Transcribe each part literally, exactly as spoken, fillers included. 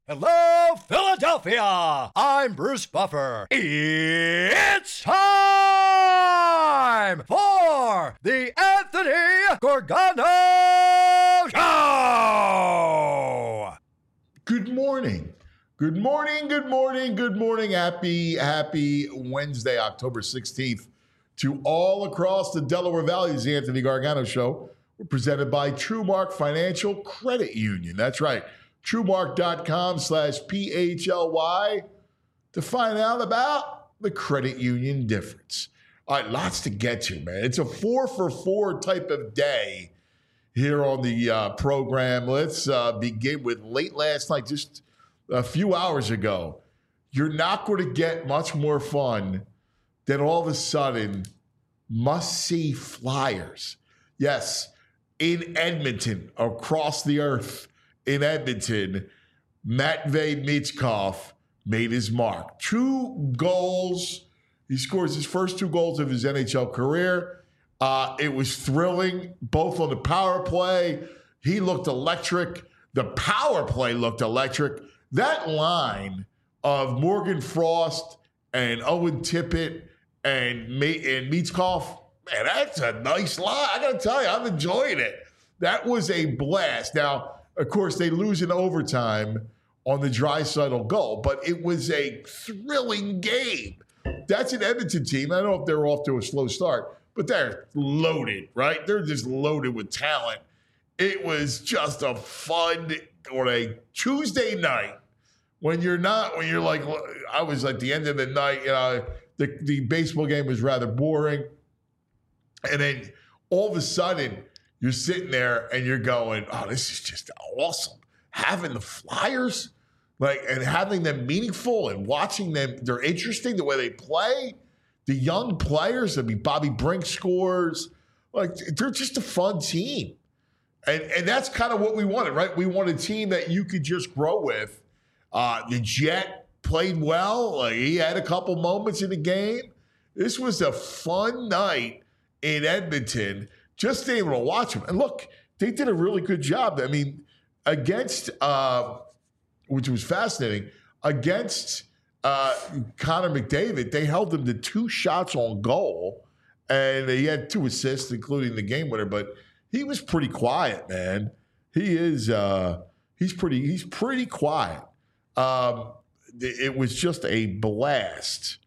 Hello, Philadelphia! I'm Bruce Buffer. It's time for the Anthony Gargano Show! Good morning. Good morning, good morning, good morning. Happy, happy Wednesday, October sixteenth to all across the Delaware Valley. It's the Anthony Gargano Show. We're presented by TrueMark Financial Credit Union. That's right. TrueMark.com slash P-H-L-Y to find out about the credit union difference. All right, lots to get to, man. It's a four for four type of day here on the uh, program. Let's uh, begin with late last night, just a few hours ago. You're not going to get much more fun than all of a sudden must-see Flyers. Yes, in Edmonton, across the earth, in Edmonton, Matvei Michkov made his mark. Two goals. He scores his first two goals of his N H L career. Uh, it was thrilling, both on the power play. He looked electric. The power play looked electric. That line of Morgan Frost and Owen Tippett and, and Michkov, man, that's a nice line. I got to tell you, I'm enjoying it. That was a blast. Now, of course, they lose in overtime on the Draisaitl goal, but it was a thrilling game. That's an Edmonton team. I don't know if they're off to a slow start, but they're loaded, right? They're just loaded with talent. It was just a fun, on a Tuesday night, when you're not, when you're like, I was at the end of the night, you know, the, the baseball game was rather boring. And then all of a sudden, you're sitting there and you're going, oh, this is just awesome. Having the Flyers, like, and having them meaningful and watching them, they're interesting the way they play. The young players, I mean, Bobby Brink scores. Like, they're just a fun team. And, and that's kind of what we wanted, right? We want a team that you could just grow with. Uh, the Jet played well. Like, he had a couple moments in the game. This was a fun night in Edmonton. Just able to watch them. And look, they did a really good job. I mean, against, uh, which was fascinating, against uh, Connor McDavid, they held him to two shots on goal. And he had two assists, including the game winner. But he was pretty quiet, man. He is, uh, he's pretty, he's pretty quiet. Um, it was just a blast.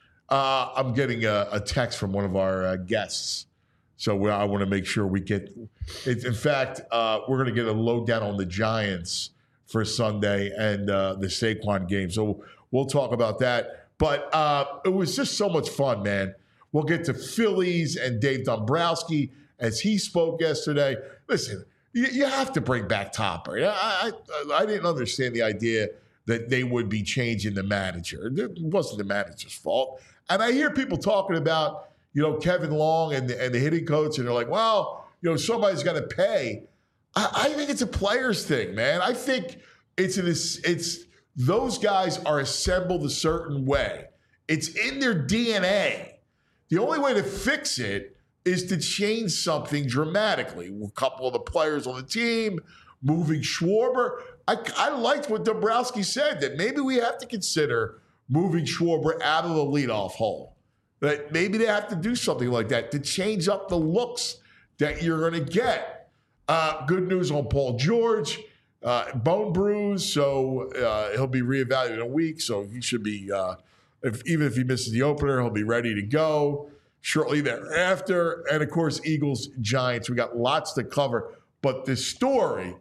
Uh, I'm getting a, a text from one of our uh, guests. So I want to make sure we get it. In fact, uh, we're going to get a lowdown on the Giants for Sunday and uh, the Saquon game. So we'll talk about that. But uh, it was just so much fun, man. We'll get to Phillies and Dave Dombrowski as he spoke yesterday. Listen, you, you have to bring back Topper. I, I, I didn't understand the idea that they would be changing the manager. It wasn't the manager's fault. And I hear people talking about, you know, Kevin Long and the, and the hitting coach, and they're like, well, you know, somebody's got to pay. I, I think it's a players thing, man. I think it's an, it's those guys are assembled a certain way. It's in their D N A. The only way to fix it is to change something dramatically. A couple of the players on the team, moving Schwarber. I, I liked what Dombrowski said, that maybe we have to consider moving Schwarber out of the leadoff hole. That maybe they have to do something like that to change up the looks that you're going to get. Uh, good news on Paul George. Uh, bone bruise, so uh, he'll be reevaluated in a week. So he should be, uh, if, even if he misses the opener, he'll be ready to go shortly thereafter. And, of course, Eagles, Giants. We got lots to cover. But the story,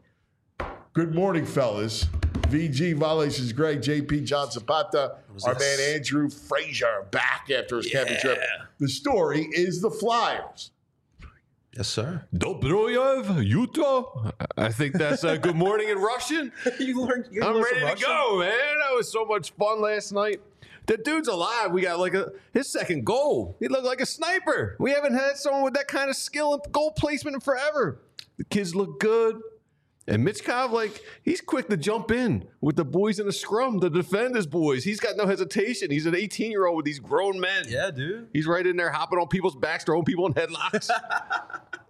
good morning, fellas. V G, Violations Greg, J P, John Zapata, our this? man Andrew Frazier back after his yeah. camping trip. The story is the Flyers. Yes, sir. Dobroyev, Utah. I think that's uh, good morning in Russian. you learned. You I'm ready to Russian? go, man. That was so much fun last night. The dude's alive. We got like a his second goal. He looked like a sniper. We haven't had someone with that kind of skill and goal placement in forever. The kids look good. And Michkov, like, he's quick to jump in with the boys in the scrum to defend his boys. He's got no hesitation. He's an eighteen-year-old with these grown men. Yeah, dude. He's right in there hopping on people's backs, throwing people in headlocks.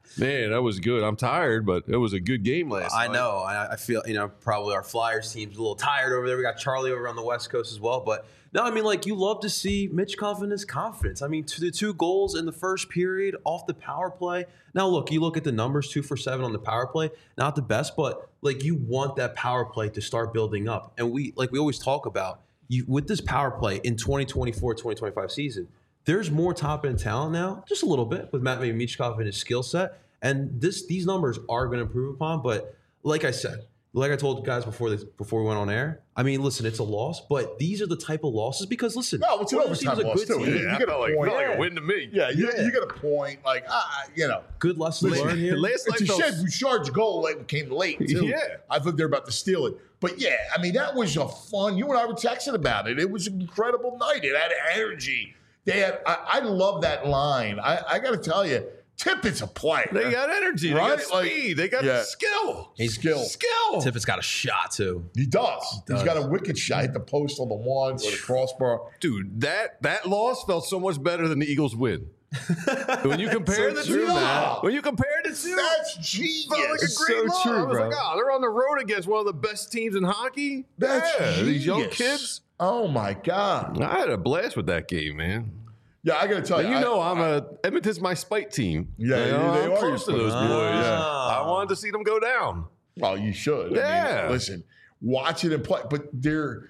Man, that was good. I'm tired, but it was a good game last I night. know. I, I feel, you know, probably our Flyers team's a little tired over there. We got Charlie over on the West Coast as well. But no, I mean, like, you love to see Michkov in his confidence. I mean, to the two goals in the first period off the power play. Now, look, you look at the numbers, two for seven on the power play. Not the best, but, like, you want that power play to start building up. And we, like we always talk about, you with this power play in twenty twenty-four twenty twenty-five season, there's more top-end talent now, just a little bit, with Matt Michkov and his skill set. And this these numbers are going to improve upon. But like I said, like I told you guys before this, before we went on air, I mean, listen, it's a loss, but these are the type of losses because, listen, No, it's an Oilers overtime team's a loss, good too. team. You Yeah, I get a felt like, point. felt like Yeah. a win to me. Yeah, you, Yeah. you get a point. Like, ah, you know. Good lessons Listen, learned here. Last night It's a felt- shame Bouchard's goal like, came late, too. Yeah. I thought they were about to steal it. But, yeah, I mean, that was a fun – you and I were texting about it. It was an incredible night. It had energy. They had – I, I love that line. I, I got to tell you, Tippett's a player. They got energy. Right? They got Like, speed. they got yeah. skill. He's skill. Skill. Tippett's got a shot, too. He does. does. He's got a wicked shot. Hit the post on the one or the crossbar. Dude, that that loss felt so much better than the Eagles win. when you compare So the true, two, man. when you compare the two, That's it genius. felt like a It's great so loss. true, I was bro. like, oh, they're on the road against one of the best teams in hockey. That's yeah, these young genius. kids. Oh, my God. I had a blast with that game, man. Yeah, I got to tell But you. you I- know, I'm a Edmonton's my spite team. Yeah, You they- know, they I'm are close to your those spite boys. team. Yeah. Ah. I wanted to see them go down. Well, you should. I Yeah. mean, listen, watch it and play. But they're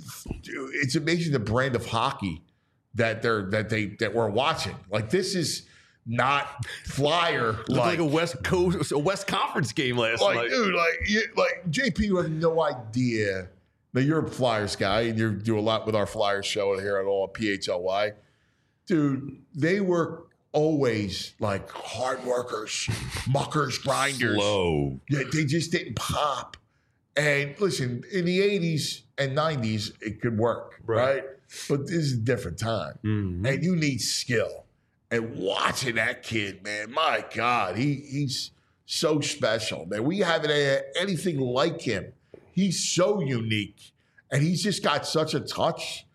it's amazing the brand of hockey that they're that they that we're watching. Like this is not flyer Looked like, a West Coast, a West Conference game last like night. dude, like you, like J P, you have no idea. Now you're a Flyers guy, and you do a lot with our Flyers show here at all P H L Y. Dude, they were always like hard workers, muckers, grinders. Slow. Yeah, they just didn't pop. And listen, in the eighties and nineties, it could work, right? Right. But this is a different time. Mhm. And you need skill. And watching that kid, man, my God, he he's so special, man. We haven't had anything like him. He's so unique. And he's just got such a touch.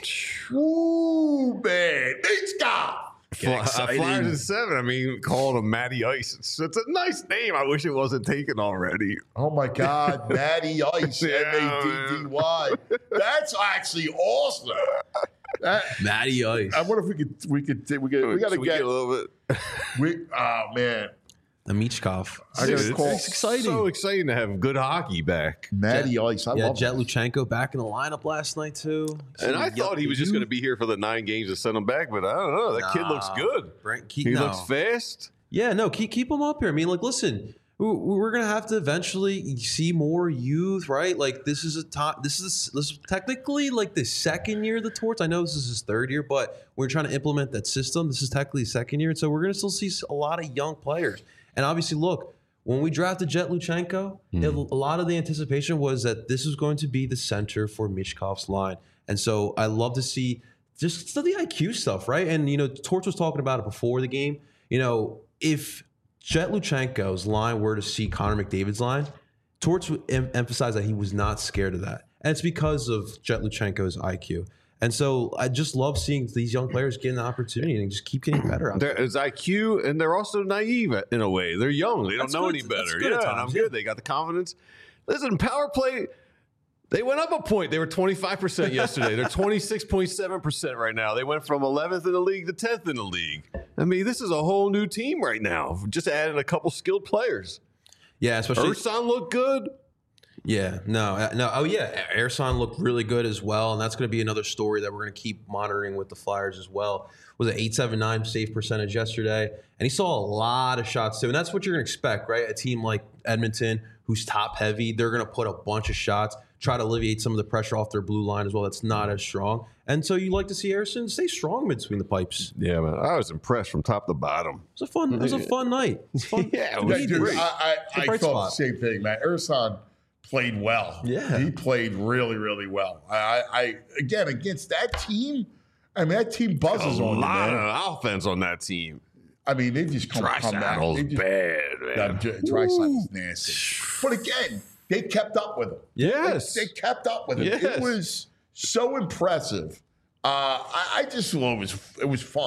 Ooh, man. He's got. Fly, Flyers in seven. I mean, called him Matty Ice. It's, it's a nice name. I wish it wasn't taken already. Oh my God, Matty Ice, Yeah, M A D D Y. That's actually awesome. That, Matty Ice. I wonder if we could, we could, we could, we got to Should we get. a little bit. We, oh man, The Michkov. I got Dude, to call it's exciting. So exciting to have good hockey back. Matty Ice. I Yeah, love Jet him. Luchenko back in the lineup last night, too. And I thought he was just going to to be here for the nine games to send him back, but I don't know. That kid looks good. Keep, He no. looks fast. Yeah, no, keep keep him up here. I mean, like, listen, we- we're gonna have to eventually see more youth, right? Like, this is a top. This is this is technically like the second year of the Torts. I know this is his third year, but we're trying to implement that system. This is technically the second year, and so we're gonna still see a lot of young players. And obviously, look, when we drafted Jet Luchenko, it, a lot of the anticipation was that this was going to be the center for Michkov's line, and so I love to see just the I Q stuff, right? And you know, Torts was talking about it before the game. You know, if Jet Luchenko's line were to see Connor McDavid's line, Torts would em- emphasize that he was not scared of that. And it's because of Jet Luchenko's I Q. And so I just love seeing these young players get an opportunity and just keep getting better out there. There's I Q, and they're also naive in a way. They're young. They don't That's know good. any That's better. good at Yeah, and I'm times, good. yeah. They got the confidence. Listen, power play, they went up a point. They were twenty-five percent yesterday. They're twenty-six point seven percent right now. They went from eleventh in the league to tenth in the league. I mean, this is a whole new team right now. Just adding a couple skilled players. Yeah, especially Ursan looked good. Yeah, no, uh, no. Oh, yeah. Ersan looked really good as well, and that's going to be another story that we're going to keep monitoring with the Flyers as well. Was it eight seventy-nine save percentage yesterday? And he saw a lot of shots too, and that's what you're going to expect, right? A team like Edmonton, who's top heavy, they're going to put a bunch of shots, try to alleviate some of the pressure off their blue line as well. That's not as strong, and so you like to see Ersan stay strong between the pipes. Yeah, man. I was impressed from top to bottom. It was a fun. It was a fun night. It was fun. Yeah, it We was need Dude, this. I, I, a I bright felt spot. the same thing, man. Ursan played well. Yeah. He played really, really well. I, I, I again, against that team, I mean, that team A buzzes on you, lot man. of offense on that team. I mean, they just come, come out. Trisaddle's They just- bad, man. Yeah, Trisaddle's nasty. But again, they kept up with him. Yes. They, they kept up with him. Yes. It was so impressive. Uh, I, I just thought it was it was fun.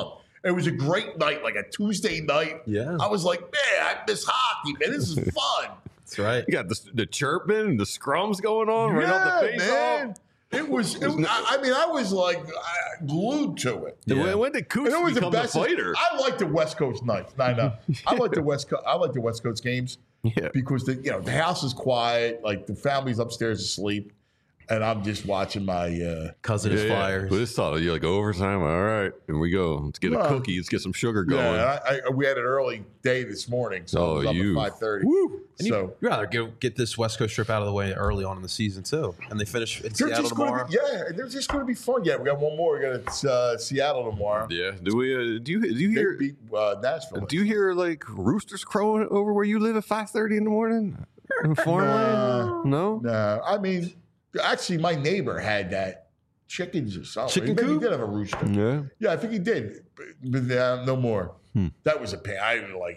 It was a great night, like a Tuesday night. Yeah. I was like, man, I miss hockey, man. This is fun. That's right. You got the, the chirping and the scrums going on right off the face man. off. It was, it was I, I mean, I was like uh, glued to it. Yeah. Yeah. When, when did And Cooch it was the become best. the fighter? I like the West Coast nights. I know. I like the West Coast. I like the West Coast games Yeah. because the you know the house is quiet, like the family's upstairs asleep, and I'm just watching my. Uh, Cousin Yeah, is yeah. Flyers. But this thought, you're like overtime. All right, here we go. Let's get a Well, cookie. Let's get some sugar going. yeah, I, I, we had an early day this morning, so Oh, I was up you. at five thirty. Woo. And you, So you'd rather get, get this West Coast trip out of the way early on in the season too, and they finish in they're Seattle just going tomorrow. to be, yeah, they're just going to be fun. Yeah, we got one more. We got uh, Seattle tomorrow. Yeah. Do we? Uh, do you? Do you They hear? beat uh, Nashville. Do you hear like roosters crowing over where you live at five thirty in the morning in farmland? No. No, I mean, actually, my neighbor had that chickens or something. Chicken Maybe coop? he did have a rooster. Yeah. Yeah, I think he did, but, but uh, no more. Hmm. That was a pain. I didn't like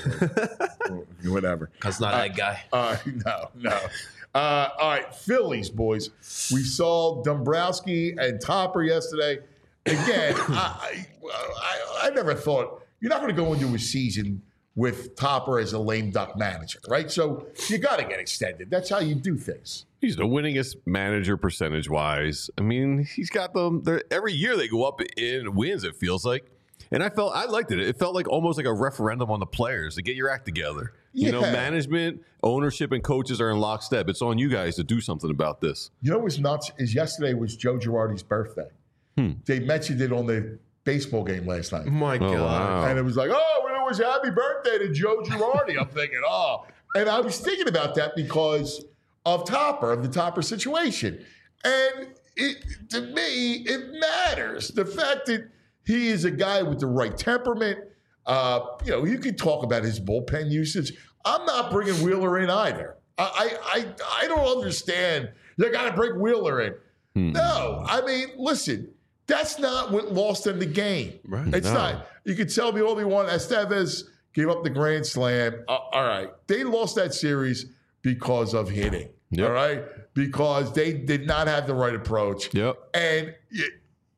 that. Whatever. Because not that guy. Uh, no, no. Uh, all right, Phillies, boys. We saw Dombrowski and Topper yesterday. Again, I, I, I never thought you're not going to go into a season with Topper as a lame duck manager, right? So you got to get extended. That's how you do things. He's the winningest manager percentage wise. I mean, he's got them. they're- Every year they go up in wins. It feels like, and I felt I liked it. It felt like almost like a referendum on the players to get your act together. You know, Yeah. management, ownership, and coaches are in lockstep. It's on you guys to do something about this. You know what's nuts is yesterday was Joe Girardi's birthday. Hmm. They mentioned it on the baseball game last night. Oh my God. wow. And it was like, oh, well, it was happy birthday to Joe Girardi. I'm thinking, oh. And I was thinking about that because of Topper, of the Topper situation. And it, to me, it matters. The fact that he is a guy with the right temperament. Uh, you know, you could talk about his bullpen usage. I'm not bringing Wheeler in either. I I, I, I don't understand. You got to bring Wheeler in. Hmm. No, I mean, listen, that's not what lost them the game. Right. It's No. not. You can tell me all you want. Estevez gave up the grand slam. Uh, all right. They lost that series because of hitting. Yep. All right. Because they did not have the right approach. Yep. And it,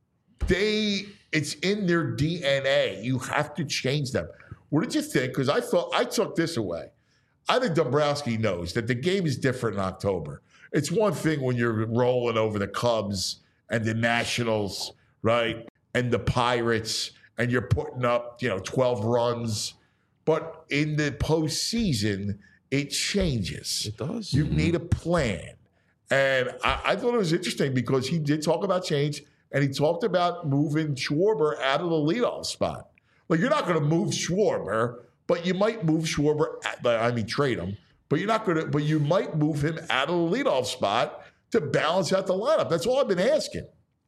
they, it's in their D N A. You have to change them. What did you think? Because I thought, I took this away. I think Dombrowski knows that the game is different in October. It's one thing when you're rolling over the Cubs and the Nationals, right? And the Pirates, and you're putting up, you know, twelve runs. But in the postseason, it changes. It does. You need a plan. And I, I thought it was interesting because he did talk about change, and he talked about moving Schwarber out of the leadoff spot. Like, you're not going to move Schwarber, but you might move Schwarber, at, I mean, trade him, but you're not going to, but you might move him out of the leadoff spot to balance out the lineup. That's all I've been asking.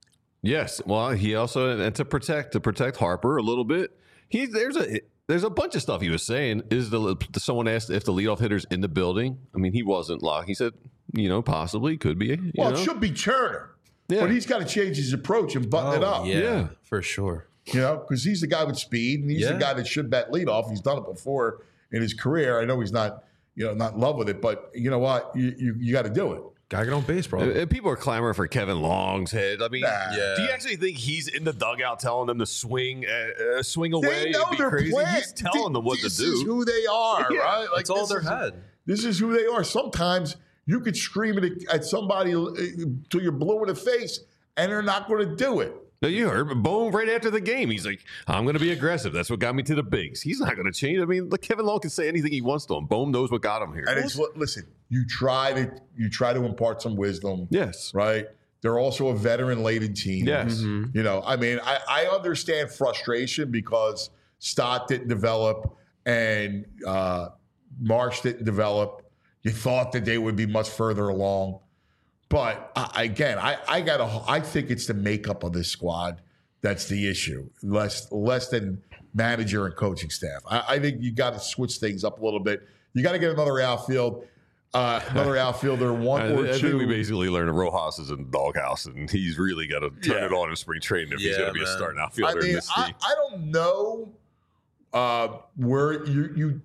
Yes. Well, he also and to protect to protect Harper a little bit. He there's a there's a bunch of stuff he was saying. Is the someone asked if the leadoff hitter's in the building? I mean, he wasn't locked. He said, you know, possibly could be. You Well, know? it should be Turner, Yeah. but he's got to change his approach and button it Oh, up. yeah, Yeah. for sure. You know, because he's the guy with speed, and he's Yeah. the guy that should bat leadoff. He's done it before in his career. I know he's not, you know, not in love with it, but you know what? You you, you got to do it. Gotta get on base, bro. And- and people are clamoring for Kevin Long's head. I mean, Nah. Yeah. do you actually think he's in the dugout telling them to swing, uh, uh, swing away? They know and be their crazy? plan. He's telling them what this to is do. who they are, Yeah. right? Like It's all this their is- head. This is who they are. Sometimes you could scream at, at somebody uh, till you're blue in the face, and they're not going to do it. No, you heard Bohm right after the game. He's like, I'm going to be aggressive. That's what got me to the bigs. He's not going to change. I mean, look, Kevin Long can say anything he wants to him. Bohm knows what got him here. And it's listen, you try to you try to impart some wisdom, Yes. right? They're also a veteran-laden team. Yes. Mm-hmm. You know, I mean, I, I understand frustration because Stott didn't develop and uh, Marsh didn't develop. You thought that they would be much further along. But uh, again, I, I got I think it's the makeup of this squad that's the issue, less less than manager and coaching staff. I, I think you got to switch things up a little bit. You got to get another outfield, uh, another outfielder, one I, or I two. think we basically learned Rojas is in the doghouse, and he's really got to turn Yeah. it on in spring training if he's Yeah, going to be a man. starting I outfielder in mean, this I, team. I don't know uh, where you you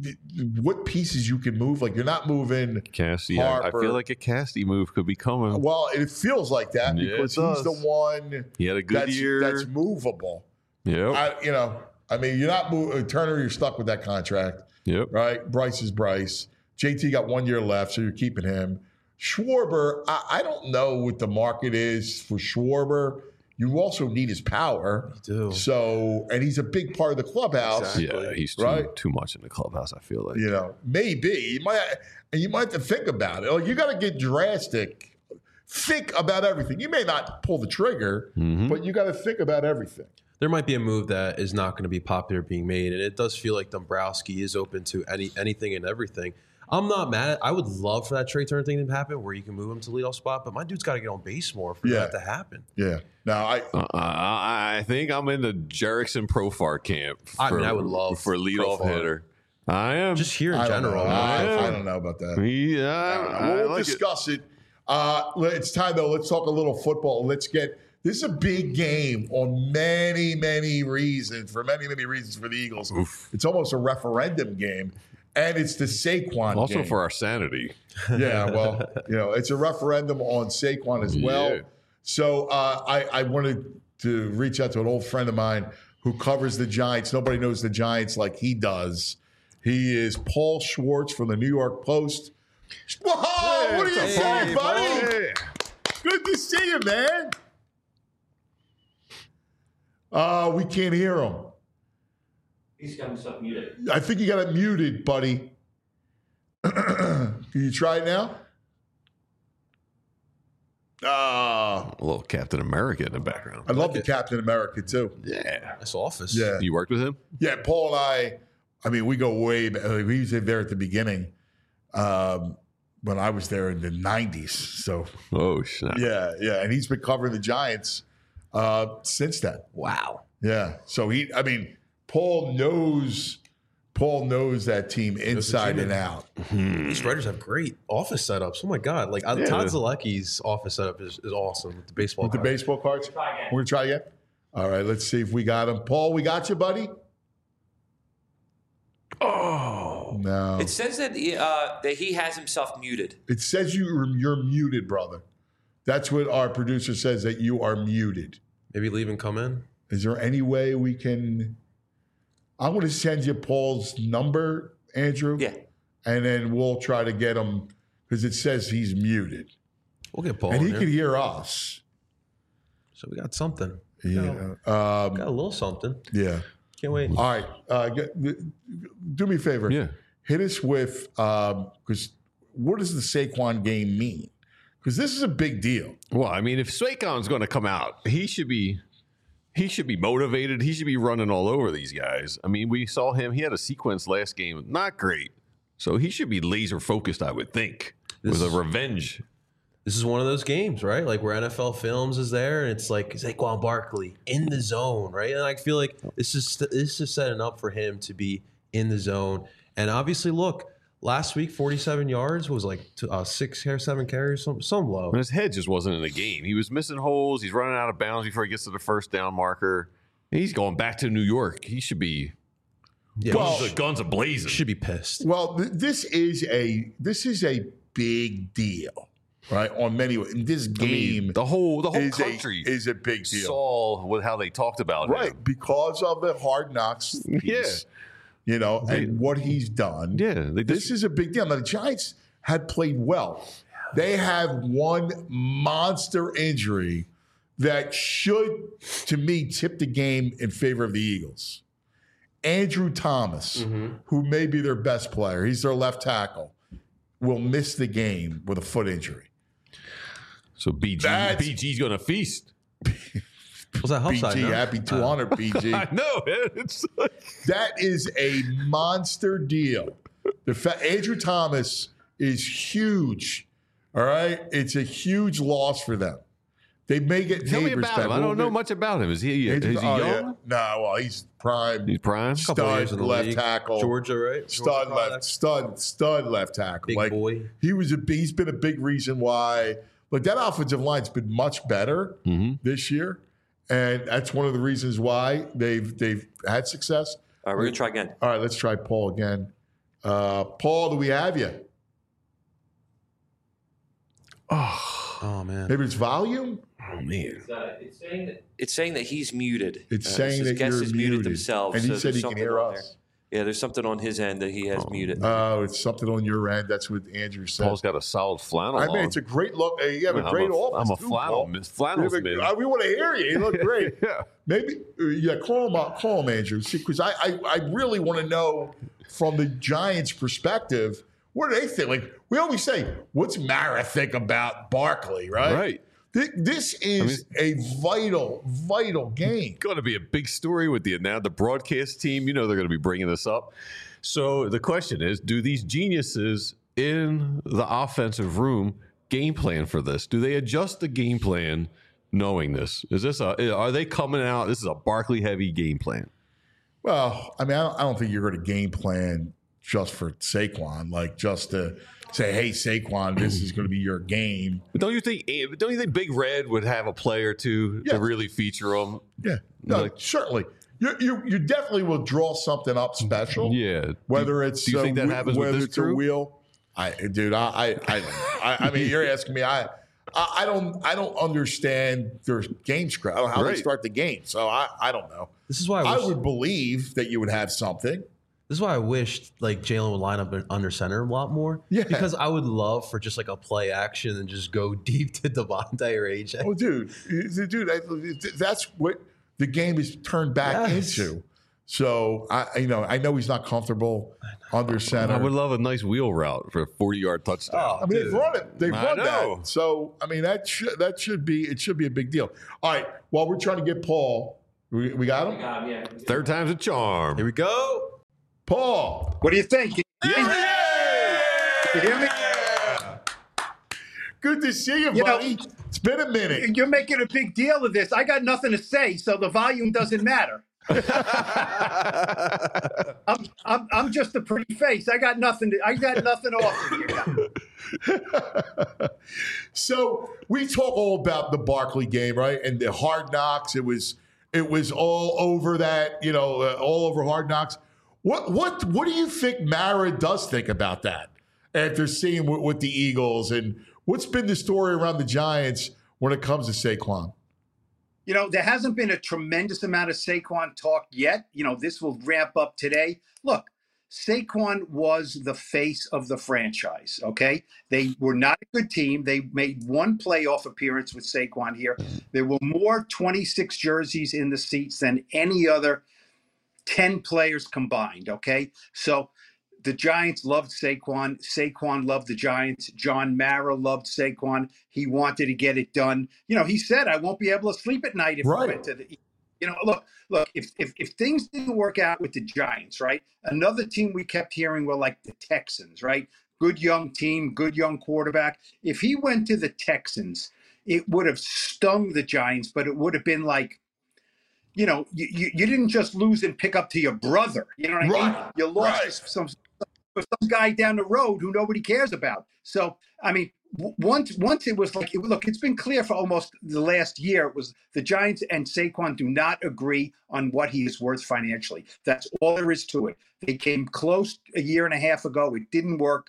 what pieces you can move. Like you're not moving. Cassie, I, I Harper. feel like a Casty move could be coming. Well, it feels like that Yeah, it because he's does. the one He had a good that's, year. that's movable. Yep. I, you know, I mean, you're not moving, Turner. You're stuck with that contract, Yep. right? Bryce is Bryce. J T got one year left, so you're keeping him. Schwarber, I, I don't know what the market is for Schwarber. You also need his power. You do. So, and he's a big part of the clubhouse. Exactly. Yeah, he's too, Right? too much in the clubhouse, I feel like. You know, maybe you might, and you might have to think about it. Like, you got to get drastic. Think about everything. You may not pull the trigger, Mhm. but you got to think about everything. There might be a move that is not going to be popular being made, and it does feel like Dombrowski is open to any anything and everything. I'm not mad at I would love for that Trey Turner thing to happen where you can move him to leadoff spot, but my dude's got to get on base more for Yeah. that to happen. Yeah. Now, I Uh, I I think I'm in the Jerickson Profar camp. For, I mean, I would love for leadoff Profar. hitter. I am. Just here in I don't general. know. man. I, Yeah. I don't know about that. Yeah, I, we'll like it. discuss it. Uh, let- it's time, though. Let's talk a little football. Let's get this is a big game on many, many reasons, for many, many reasons for the Eagles. It's almost a referendum game, and it's the Saquon Also game. for our sanity. Yeah, well, you know, it's a referendum on Saquon as well. Yeah. So uh, I, I wanted to reach out to an old friend of mine who covers the Giants. Nobody knows the Giants like he does. He is Paul Schwartz from the New York Post. Whoa, what are you Hey, saying, buddy? Hey. Good to see you, man. Uh, we can't hear him. He's got himself muted. I think you got it muted, buddy. Can you try it now? Ah, A little Captain America in the background. I love like the it. Captain America too. Yeah. Nice office. Yeah. You worked with him? Yeah, Paul and I, I mean, we go way back. Like, we was there at the beginning um, when I was there in the nineties. So, Oh, snap. yeah, yeah. And he's been covering the Giants uh, since then. Wow. Yeah. So, he, I mean, Paul knows, Paul knows that team inside and out. These writers have great office setups. Oh my god! Like uh, Yeah. Todd Zalecki's office setup is, is awesome with the baseball. With the cards. baseball cards? Try again. We're going to try again? All right, let's see if we got him. Paul, we got you, buddy? Oh. No. It says that he, uh, that he has himself muted. It says you, you're muted, brother. That's what our producer says, that you are muted. Maybe leave and come in. Is there any way we can? I'm going to send you Paul's number, Andrew. Yeah. And then we'll try to get him because it says he's muted. We'll get Paul and in he here. could hear us. So we got something. Yeah. Um, Got a little something. yeah. Can't wait. All right. Uh, get, do me a favor. Yeah. Hit us with, because what does the Saquon game mean? Because this is a big deal. Well, I mean, if Saquon's going to come out, he should be he should be motivated. He should be running all over these guys. I mean, we saw him. He had a sequence last game, not great. So he should be laser focused, I would think, This- with a revenge. This is one of those games, right? Like where N F L Films is there, and it's like Saquon Barkley in the zone, right? And I feel like this is this is setting up for him to be in the zone. And obviously, look, last week forty-seven yards was like t- uh, six or seven carries, some some low. And his head just wasn't in the game. He was missing holes. He's running out of bounds before he gets to the first down marker. And he's going back to New York. He should be Yeah, Well- guns, guns are blazing. should be pissed. Well, th- this is a this is a big deal, right? On many ways, this I mean, game the whole the whole is country a, is a big deal, saw with how they talked about right? him. Because of the hard knocks, piece, Yeah. you know, They- and what he's done. Yeah, they This just, is a big deal. Now, the Giants had played well. They have one monster injury that should, to me, tip the game in favor of the Eagles. Andrew Thomas, who may be their best player, he's their left tackle, will miss the game with a foot injury. so B G That's- B G's going to feast. Was that help B G, side? no? happy two hundred, B G. I know. Man. It's like, That is a monster deal. The fa- Andrew Thomas is huge. All right, it's a huge loss for them. They may get tell me Neighbors about back. him. I don't know much about him. Is he is Andrew, he oh, young? yeah. No, well, he's prime. He's prime. Couple of years Stud in the left league. tackle. Georgia, right? Stud Georgia left, product. stud, stud left tackle. Big like boy. he was a. He's been a big reason why. Like that offensive line's been much better Mhm. this year, and that's one of the reasons why they've they've had success. All right, we're gonna try again. All right, let's try Paul again. Uh, Paul, do we have you? Oh, Oh man. Maybe it's volume. Oh man. It's, uh, it's saying that it's saying that he's muted. It's Uh, saying it says that guests you're is muted, themselves. and he so said there's he can something hear on us. there. Yeah, there's something on his end that he has muted. Oh, it's something on your end. That's what Andrew said. Paul's got a solid flannel I mean, on. it's a great look. Uh, You have a I'm great a- office. I'm a too, flannel- Paul. flannels We have a- man. uh, We want to hear you. You look great. Yeah. Maybe, uh, yeah. Call him up. Call him, Andrew. See, because I, I, I really want to know from the Giants' perspective, what do they think? Like we always say, what's Mara think about Barkley? Right. Right. Thi- This is a vital, vital game. Going to be a big story with the now the broadcast team. You know they're going to be bringing this up. So the question is, do these geniuses in the offensive room game plan for this? Do they adjust the game plan knowing this? Is this a, are they coming out? This is a Barkley heavy game plan. Well, I mean, I don't, I don't think you're going to game plan just for Saquon, like just to say, "Hey, Saquon, this is going to be your game." But don't you think? Don't you think Big Red would have a play or two Yeah. to really feature them? Yeah, no, Like- certainly. You, you you definitely will draw something up special. Yeah. Whether do, it's do you a think that whe- happens with whether this it's a crew? wheel. I, dude, I, I, I, I, I mean, you're asking me. I, I, I don't, I don't understand their game script. I don't know how Right. they start the game, so I, I don't know. This is why I, I wish, would believe that you would have something. this is why I wished like Jalen would line up under center a lot more. Yeah. Because I would love for just like a play action and just go deep to Devontae or A J. Oh, dude, dude, that- that's what the game is turned back Yes. into. So I, you know, I know he's not comfortable under center. I would love a nice wheel route for a forty-yard touchdown. Oh, I mean, they've dude. run it. They've I run know. that. So I mean, that should that should be it. Should be a big deal. All right. While we're trying to get Paul, we, we got him. Um, yeah. Third time's a charm. Here we go. Paul. What do you think? Can you hear me? Yeah. You hear me? Good to see you, You know- buddy. It's been a minute. You're making a big deal of this. I got nothing to say, so the volume doesn't matter. I'm, I'm, I'm just a pretty face. I got nothing to. I got nothing to offer you. So we talk all about the Barkley game, right? And the Hard Knocks. It was it was all over that, you know, uh, all over Hard Knocks. What what what do you think Mara does think about that after seeing with, with the Eagles, and what's been the story around the Giants when it comes to Saquon? You know, there hasn't been a tremendous amount of Saquon talk yet. You know, this will ramp up today. Look, Saquon was the face of the franchise, okay? They were not a good team. They made one playoff appearance with Saquon here. There were more twenty-six jerseys in the seats than any other ten players combined, okay? So the Giants loved Saquon. Saquon loved the Giants. John Mara loved Saquon. He wanted to get it done. You know, he said, I won't be able to sleep at night if Right. I went to the You know, look, look, if, if if things didn't work out with the Giants, right? Another team we kept hearing were like the Texans, right? Good young team, good young quarterback. If he went to the Texans, it would have stung the Giants, but it would have been like, you know, you, you, you didn't just lose and pick up to your brother. You know what I mean? Right, You lost right. some some guy down the road who nobody cares about. So, I mean, w- once once it was like, it, look, it's been clear for almost the last year. It was the Giants and Saquon do not agree on what he is worth financially. That's all there is to it. They came close a year and a half ago. It didn't work.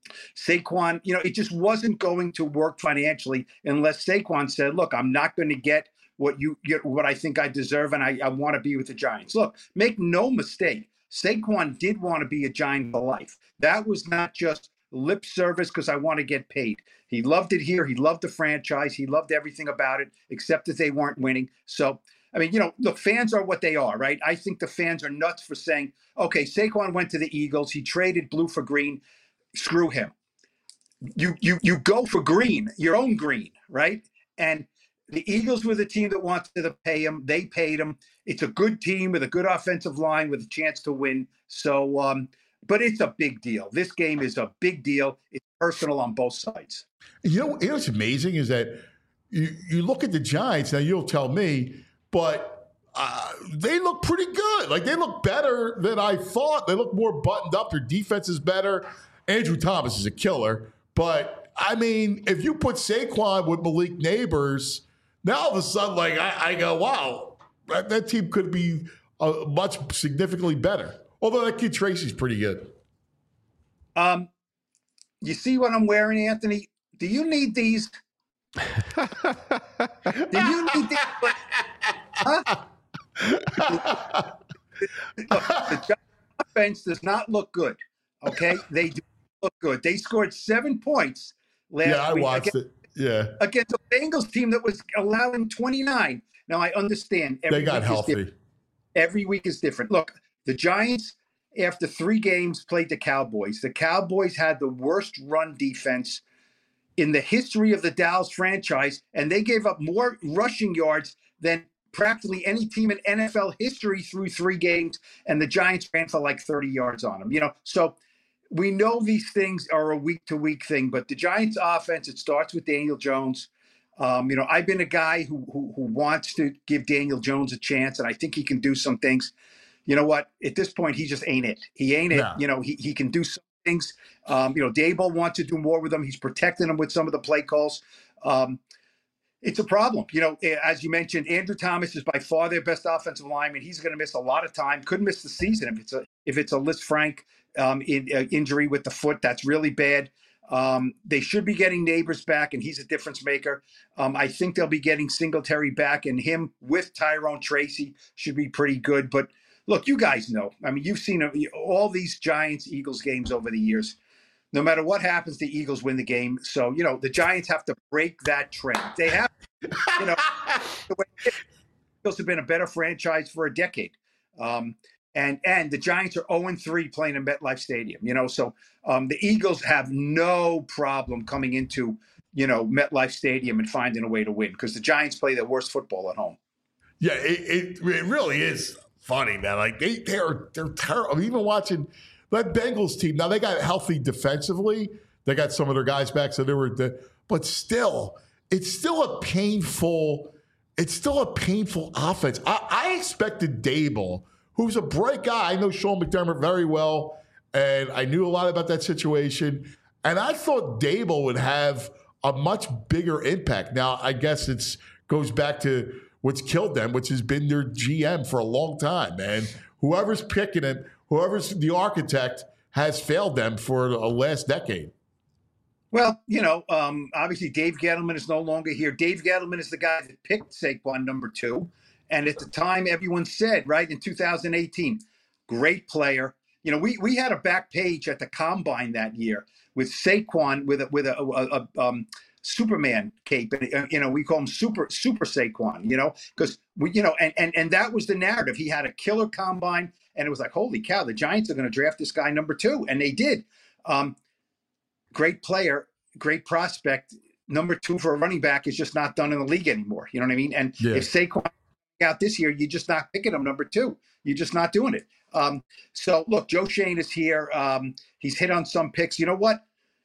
Saquon, you know, it just wasn't going to work financially unless Saquon said, look, I'm not going to get what you get, what I think I deserve, and I, I want to be with the Giants. Look, make no mistake, Saquon did want to be a Giant for life. That was not just lip service because I want to get paid. He loved it here. He loved the franchise. He loved everything about it, except that they weren't winning. So, I mean, you know, look, fans are what they are, right? I think the fans are nuts for saying, okay, Saquon went to the Eagles. He traded blue for green. Screw him. You you you go for green, your own green, right? And the Eagles were the team that wanted to pay him. They paid him. It's a good team with a good offensive line with a chance to win. So, um, but it's a big deal. This game is a big deal. It's personal on both sides. You know, you know what's amazing is that you, you look at the Giants, now you'll tell me, but uh, they look pretty good. Like, they look better than I thought. They look more buttoned up. Their defense is better. Andrew Thomas is a killer. But, I mean, if you put Saquon with Malik Neighbors, now all of a sudden, like, I, I go, wow, that, that team could be uh, much significantly better. Although that kid Tracy's pretty good. Um, you see what I'm wearing, Anthony? Do you need these? Do you need that? Huh? Look, the Giants offense does not look good. Okay, they do look good. They scored seven points last Yeah, I week watched against, it. Yeah, against a Bengals team that was allowing twenty-nine. Now I understand every they got week is healthy. different. Every week is different. Look, the Giants, after three games, played the Cowboys. The Cowboys had the worst run defense in the history of the Dallas franchise, and they gave up more rushing yards than practically any team in N F L history through three games, and the Giants ran for like thirty yards on them. You know, so we know these things are a week-to-week thing, but the Giants' offense, it starts with Daniel Jones. Um, you know, I've been a guy who, who who wants to give Daniel Jones a chance, and I think he can do some things. You know what? At this point, he just ain't it. He ain't it. Yeah. You know, he he can do some things. Um, you know, Daboll wants to do more with him. He's protecting him with some of the play calls. Um, it's a problem. You know, as you mentioned, Andrew Thomas is by far their best offensive lineman. He's going to miss a lot of time. Could miss the season if it's a if it's a Liz Frank um, in, uh, injury with the foot. That's really bad. Um, they should be getting Neighbors back, and he's a difference maker. Um, I think they'll be getting Singletary back, and him with Tyrone Tracy should be pretty good. But look, you guys know. I mean, you've seen all these Giants-Eagles games over the years. No matter what happens, the Eagles win the game. So, you know, the Giants have to break that trend. They have, you know, the Eagles have been a better franchise for a decade. Um, and and the Giants are oh and three playing in MetLife Stadium, you know. So um, the Eagles have no problem coming into, you know, MetLife Stadium and finding a way to win because the Giants play their worst football at home. Yeah, it, it, it really is funny, man. Like, they, they're, they're terrible. Even watching that Bengals team, now they got healthy defensively. They got some of their guys back, so they were the, but still, it's still a painful, it's still a painful offense. I, I expected Daboll, who's a bright guy. I know Sean McDermott very well, and I knew a lot about that situation. And I thought Daboll would have a much bigger impact. Now, I guess it's goes back to what's killed them, which has been their G M for a long time, man. Whoever's picking him, whoever's the architect, has failed them for the last decade. Well, you know, um, obviously Dave Gettleman is no longer here. Dave Gettleman is the guy that picked Saquon number two. And at the time, everyone said, right, in two thousand eighteen, great player. You know, we we had a back page at the Combine that year with Saquon with a, with a, a, a um, Superman cape. And, uh, you know, we call him Super Super Saquon, you know, because, we, you know, and, and, and that was the narrative. He had a killer Combine. And it was like, holy cow, the Giants are going to draft this guy number two. And they did. Um, great player, great prospect. Number two for a running back is just not done in the league anymore. You know what I mean? And Yeah. if Saquon out this year, you're just not picking him number two. You're just not doing it. Um, so, look, Joe Shane is here. Um, he's hit on some picks. You know what?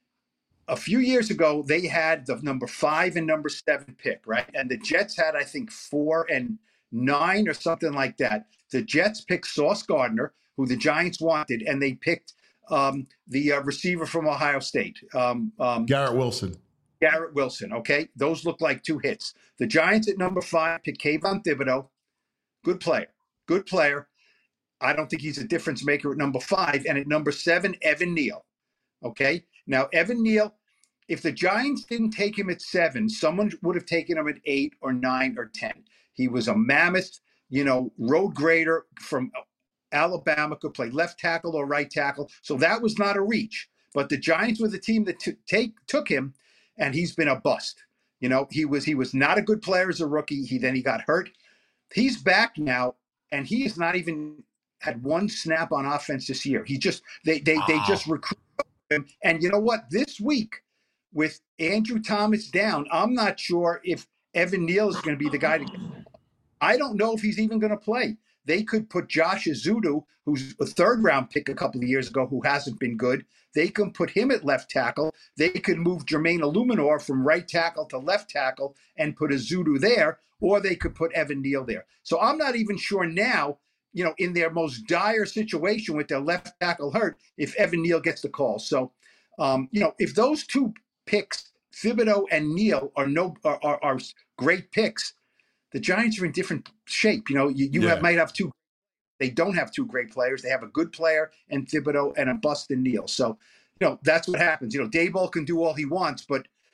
A few years ago, they had the number five and number seven pick, right? And the Jets had, I think, four and nine or something like that. The Jets picked Sauce Gardner, who the Giants wanted, and they picked um, the uh, receiver from Ohio State. Um, um, Garrett Wilson. Garrett Wilson, okay? Those look like two hits. The Giants at number five picked Kayvon Thibodeau. Good player. Good player. I don't think he's a difference maker at number five. And at number seven, Evan Neal. Okay? Now, Evan Neal, if the Giants didn't take him at seven, someone would have taken him at eight or nine or ten. He was a mammoth, you know, road grader from Alabama, could play left tackle or right tackle. So that was not a reach. But the Giants were the team that t- take took him, and he's been a bust. You know, he was he was not a good player as a rookie. He then he got hurt. He's back now, and he has not even had one snap on offense this year. He just they they wow. they just recruit him. And you know what? This week, with Andrew Thomas down, I'm not sure if Evan Neal is going to be the guy to get. I don't know if he's even going to play. They could put Josh Azudu, who's a third round pick a couple of years ago, who hasn't been good. They can put him at left tackle. They could move Jermaine Illuminor from right tackle to left tackle and put Azudu there, or they could put Evan Neal there. So I'm not even sure now, you know, in their most dire situation with their left tackle hurt, if Evan Neal gets the call. So, um, you know, if those two picks, Thibodeau and Neal, are no are, are, are great picks, the Giants are in different shape. You know, you, you Yeah. have, might have two. They don't have two great players. They have a good player and Thibodeau and a bust in Neal. So, you know, that's what happens. You know, Daboll can do all he wants, but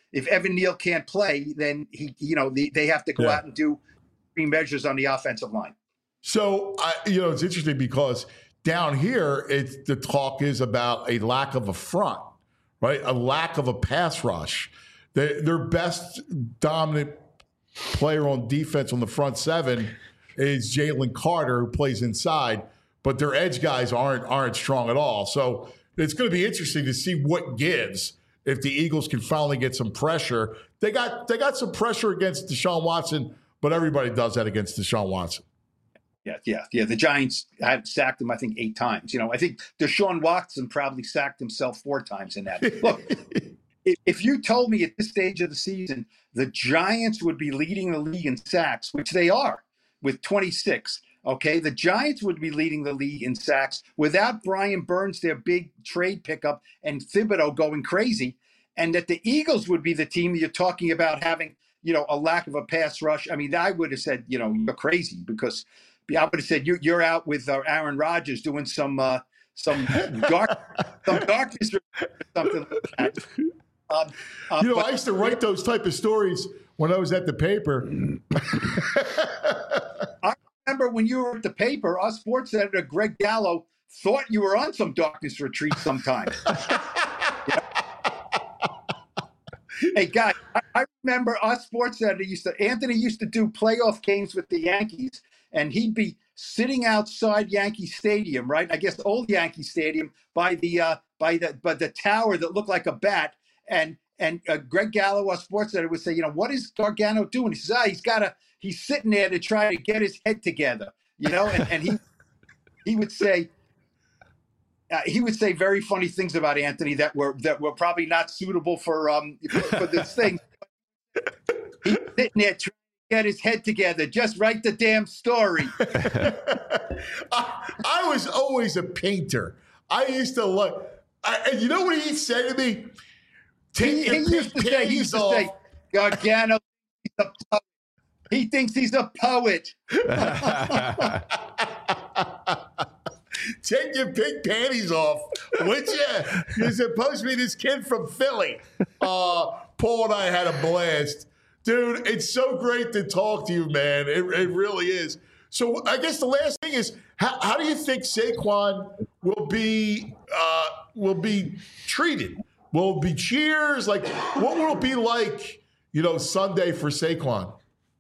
if Evan Neal can't play, then he, you know, the, they have to go Yeah. out and do extreme measures on the offensive line. So, I, you know, it's interesting because down here, it's the talk is about a lack of a front, right? A lack of a pass rush. They, their best dominant player on defense on the front seven is Jalen Carter, who plays inside, but their edge guys aren't aren't strong at all. So it's going to be interesting to see what gives if the Eagles can finally get some pressure. They got they got some pressure against Deshaun Watson, but everybody does that against Deshaun Watson. Yeah, yeah, yeah. The Giants had sacked him, I think, eight times. You know, I think Deshaun Watson probably sacked himself four times in that. Look, if, if you told me at this stage of the season the Giants would be leading the league in sacks, which they are with twenty-six, okay, the Giants would be leading the league in sacks without Brian Burns, their big trade pickup, and Thibodeau going crazy, and that the Eagles would be the team you're talking about having, you know, a lack of a pass rush. I mean, I would have said, you know, you're crazy because I would have said you're you're out with uh, Aaron Rodgers doing some uh, some dark some darkness or something like that. Um, uh, You know, but- I used to write those type of stories when I was at the paper. I remember when you were at the paper, our sports editor Greg Gallo thought you were on some darkness retreat sometime. Yeah. Hey guys, I, I remember our sports editor used to Anthony used to do playoff games with the Yankees, and he'd be sitting outside Yankee Stadium, right? I guess old Yankee Stadium by the uh, by the by the tower that looked like a bat, and and uh, Greg Gallo, our sports editor, would say, you know, what is Gargano doing? He says, ah, he's got a he's sitting there to try to get his head together, you know, and, and he he would say. Uh, he would say very funny things about Anthony that were that were probably not suitable for um for, for this thing. He's sitting there trying to get his head together. Just write the damn story. I, I was always a painter. I used to look. I, and you know what he said to me? Take He, your he used to say, he used to off. say, Gargano, he's a poet. He thinks he's a poet. Take your pink panties off, would you? You're supposed to be this kid from Philly. Uh, Paul and I had a blast. Dude, it's so great to talk to you, man. It, it really is. So I guess the last thing is, how, how do you think Saquon will be uh, will be treated? Will it be cheers? Like, what will it be like, you know, Sunday for Saquon?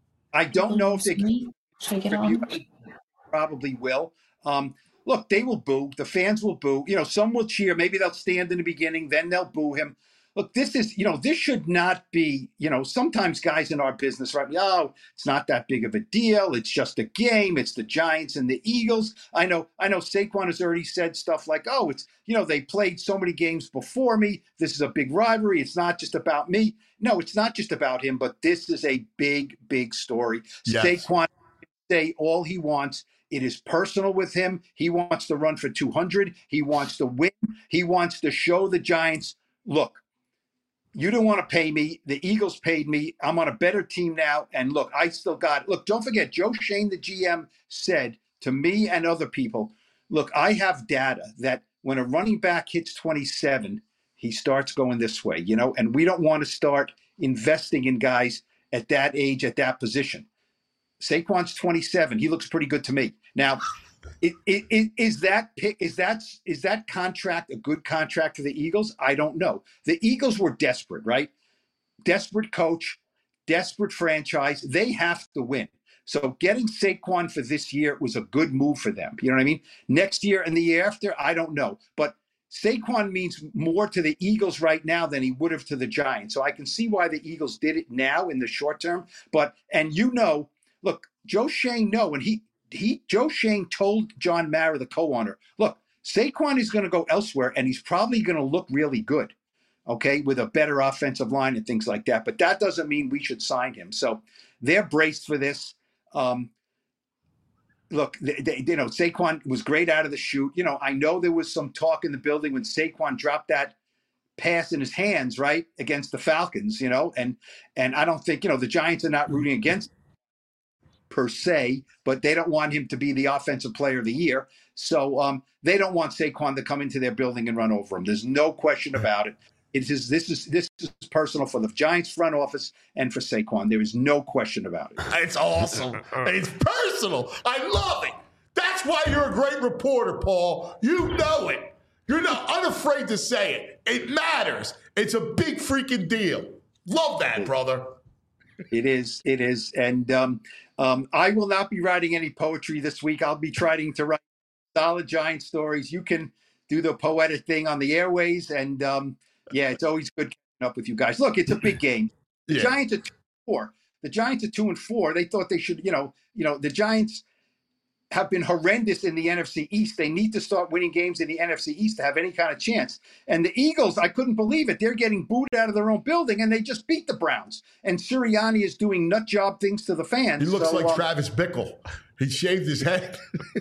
I don't know if they can. Should I get on? Probably will. Um, look, they will boo. The fans will boo. You know, some will cheer. Maybe they'll stand in the beginning, then they'll boo him. Look, this is, you know, this should not be, you know, sometimes guys in our business, right? Oh, it's not that big of a deal. It's just a game. It's the Giants and the Eagles. I know, I know Saquon has already said stuff like, oh, it's, you know, they played so many games before me. This is a big rivalry. It's not just about me. No, it's not just about him, but this is a big, big story. Yes. Saquon can say all he wants. It is personal with him. He wants to run for two hundred. He wants to win. He wants to show the Giants, look, you didn't want to pay me. The Eagles paid me. I'm on a better team now. And look, I still got it. Look, don't forget, Joe Shane, the G M, said to me and other people, look, I have data that when a running back hits twenty-seven, he starts going this way, you know, and we don't want to start investing in guys at that age, at that position. Saquon's twenty-seven. He looks pretty good to me. Now, it, it, it, is that pick? Is that is that contract a good contract for the Eagles? I don't know. The Eagles were desperate, right? Desperate coach, desperate franchise. They have to win. So getting Saquon for this year was a good move for them. You know what I mean? Next year and the year after, I don't know. But Saquon means more to the Eagles right now than he would have to the Giants. So I can see why the Eagles did it now in the short term. But and you know. Look, Joe Shane, no, and he he Joe Shane told John Mara, the co-owner, look, Saquon is going to go elsewhere, and he's probably going to look really good, okay, with a better offensive line and things like that. But that doesn't mean we should sign him. So they're braced for this. Um, look, they, they, you know, Saquon was great out of the chute. You know, I know there was some talk in the building when Saquon dropped that pass in his hands, right, against the Falcons, you know, and and I don't think, you know, the Giants are not rooting against per se, but they don't want him to be the offensive player of the year. So um, they don't want Saquon to come into their building and run over him. There's no question about it. It is this is this is personal for the Giants front office and for Saquon. There is no question about it. It's awesome. It's personal. I love it. That's why you're a great reporter, Paul. You know it. You're not unafraid to say it. It matters. It's a big freaking deal. Love that, brother. It is. It is. And um, um, I will not be writing any poetry this week. I'll be trying to write solid Giant stories. You can do the poetic thing on the airways. And um, yeah, it's always good catching up with you guys. Look, it's a big game. The Yeah. Giants are two and four. The Giants are two and four. They thought they should, you know, you know, the Giants have been horrendous in the N F C East. They need to start winning games in the N F C East to have any kind of chance. And the Eagles, I couldn't believe it. They're getting booed out of their own building, and they just beat the Browns. And Sirianni is doing nut job things to the fans. He looks So, like um, Travis Bickle. He shaved his head.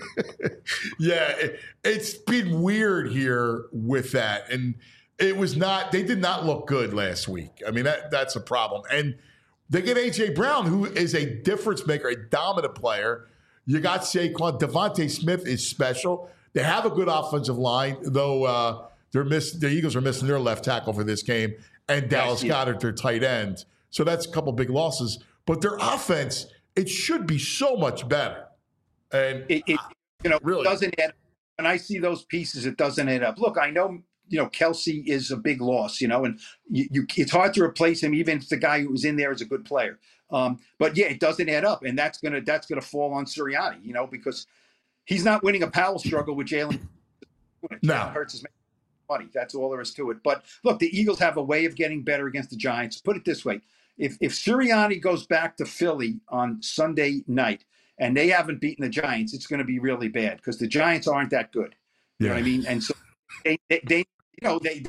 yeah, it, it's been weird here with that. And it was not, they did not look good last week. I mean, that that's a problem. And they get A J Brown, who is a difference maker, a dominant player. You got Saquon. Devontae Smith is special. They have a good offensive line, though uh, they're miss, the Eagles are missing their left tackle for this game, and Dallas yeah. Goedert, their tight end. So that's a couple big losses. But their offense, it should be so much better. And it, it you know Really? doesn't add. When I see those pieces, it doesn't add up. Look, I know you know Kelsey is a big loss, you know, and you, you it's hard to replace him, even if the guy who was in there is a good player. Um, but yeah, it doesn't add up, and that's gonna that's gonna fall on Sirianni, you know, because he's not winning a power struggle with Jalen. No. Jalen Hurts is making money. That's all there is to it. But look, the Eagles have a way of getting better against the Giants. Put it this way: if if Sirianni goes back to Philly on Sunday night and they haven't beaten the Giants, it's going to be really bad because the Giants aren't that good. You Yeah. know what I mean? And so they, they, they you know, they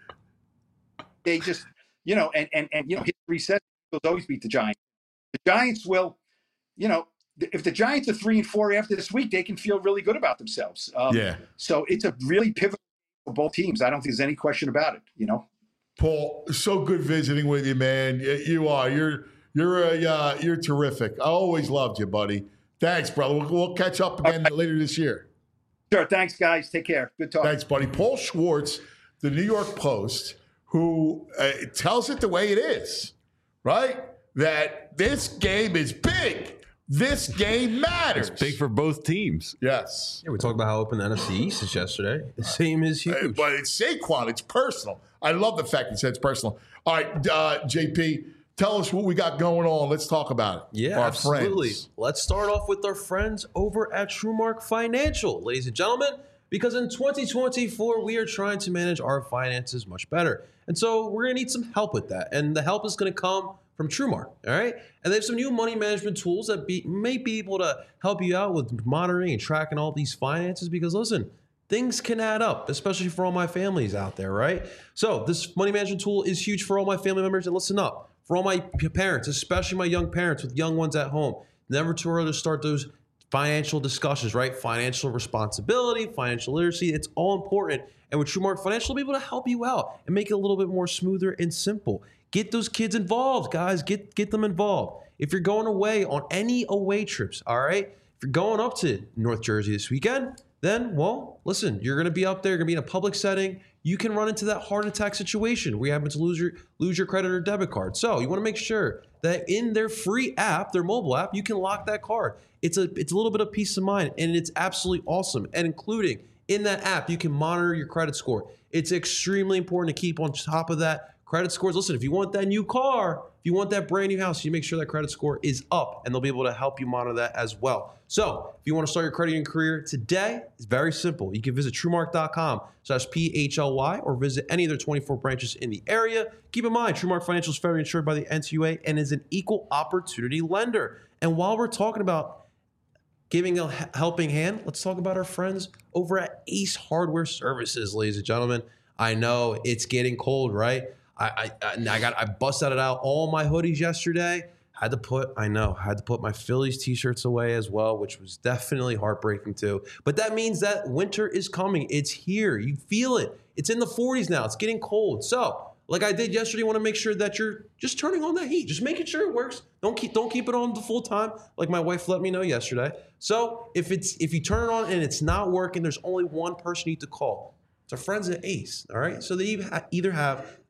they just, you know, and and and you know, history says they'll always beat the Giants. The Giants will, you know, if the Giants are three and four after this week, they can feel really good about themselves. Um, yeah. So it's a really pivotal for both teams. I don't think there's any question about it. You know. Paul, so good visiting with you, man. Y- You are. You're you're a, uh, you're terrific. I always loved you, buddy. Thanks, brother. We'll, we'll catch up again later this year. Sure. Thanks, guys. Take care. Good talk. Thanks, buddy. Paul Schwartz, the New York Post, who uh, tells it the way it is, right? That this game is big. This game matters. It's big for both teams. Yes. Yeah, we talked about how open the N F C East is yesterday. The same is Uh, huge. But it's Saquon. It's personal. I love the fact he said it's personal. All right, uh, J P, tell us what we got going on. Let's talk about it. Yeah, Our absolutely. friends. Let's start off with our friends over at TrueMark Financial, ladies and gentlemen, because in twenty twenty-four, we are trying to manage our finances much better. And so we're going to need some help with that. And the help is going to come from TrueMark, all right? And they have some new money management tools that be, may be able to help you out with monitoring and tracking all these finances because, listen, things can add up, especially for all my families out there, right? So this money management tool is huge for all my family members. And listen up, for all my p- parents, especially my young parents with young ones at home, never too early to start those financial discussions, right? Financial responsibility, financial literacy, it's all important. And with TrueMark Financial, we'll be able to help you out and make it a little bit more smoother and simple. Get those kids involved, guys. Get get them involved. If you're going away on any away trips, all right? If you're going up to North Jersey this weekend, then, well, listen, you're going to be up there, you're going to be in a public setting. You can run into that heart attack situation where you happen to lose your lose your credit or debit card. So you want to make sure that in their free app, their mobile app, you can lock that card. It's a it's a little bit of peace of mind, and it's absolutely awesome. And including in that app, you can monitor your credit score. It's extremely important to keep on top of that. Credit scores, listen, if you want that new car, if you want that brand new house, you make sure that credit score is up, and they'll be able to help you monitor that as well. So if you want to start your credit union career today, it's very simple. You can visit TrueMark.com slash P H L Y or visit any of their twenty-four branches in the area. Keep in mind, TrueMark Financial is federally insured by the N C U A and is an equal opportunity lender. And while we're talking about giving a helping hand, let's talk about our friends over at Ace Hardware Services, ladies and gentlemen. I know it's getting cold, right? I I, I got I busted out all my hoodies yesterday. Had to put, I know, had to put my Phillies t-shirts away as well, which was definitely heartbreaking too. But that means that winter is coming. It's here. You feel it. It's in the forties now. It's getting cold. So, like I did yesterday, you want to make sure that you're just turning on that heat. Just making sure it works. Don't keep don't keep it on the full time, like my wife let me know yesterday. So if it's if you turn it on and it's not working, there's only one person you need to call. It's our friends at Ace. All right. So they either have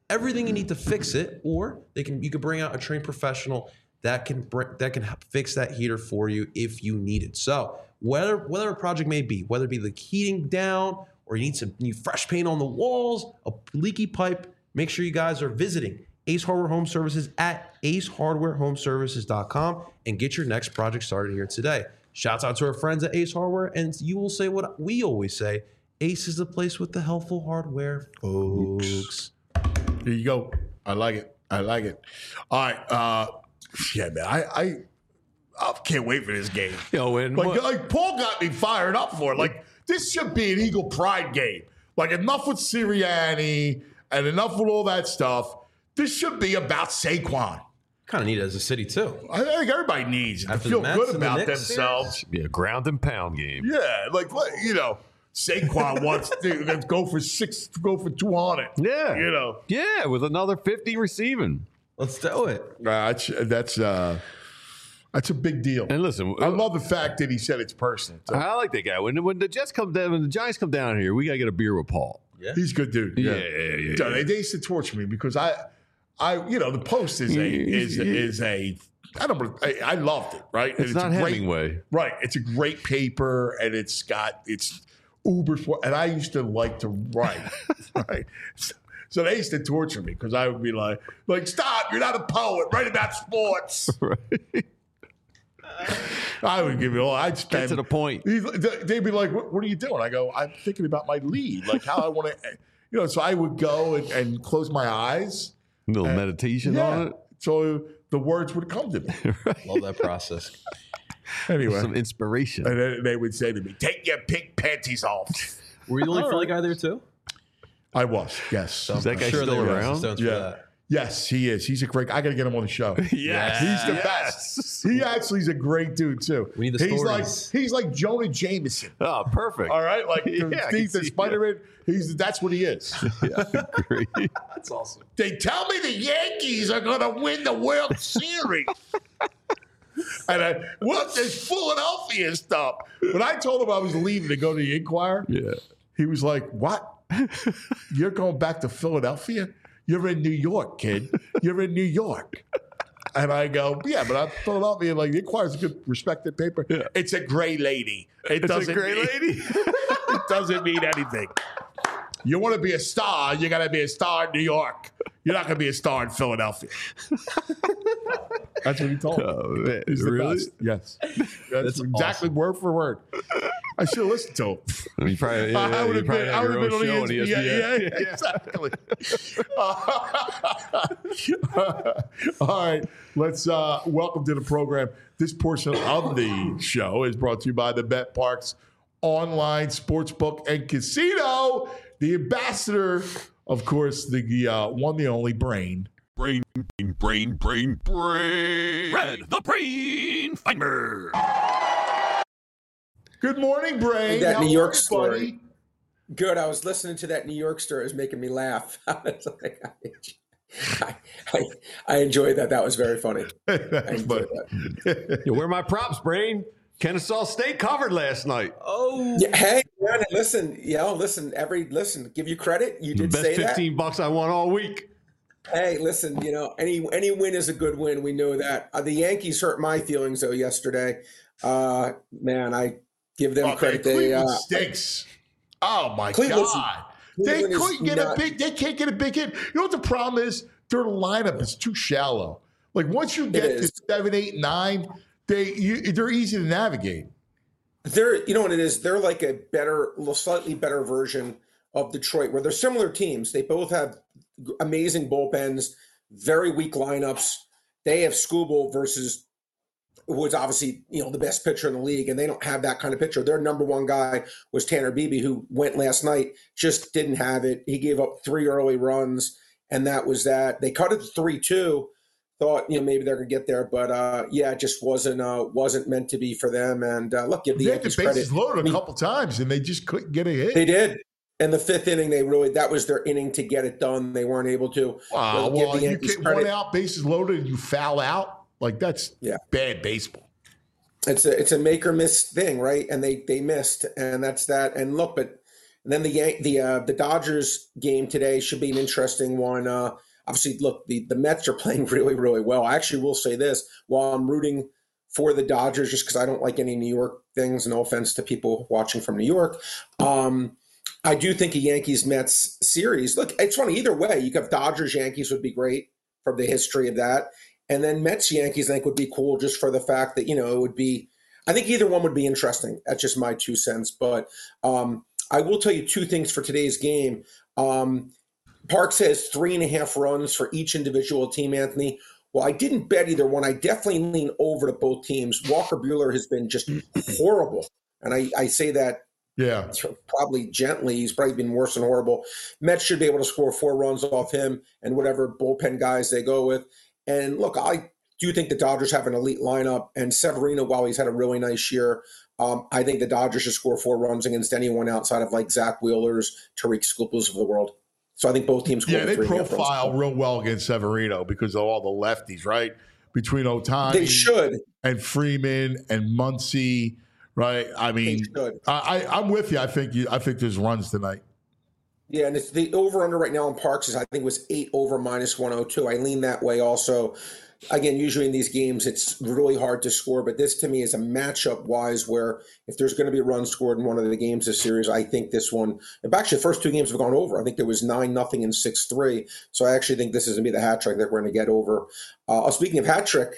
everything you need to fix it, or they can you can bring out a trained professional that can bring, that can help fix that heater for you if you need it. So whether whether a project may be, whether it be the heating down or you need some new fresh paint on the walls, a leaky pipe, make sure you guys are visiting Ace Hardware Home Services at ace hardware home services dot com and get your next project started here today. Shouts out to our friends at Ace Hardware, and you will say what we always say: Ace is the place with the helpful hardware, folks. Here you go. I like it. I like it. All right. Uh, yeah, man. I, I I can't wait for this game. Yo, and Like, what- like Paul got me fired up for it. Like, this should be an Eagle Pride game. Like, enough with Sirianni and enough with all that stuff. This should be about Saquon. Kind of need it as a city too. I think everybody needs it to After feel the Mets good and the about Knicks themselves. be a ground and pound game. Yeah, like what you know, Saquon wants to go for six, go for two hundred. Yeah. you know, Yeah, with another fifty receiving. Let's do it. uh, that's that's uh, that's a big deal. And listen, I love the fact that he said it's personal. So I like that guy. When when the Jets come down, when the Giants come down here, we gotta get a beer with Paul. Yeah. he's a good dude. Yeah, yeah, yeah, So yeah. They, they used to torture me because I, I, you know, the Post is a is is a. I don't. I, I loved it. Right. It's, And not a great, Hemingway. Right. It's a great paper, and it's got it's uber. And I used to like to write. Right. So, so they used to torture me because I would be like, like, stop! You're not a poet. Write about sports. Right. I would give you all. I'd spend Get to the point. He's- They'd be like, what, what are you doing? I go, I'm thinking about my lead, like how I want to, you know. So I would go and, and close my eyes. A little meditation Yeah. on it. So the words would come to me. Love that process. Anyway, Some inspiration. and then they would say to me, "Take your pink panties off." Were you the only Philly guy there too? I was, yes, Is that guy Sure, still they were around? Stones for yeah, that. yes, he is. He's a great. I got to get him on the show. Yes. He's the Yes. best. He actually is a great dude too. We need the he's stories. like he's like Jonah Jameson. Oh, perfect. All right, like Yeah, I the, can the, the see Spider-Man. He's that's what he is. Great. That's awesome. They tell me the Yankees are going to win the World Series. And I, what's this Philadelphia stuff? When I told him I was leaving to go to the Inquirer, Yeah. he was like, "What? You're going back to Philadelphia? You're in New York, kid. You're in New York." And I go, "Yeah, but I'm Philadelphia. Like the Inquirer's a good, respected paper. Yeah. It's a gray lady. It It's a doesn't gray mean, lady. it doesn't mean anything. You want to be a star, you got to be a star in New York. You're not going to be a star in Philadelphia." That's what he told me. Oh, man. He's the Really? best. Yes. That's, That's exactly word for word. I should have listened to him. You probably, yeah, I would you have probably been, had I would your have been own on show E S P N. Yeah, yeah, exactly. All right, let's uh, welcome to the program. This portion of the show is brought to you by the Bet Parks Online Sportsbook and Casino. The ambassador, of course, the uh, one, the only Brain. Brain, brain, brain, brain. Red, the brain finder. Good morning, Brain. That How New are York you, story. buddy? Good. I was listening to that New York story. It was making me laugh. I, was like, I, I, I enjoyed that. That was very funny. I That's enjoyed funny. that. Yeah, where are my props, Brain? Kennesaw State covered last night. Oh, Yeah, hey, man, listen, you know, listen, every, listen, give you credit. You The did best say fifteen bucks I won all week. that. Hey, listen, you know, any any win is a good win. We know that. Uh, the Yankees hurt my feelings, though, yesterday. Uh, man, I give them Okay, credit. They, Cleveland uh, stinks. Oh my Cleveland's- God! They Cleveland is couldn't get a not- big. They can't get a big hit. You know what the problem is? Their lineup is too shallow. Like once you get to is. seven, eight, nine, they you, they're easy to navigate. They're, you know what it is? They're like a better, slightly better version of Detroit, where they're similar teams. They both have amazing bullpens, very weak lineups. They have Skubal versus who was obviously, you know, the best pitcher in the league, and they don't have that kind of pitcher. Their number one guy was Tanner Beebe, who went last night, just didn't have it. He gave up three early runs, and that was that. They cut it to three two. Thought, you know, maybe they're gonna get there, but uh, yeah, it just wasn't uh, wasn't meant to be for them. And uh, look, give the They had the Yankees credit. bases loaded I a mean, couple times, and they just couldn't get a hit. They did. And the fifth inning, they really that was their inning to get it done. They weren't able to. Wow, Well, give well, the you Yankees get one credit. out, bases loaded, and you foul out. Like that's Yeah. bad baseball. It's a it's a make or miss thing, right? And they they missed, and that's that. And look, but And then the Yan- the uh, the Dodgers game today should be an interesting one. Uh, obviously, look, the, the Mets are playing really, really well. I actually will say this, while I'm rooting for the Dodgers, just because I don't like any New York things, no offense to people watching from New York, um, I do think a Yankees-Mets series, look, it's funny, either way, you could have Dodgers-Yankees would be great from the history of that. And then Mets-Yankees, I think, would be cool just for the fact that, you know, it would be, I think either one would be interesting. That's just my two cents. But um, I will tell you two things for today's game. Um, Parks has three and a half runs for each individual team, Anthony. Well, I didn't bet either one. I definitely lean over to both teams. Walker Buehler has been just horrible. And I, I say that Yeah. probably gently. He's probably been worse than horrible. Mets should be able to score four runs off him and whatever bullpen guys they go with. And look, I do think the Dodgers have an elite lineup. And Severino, while he's had a really nice year, um, I think the Dodgers should score four runs against anyone outside of like Zach Wheeler's, Tariq Scooples of the world. So I think both teams. Yeah, they three profile real well against Severino because of all the lefties, right? Between Ohtani, they should, and Freeman and Muncy, right? I mean, I, I, I'm with you. I think you. I think there's runs tonight. Yeah, and it's the over under right now in Parks is I think was eight over minus one oh two. I lean that way also. Again, usually in these games, it's really hard to score, but this to me is a matchup wise where if there's going to be a run scored in one of the games this series, I think this one, actually the first two games have gone over. I think there was nine nothing and six three. So I actually think this is going to be the hat trick that we're going to get over. Uh, speaking of hat trick,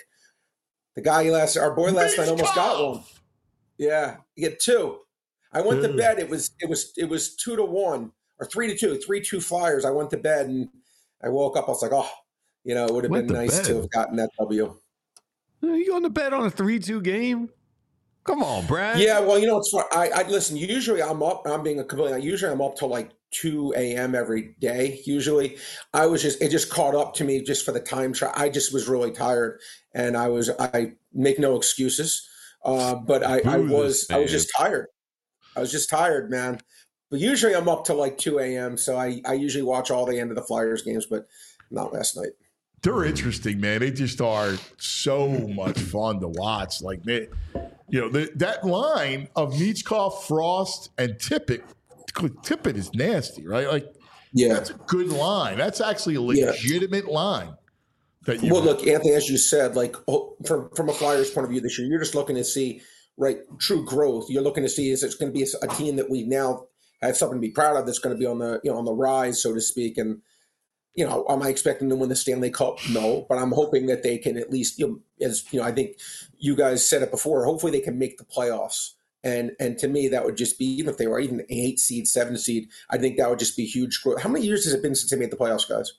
the guy last, our boy last night almost got one. Yeah, you get two. I went to bed. It was, it was, it was two to one or three to two, three, two Flyers. I went to bed and I woke up. I was like, oh, you know, it would have been nice bed. to have gotten that W. Are you going to bed on a three two game? Come on, Brad. Yeah, well, you know, it's fun. I, I listen. Usually, I'm up. I'm being a completely. Usually, I'm up till like two a.m. every day. Usually, I was just. It just caught up to me just for the time. Tra- I just was really tired, and I was. I make no excuses, uh, but I, I was. I was just tired. I was just tired, man. But usually, I'm up till like two a.m. So I. I usually watch all the end of the Flyers games, but not last night. They're interesting, man. They just are so much fun to watch. Like, man, you know, the, that line of Michkov, Frost, and Tippett. Tippett is nasty, right? Like, yeah, that's a good line. That's actually a legitimate yeah. line. That you well, look, Anthony, as you said, like from from a Flyers point of view this year, you're just looking to see right true growth. You're looking to see is it's going to be a, a team that we now have something to be proud of. That's going to be on the you know on the rise, so to speak, and. You know, am I expecting them to win the Stanley Cup? No, but I'm hoping that they can at least, you know, as you know, I think you guys said it before. Hopefully, they can make the playoffs, and and to me, that would just be even if they were even an eight seed, seven seed. I think that would just be huge growth. How many years has it been since they made the playoffs, guys?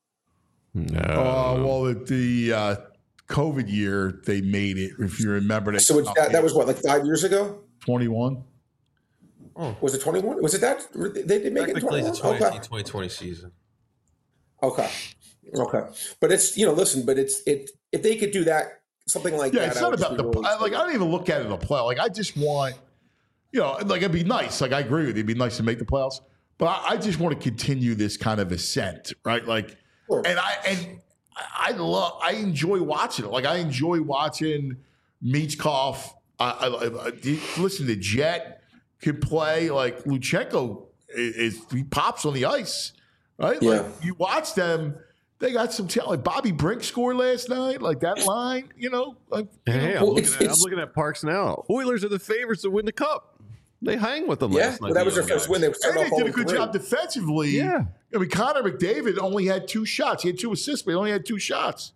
No. Uh, well, the, the uh, COVID year they made it. If you remember, they so that, that was what like five years ago. twenty-one Oh, was it twenty-one? Was it that they did make it twenty-one? The twenty nineteen twenty twenty season. Okay. Okay. But it's, you know, listen, but it's, it, if they could do that, something like yeah, that. Yeah, it's not about the, really I, like, I don't even look at it in the play. Like, I just want, you know, like, it'd be nice. Like, I agree with you. It'd be nice to make the playoffs. But I, I just want to continue this kind of ascent, right? Like, sure. and I, and I love, I enjoy watching it. Like, I enjoy watching Michkov. I, I, I, listen to Jet can play. Like, Luchenko is, is, he pops on the ice. Right? Yeah. Like you watch them, they got some talent. Like Bobby Brink scored last night, like that line, you know. Like, hey, you know. I'm, well, looking at, I'm looking at Parks now. Oilers are the favorites to win the Cup. They hang with them yeah, last night. Well, that was their first guys. win. They, and they did a good three. job defensively. Yeah. I mean, Connor McDavid only had two shots. He had two assists, but he only had two shots.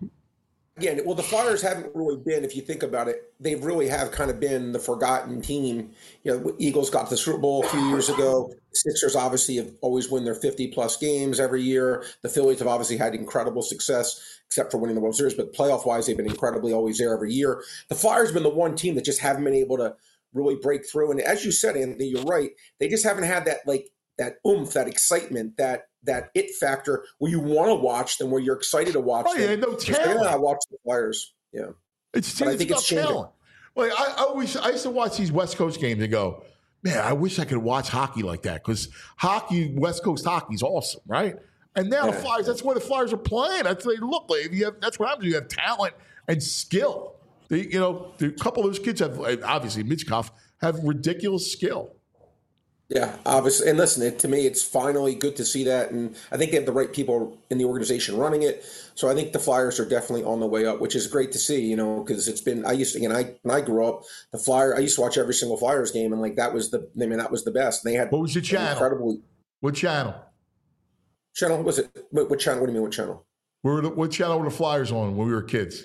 Again, well, the Flyers haven't really been, if you think about it, they really have kind of been the forgotten team. You know, Eagles got to the Super Bowl a few years ago. Sixers obviously have always win their fifty-plus games every year. The Phillies have obviously had incredible success, except for winning the World Series. But playoff-wise, they've been incredibly always there every year. The Flyers have been the one team that just haven't been able to really break through. And as you said, Anthony, you're right. They just haven't had that, like, that oomph, that excitement, that that it factor where you want to watch them, where you're excited to watch oh, them. Yeah, no talent. I watch the Flyers. Yeah, it's, it's I think it's changing. Talent. Like I, I always, I used to watch these West Coast games and go, man, I wish I could watch hockey like that because hockey, West Coast hockey is awesome, right? And now yeah. the Flyers, that's where the Flyers are playing. That's what they look like. If you have, that's what happens. You have talent and skill. They, you know, a couple of those kids have obviously Michkov have ridiculous skill. Yeah, obviously. And listen, it, to me, it's finally good to see that. And I think they have the right people in the organization running it. So I think the Flyers are definitely on the way up, which is great to see, you know, because it's been, I used to, again, I, when I grew up, the Flyer, I used to watch every single Flyers game. And like, that was the, I mean, that was the best. They had, what was the channel? Incredible. What channel? Channel, was it? What, what channel? What do you mean, what channel? Where were the, what channel were the Flyers on when we were kids?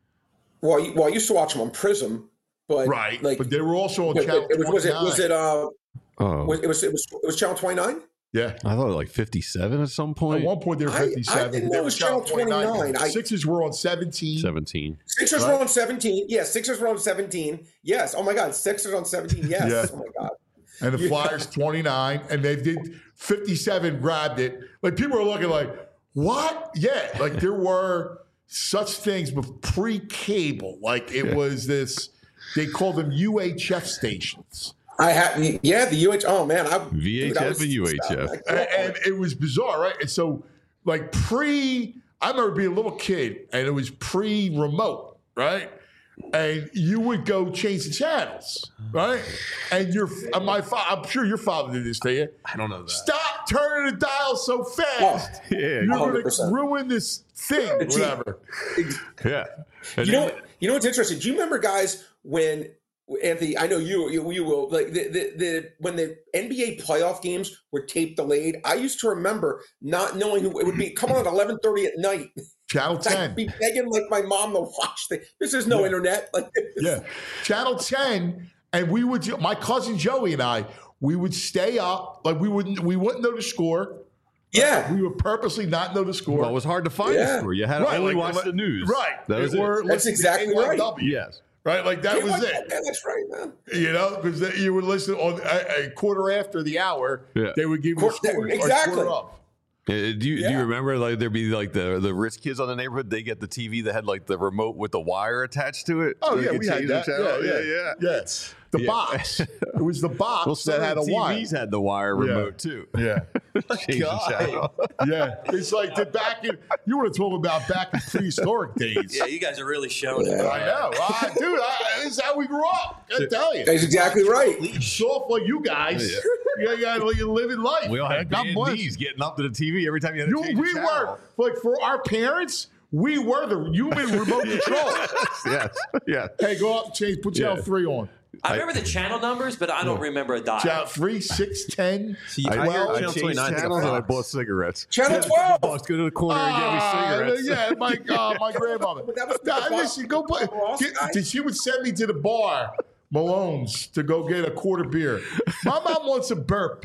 Well, I, well, I used to watch them on Prism, but right. like, but they were also on but, channel it was, was it, was it, uh, Oh, was, it was, it was, it was channel twenty-nine? Yeah. I thought like fifty-seven at some point. At one point they were I- I fifty-seven. didn't know They it were was channel twenty-nine. I- Sixers were on seventeen. seventeen. Sixers Right. were on seventeen. Yes, Sixers were on seventeen. Yes. Oh my God, Sixers on seventeen. Yes. Yeah. Oh my God. And the Flyers twenty-nine, and they did fifty-seven, grabbed it. Like people are looking like, what? Yeah, like there were such things with pre-cable. Like it was this, they called them U H F stations. I had, yeah, the U H. Oh man, I V H F dude, I was- and U H F. like, And, and it was bizarre, right? And so, like pre, I remember being a little kid, and it was pre-remote, right? And you would go change the channels, right? And your, uh, my, fa- I'm sure your father did this to you. I don't know that. Stop turning the dial so fast. Yeah, You're going one hundred to percent. ruin this thing, whatever. yeah. And You know, then- what- you know what's interesting? Do you remember, guys, when Anthony? I know you, you, you will. Like the, the, the when the N B A playoff games were tape delayed, I used to remember not knowing who it would be. Come on at eleven thirty at night. Channel ten. I'd be begging like my mom to watch the. This is no Yeah. internet. Like Yeah. Channel ten, and we would, my cousin Joey and I, we would stay up, like we wouldn't, we wouldn't know the score. yeah. We would purposely not know the score. well, it was hard to find Yeah. the score. You had to Right, only like- watch the news. Right. That was It it. were- That's listen to exactly K Y right. W, Yes. Right? Like that was Yeah, it. that's right, man. You know, because you would listen on a, a quarter after the hour, Yeah. they would give you Quar- the score. or exactly. quarter up. Uh, Do you do you Yeah. remember like there'd be like the the rich kids on the neighborhood? They get the T V that had like the remote with the wire attached to it. Oh, They yeah, could we had change the that. channel. Yeah, yeah, yeah. yeah. Yes. The Yeah. box. It was the box Well, that some had a of the wire. T Vs had the wire Yeah. remote too. Yeah. Change the channel. Yeah. It's like the back in, you want to talk about back in prehistoric days. Yeah, you guys are really showing it. I know. Ah, dude, I, this is how we grew up. I tell you. That's exactly right. Soft like you guys. Yeah, yeah, like you're living life. We all man. had God bad bless. knees getting up to the T V every time you had to You, change we the were, channel. like, for our parents, we were the human remote control. yes, yes. Hey, go up and change, put channel Yeah. three on. I remember the channel numbers, but I don't remember a dial. Channel three, six, ten, See, I, twelve. I, I Channel changed twenty-nine is channels like a and I box. bought cigarettes. Channel Yeah, twelve. Boss, go to the corner and get me Ah, cigarettes. yeah, my uh, my grandmother. But that was the Nah, boss- listen, go play. boss Get, guy. did she would send me to the bar, Malone's, to go get a quarter beer. My mom wants a burp.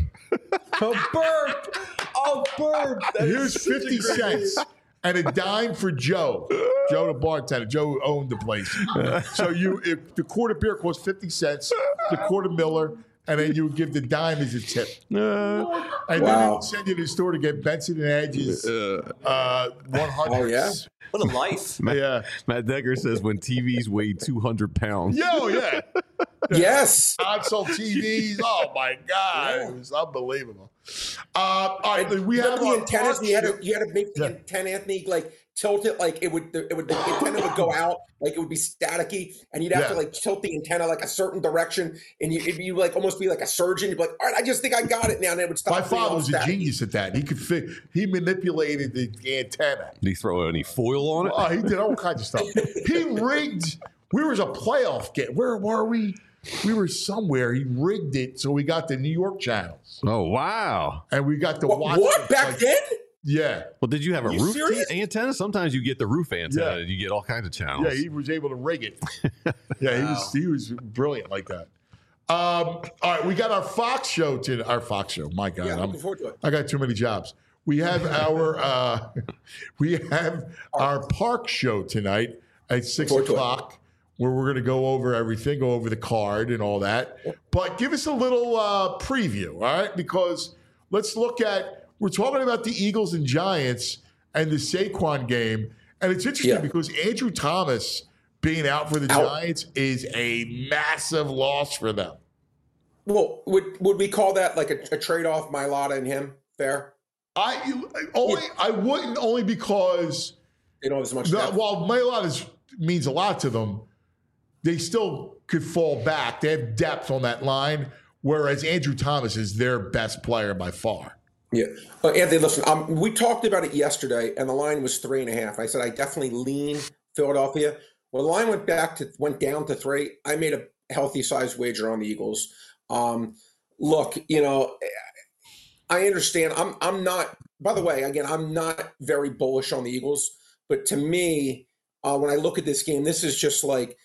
A burp! Oh, burp! That is Here's such a fifty great cents and a dime for Joe. Joe, the bartender. Joe owned the place. So you, if the quarter beer cost fifty cents, the quarter Miller, and then you would give the dime as a tip. And then they Wow. would send you to the store to get Benson and Hedges uh, one hundred. Oh, yeah? What a life. Yeah. Matt Decker says when T Vs weigh two hundred pounds. Yo, yeah. Yes. Console T Vs. Oh my God, it was unbelievable. Uh, all right, we Remember have the our antennas. park You had show- to you had to make the Yeah. antenna, Anthony, like tilt it, like it would. It would the antenna would go out, like it would be staticky, and you'd have to Yeah. like tilt the antenna like a certain direction, and you if you like almost be like a surgeon. You'd be like, all right, I just think I got it now, and it would stop. My being father all was a staticky. genius at that. He could fit. He manipulated the, the antenna. Did he throw any foil on it? Oh, he did all kinds of stuff. He rigged. We was a playoff game. Where were we? We were somewhere. He rigged it so we got the New York channels, Oh wow! and we got to What, watch. what? it, Back like- then? Yeah, Well, did you have a You roof serious? t- antenna? Sometimes you get the roof antenna, Yeah. and you get all kinds of channels. yeah. He was able to rig it. Yeah, he was. He was brilliant like that. Um, all right, we got our Fox show to our Fox show. My God, Yeah, I'm, looking forward to it. I got too many jobs. We have our uh, we have our park show tonight at six Forward to it. o'clock, where we're going to go over everything, go over the card and all that. But give us a little uh, preview, all right? Because let's look at we're talking about the Eagles and Giants and the Saquon game, and it's interesting Yeah. because Andrew Thomas being out for the Out. Giants is a massive loss for them. Well, would would we call that like a, a trade off, Mailata and him? Fair. I only I wouldn't only because They don't have as much. the, depth. while Mailot is means a lot to them, they still could fall back. They have depth on that line, whereas Andrew Thomas is their best player by far. Yeah. But Anthony, listen, um, we talked about it yesterday, and the line was three and a half. I said I definitely lean Philadelphia. When the line went back to went down to three, I made a healthy size wager on the Eagles. Um, look, you know, I understand. I'm I'm not. By the way, again, I'm not very bullish on the Eagles. But to me, uh, when I look at this game, this is just like.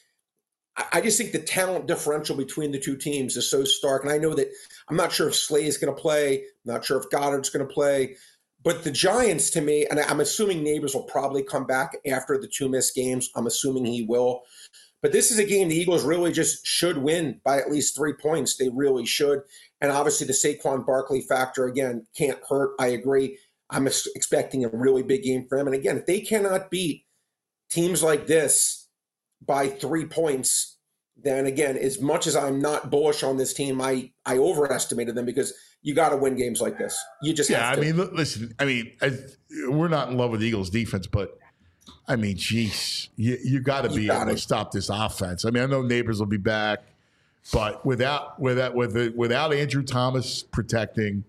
I just think the talent differential between the two teams is so stark. And I know that I'm not sure if Slay is going to play. I'm not sure if Goddard's going to play. But the Giants, to me, and I'm assuming Neighbors will probably come back after the two missed games. I'm assuming he will. But this is a game the Eagles really just should win by at least three points. They really should. And obviously the Saquon Barkley factor, again, can't hurt. I agree. I'm expecting a really big game for him. And again, if they cannot beat teams like this by three points, then again, as much as I'm not bullish on this team, I, I overestimated them because you got to win games like this. You just yeah. have to. I mean, look, listen. I mean, I, we're not in love with the Eagles' defense, but I mean, geez, you you got to be able to stop this offense. I mean, I know Neighbors will be back, but without without with without Andrew Thomas protecting.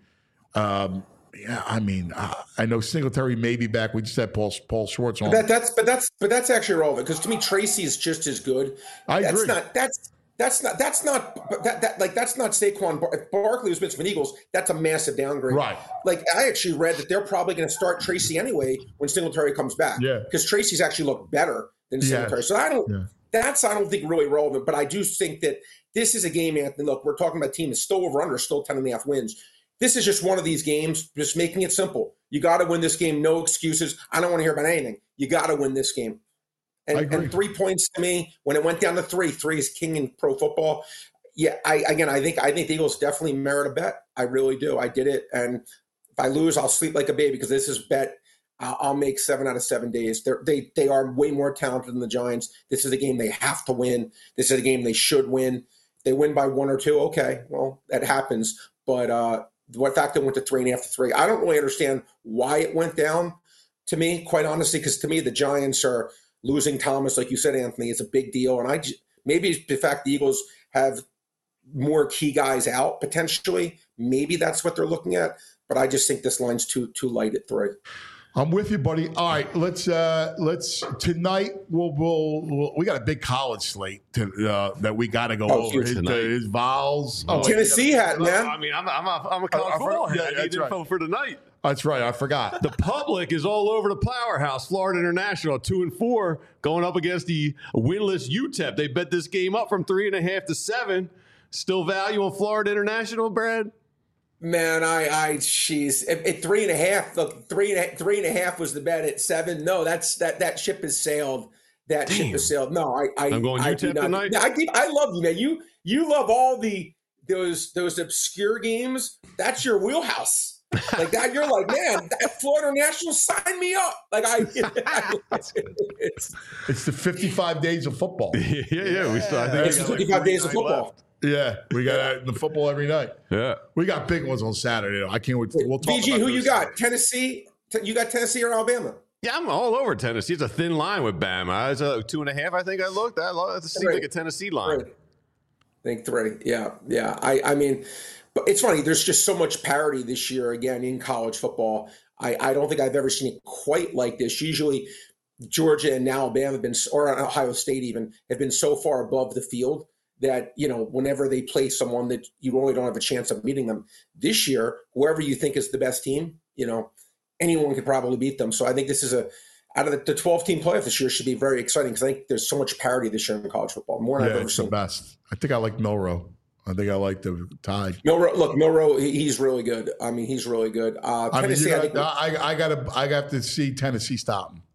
Um, Yeah, I mean, uh, I know Singletary may be back. We just had Paul Paul Schwartz on. That, that's but that's but that's actually relevant because to me Tracy is just as good. I that's agree. not that's that's not that's not that that like that's not Saquon. Bar- if Barkley was Pittsburgh Eagles, that's a massive downgrade. Right. Like I actually read that they're probably going to start Tracy anyway when Singletary comes back. Yeah. Because Tracy's actually looked better than Yeah. Singletary. So I don't. Yeah. That's I don't think really relevant. But I do think that this is a game, Anthony. Look, we're talking about a team that's still over under, still ten and a half wins. This is just one of these games, just making it simple. You got to win this game. No excuses. I don't want to hear about anything. You got to win this game. And, and three points to me, when it went down to three, three is king in pro football. Yeah, I again, I think I think the Eagles definitely merit a bet. I really do. I did it, and if I lose, I'll sleep like a baby because this is bet. Uh, I'll make seven out of seven days. They're, they they are way more talented than the Giants. This is a game they have to win. This is a game they should win. If they win by one or two, okay, well that happens. But uh, the fact that it went to three and a half to three, I don't really understand why it went down. To me, quite honestly, because to me the Giants are losing Thomas, like you said, Anthony. It's a big deal, and I just, maybe the fact the Eagles have more key guys out potentially. Maybe that's what they're looking at. But I just think this line's too too light at three. I'm with you, buddy. All right, let's uh, let's tonight. We'll, we'll, we'll we got a big college slate to, uh, that we got to go Oh, over. His, uh, his Vols. Oh, Tennessee hat, man. I mean, I'm a, I'm a, I'm a college I football forgot- head. yeah, I need that's right. info for tonight. That's right. I forgot. The public is all over the powerhouse, Florida International, two and four, going up against the winless U T E P. They bet this game up from three and a half to seven. Still value on Florida International, Brad? Man, I, I, jeez, at, at three and a half, look, three and a, three and a half was the bet at seven. No, that's that that ship has sailed. That Damn. ship has sailed. No, I, I, I'm going I U T E P do not- tonight? I, keep, I love you, man. You, you love all the those those obscure games. That's your wheelhouse. Like that, you're like, man, that Florida National, sign me up. Like I, it's, it's, It's the fifty-five days of football. yeah, yeah. We still, I think it's we got like fifty-five days of forty-nine football. left. Yeah, we got the football every night. Yeah. We got big ones on Saturday. Though. I can't wait. We'll talk B G, about who those you got? Saturday. Tennessee. T- You got Tennessee or Alabama? Yeah, I'm all over Tennessee. It's a thin line with Bama. It's a two and a half, I think I looked. That lo- seems Right. like a Tennessee line. Three. I think three. Yeah, yeah. I, I mean, but it's funny. There's just so much parity this year again in college football. I, I don't think I've ever seen it quite like this. Usually, Georgia and Alabama have been, or Ohio State even, have been so far above the field that, you know, whenever they play someone that you really don't have a chance of beating them. This year, whoever you think is the best team, you know, anyone could probably beat them. So I think this is a, out of the twelve-team playoff this year should be very exciting because I think there's so much parity this year in college football, more than Yeah, I've ever it's the seen. best. I think I like Milrow. I think I like the Tide. Milrow, look, Milrow, he- he's really good. I mean, he's really good. Uh, I mean, Tennessee, you I got, think, I, I got to, I got to see Tennessee stop them.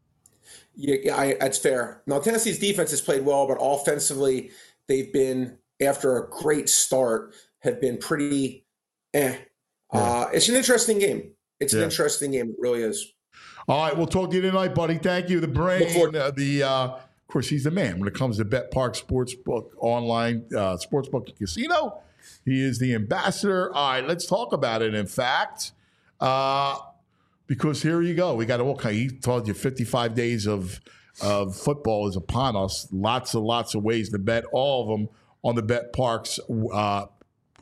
yeah, yeah, I, that's fair. Now, Tennessee's defense has played well, but offensively, they've been, after a great start, have been pretty eh. Uh, it's an interesting game. It's an Yeah. interesting game. It really is. All right, we'll talk to you tonight, buddy. Thank you. The Look brain, forward- uh, the uh, of course, he's the man when it comes to Bet Park Sportsbook online uh, sportsbook and casino. He is the ambassador. All right, let's talk about it. In fact, uh, because here you go, we got all kind. He told you fifty-five days of of football is upon us. Lots and lots of ways to bet. All of them on the Bet Parks uh,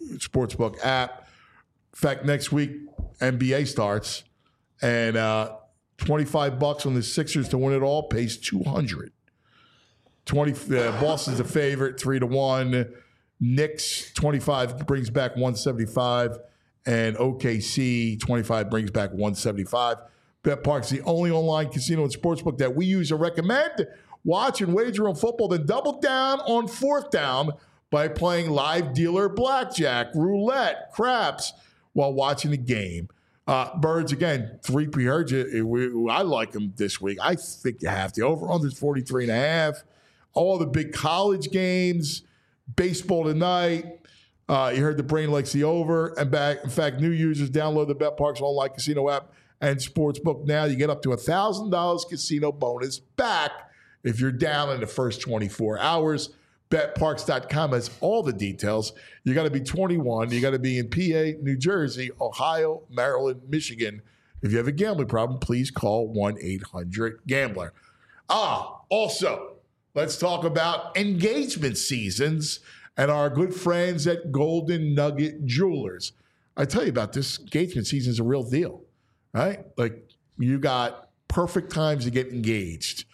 Sportsbook app. In fact, next week, N B A starts, and uh, twenty-five bucks on the Sixers to win it all pays two hundred. twenty uh, Boston's a favorite, three to one. Knicks twenty-five brings back one seventy-five, and O K C twenty-five brings back one seventy-five. BetPark's the only online casino and sportsbook that we use and recommend. Watch and wager on football, then double down on fourth down by playing live dealer blackjack, roulette, craps while watching the game. Uh, Birds, again, three P heard you. We, I like them this week. I think you have to. Over-under is forty-three and a half. All the big college games, baseball tonight. Uh, you heard the brain likes the over. And back, in fact, new users download the BetParks online casino app and sportsbook now. You get up to one thousand dollars casino bonus back if you're down in the first twenty-four hours. Bet Parks dot com has all the details. You got to be twenty-one. You got to be in P A, New Jersey, Ohio, Maryland, Michigan. If you have a gambling problem, please call one eight hundred gambler. Ah, also, let's talk about engagement seasons and our good friends at Golden Nugget Jewelers. I tell you about this, engagement season is a real deal, right? Like, you got perfect times to get engaged.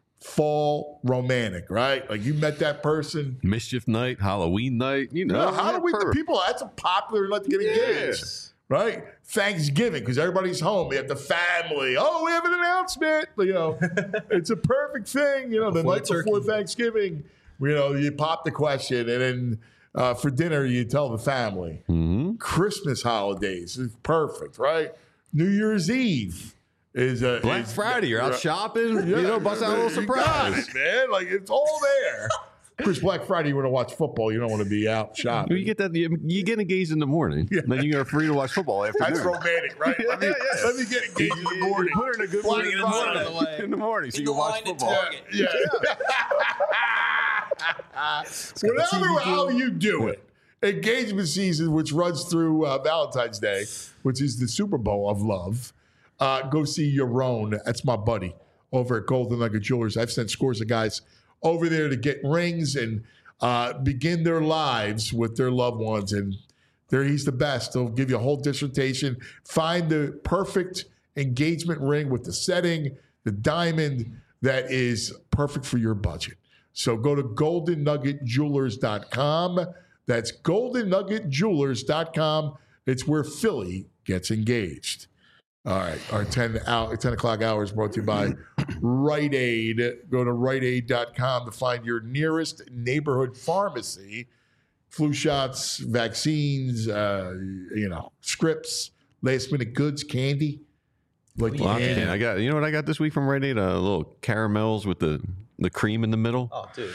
Fall romantic, right? Like, you met that person. Mischief night, Halloween night, you know. No, Halloween, the people, that's a popular night to get engaged, Yes. right? Thanksgiving, because everybody's home. You have the family. Oh, we have an announcement. You know, it's a perfect thing. You know, the Before night the before turkey. Thanksgiving, you know, you pop the question, and then uh, for dinner, you tell the family. Mm-hmm. Christmas holidays is perfect, right? New Year's Eve is a Black is- Friday, you're out right. shopping, Yeah, you know, bust out a little you got surprise. it, man. Like, it's all there. Of course, Black Friday, you want to watch football. You don't want to be out shopping. You get that, you, you get engaged in the morning, Yeah. then you're free to watch football after. That's romantic, right? Let me, Yeah, yeah. let me get engaged in the morning. Put her in a good Black mood in the Friday. morning. In the morning, so In you the can watch line at football. Target. Yeah. Whatever, how you do it. Engagement season, which runs through uh, Valentine's Day, which is the Super Bowl of love. Uh, go see Yaron. That's my buddy over at Golden Nugget Jewelers. I've sent scores of guys over there to get rings and uh, begin their lives with their loved ones. And there, he's the best. He'll give you a whole dissertation. Find the perfect engagement ring with the setting, the diamond that is perfect for your budget. So go to golden nugget jewelers dot com. That's golden nugget jewelers dot com. It's where Philly gets engaged. All right, our ten, hour, ten o'clock hour is brought to you by Rite Aid. Go to rite aid dot com to find your nearest neighborhood pharmacy. Flu shots, vaccines, uh, you know, scripts, last minute goods, candy. Like Well, candy. I got, you know what I got this week from Rite Aid? Uh, little caramels with the, the cream in the middle. Oh, dude.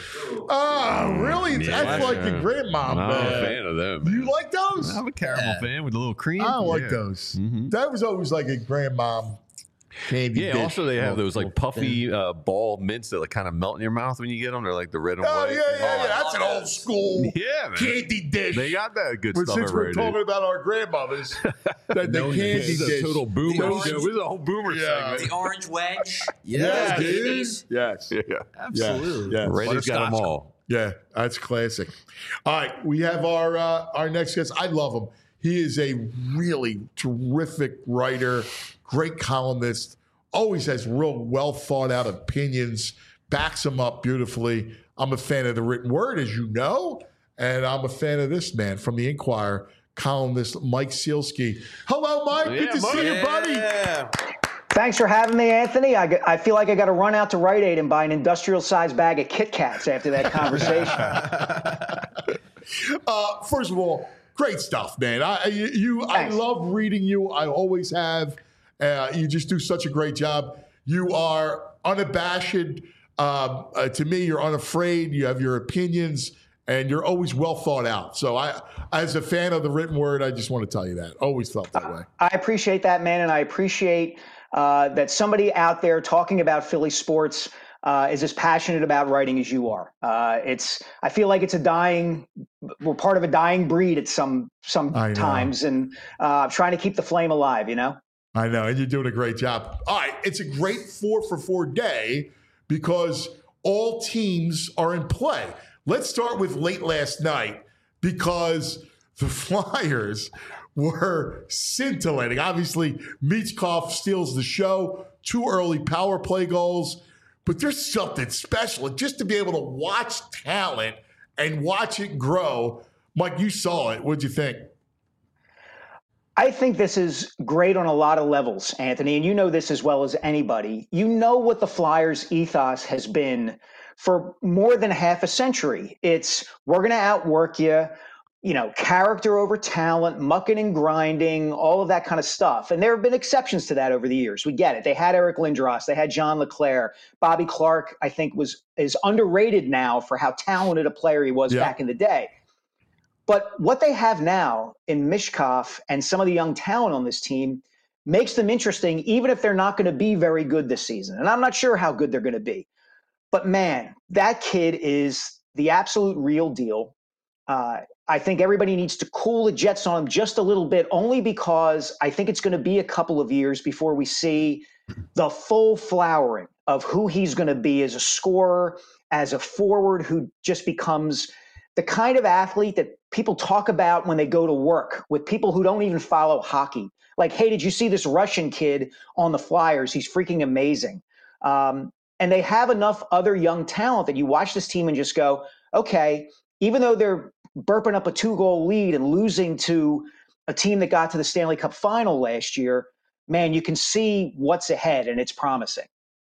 Oh, really? That's Yeah. like the grandma. I'm a man. fan of them. You like those? I'm a caramel fan with the little cream. I don't like Yeah. those. Mhm. That was always like a grandmom candy. Yeah, dish. also they have those like Oh, puffy uh, ball mints that like kind of melt in your mouth when you get them. They're like the red and Oh, white. yeah, yeah, yeah. That's an old school Yeah, man. candy dish. They got that good But stuff since we're already. talking about our grandmothers, that the No, candy This is dish. a total boomer orange- show. This is a whole boomer Yeah. segment. The orange wedge. Yeah, dude. dude. Yes. Yeah, Absolutely. Yeah. Rite Aid's got them all. Yeah, that's classic. All right, we have our uh, our next guest. I love him. He is a really terrific writer, great columnist, always has real well thought out opinions, backs them up beautifully. I'm a fan of the written word, as you know, and I'm a fan of this man from the Inquirer, columnist Mike Sealski. Hello, Mike. Good Yeah, to Mike. see you, buddy. Yeah. Thanks for having me, Anthony. I, g- I feel like I got to run out to Rite Aid and buy an industrial-sized bag of Kit Kats after that conversation. Uh, first of all, great stuff, man. I you, you I Thanks. love reading you. I always have. Uh, you just do such a great job. You are unabashed. Um, uh, to me, you're unafraid. You have your opinions, and you're always well thought out. So, I, as a fan of the written word, I just want to tell you that. Always felt that way. I appreciate that, man, and I appreciate uh, that somebody out there talking about Philly sports uh, is as passionate about writing as you are. Uh, it's. I feel like it's a dying. We're part of a dying breed at some some I know. times, and uh, trying to keep the flame alive. You know. I know, and you're doing a great job. All right, it's a great four for four day because all teams are in play. Let's start with late last night because the Flyers were scintillating. Obviously, Michkov steals the show, two early power play goals, but there's something special. Just to be able to watch talent and watch it grow. Mike, you saw it. What'd you think? I think this is great on a lot of levels, Anthony, and you know this as well as anybody. You know what the Flyers' ethos has been for more than half a century. It's, we're going to outwork you, you know, character over talent, mucking and grinding, all of that kind of stuff. And there have been exceptions to that over the years. We get it. They had Eric Lindros. They had John LeClair. Bobby Clark, I think, was is underrated now for how talented a player he was yeah. back in the day. But what they have now in Michkov and some of the young talent on this team makes them interesting, even if they're not going to be very good this season. And I'm not sure how good they're going to be. But, man, that kid is the absolute real deal. Uh, I think everybody needs to cool the jets on him just a little bit, only because I think it's going to be a couple of years before we see the full flowering of who he's going to be as a scorer, as a forward who just becomes the kind of athlete that people talk about when they go to work with people who don't even follow hockey. Like, hey, did you see this Russian kid on the Flyers? He's freaking amazing. Um, and they have enough other young talent that you watch this team and just go, okay, even though they're burping up a two-goal lead and losing to a team that got to the Stanley Cup final last year, man, you can see what's ahead, and it's promising.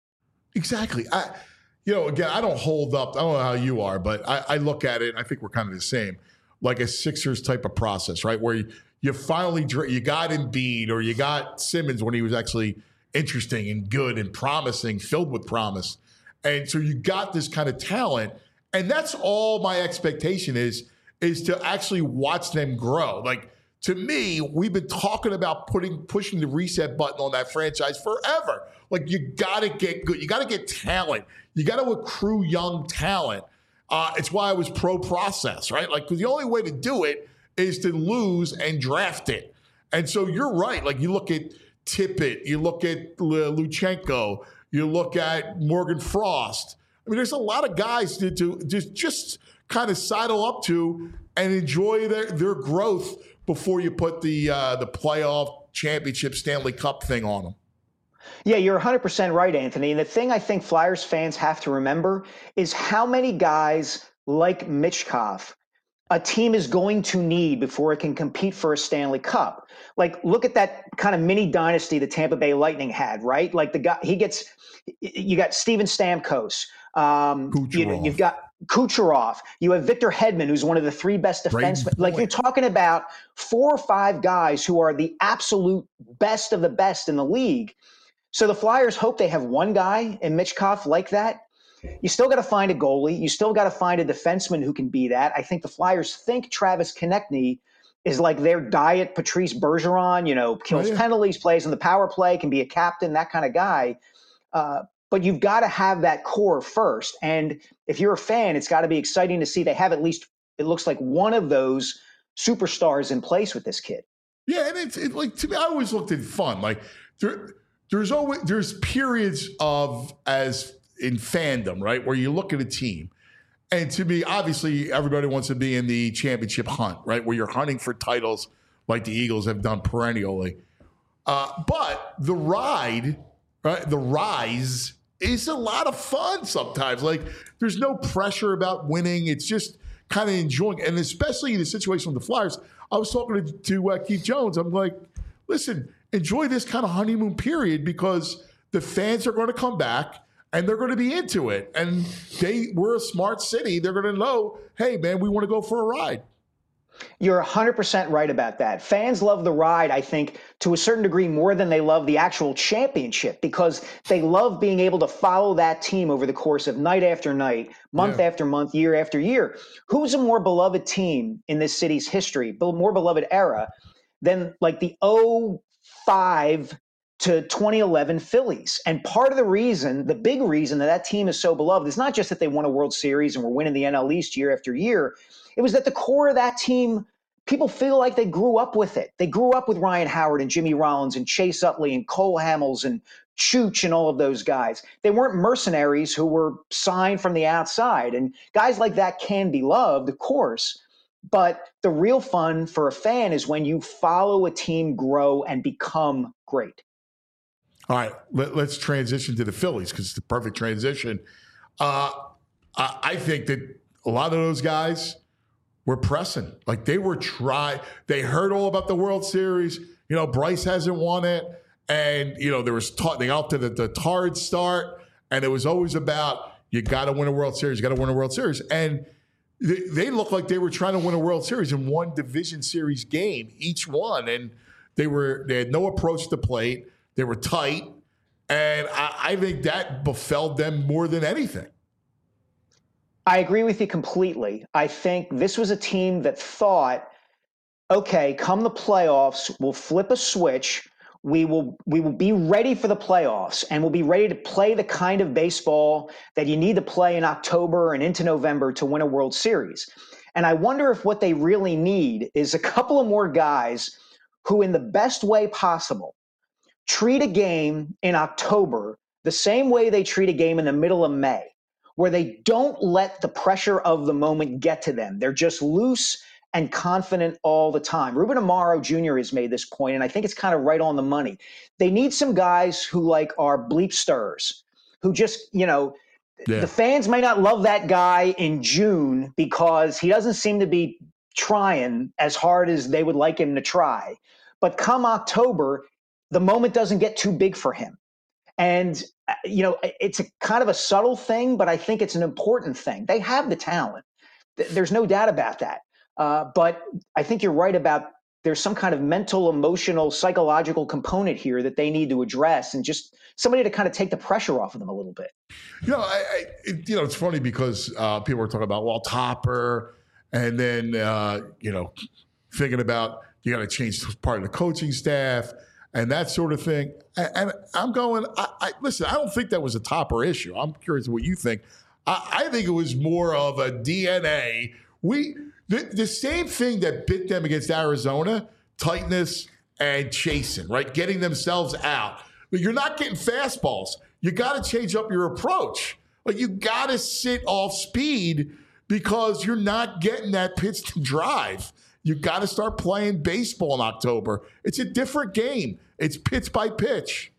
Exactly. I, you know, again, I don't hold up. I don't know how you are, but I, I look at it, and I think we're kind of the same, like a Sixers type of process, right? Where you, you finally, you got Embiid or you got Simmons when he was actually interesting and good and promising, filled with promise. And so you got this kind of talent, and that's all my expectation is, is to actually watch them grow. Like, to me, we've been talking about putting pushing the reset button on that franchise forever. Like, you got to get good. You got to get talent. You got to accrue young talent. Uh, it's why I was pro process, right? Like, because the only way to do it is to lose and draft it. And so you're right. Like, you look at Tippett, you look at Luchenko, you look at Morgan Frost. I mean, there's a lot of guys to, to just just kind of sidle up to and enjoy their, their growth before you put the uh, the playoff championship Stanley Cup thing on them. Yeah, you're one hundred percent right, Anthony. And the thing I think Flyers fans have to remember is how many guys like Michkov a team is going to need before it can compete for a Stanley Cup. Like, look at that kind of mini dynasty the Tampa Bay Lightning had, right? Like, the guy, he gets, you got Steven Stamkos. Um, you, you've got Kucherov. You have Victor Hedman, who's one of the three best defensemen. Like, you're talking about four or five guys who are the absolute best of the best in the league. So the Flyers hope they have one guy in Michkov like that. You still got to find a goalie. You still got to find a defenseman who can be that. I think the Flyers think Travis Konechny is like their diet Patrice Bergeron, you know, kills oh, yeah. penalties, plays on the power play, can be a captain, that kind of guy. Uh, but you've got to have that core first. And if you're a fan, it's got to be exciting to see they have at least, it looks like, one of those superstars in place with this kid. Yeah, and it's it, like, to me, I always looked at fun. Like, there, there's always there's periods of as in fandom, right, where you look at a team, and to me, obviously, everybody wants to be in the championship hunt, right, where you're hunting for titles like the Eagles have done perennially. Uh, but the ride, right, the rise is a lot of fun sometimes. Like, there's no pressure about winning. It's just kind of enjoying, and especially in the situation with the Flyers. I was talking to, to uh, Keith Jones. I'm like, listen, enjoy this kind of honeymoon period because the fans are going to come back and they're going to be into it. And they we're a smart city. They're going to know, hey, man, we want to go for a ride. You're one hundred percent right about that. Fans love the ride, I think, to a certain degree more than they love the actual championship because they love being able to follow that team over the course of night after night, month yeah. after month, year after year. Who's a more beloved team in this city's history, more beloved era than like the oh five to twenty eleven Phillies? And part of the reason, the big reason that that team is so beloved is not just that they won a World Series and were winning the N L East year after year. It was that the core of that team, people feel like they grew up with it. They grew up with Ryan Howard and Jimmy Rollins and Chase Utley and Cole Hamels and Chooch and all of those guys. They weren't mercenaries who were signed from the outside. And guys like that can be loved, of course. But the real fun for a fan is when you follow a team grow and become great. All right, let, let's transition to the Phillies because it's the perfect transition. Uh, I, I think that a lot of those guys were pressing. Like they were trying. They heard all about the World Series. You know, Bryce hasn't won it. And, you know, there was ta- they got off to the, the tarred start. And it was always about, you got to win a World Series. You got to win a World Series. And they, they looked like they were trying to win a World Series in one division series game, each one. And they were they had no approach to the plate. They were tight. And I, I think that befell them more than anything. I agree with you completely. I think this was a team that thought, okay, come the playoffs, we'll flip a switch. We will we will be ready for the playoffs, and we'll be ready to play the kind of baseball that you need to play in October and into November to win a World Series. And I wonder if what they really need is a couple of more guys who, in the best way possible, treat a game in October the same way they treat a game in the middle of May, where they don't let the pressure of the moment get to them. They're just loose and confident all the time. Ruben Amaro Junior has made this point, and I think it's kind of right on the money. They need some guys who like are bleep stirrers, who just, you know, yeah. The fans may not love that guy in June because he doesn't seem to be trying as hard as they would like him to try. But come October, the moment doesn't get too big for him. And, you know, it's a kind of a subtle thing, but I think it's an important thing. They have the talent. There's no doubt about that. Uh, but I think you're right about there's some kind of mental, emotional, psychological component here that they need to address, and just somebody to kind of take the pressure off of them a little bit. You know, I, I it, you know, it's funny because uh, people are talking about, well, Topper, and then, uh, you know, thinking about you got to change part of the coaching staff and that sort of thing. And, and I'm going, I, I, listen, I don't think that was a Topper issue. I'm curious what you think. I, I think it was more of a D N A. We the, the same thing that bit them against Arizona, tightness and chasing, right? Getting themselves out. But you're not getting fastballs. You got to change up your approach. Like you got to sit off speed because you're not getting that pitch to drive. You got to start playing baseball in October. It's a different game. It's pitch by pitch.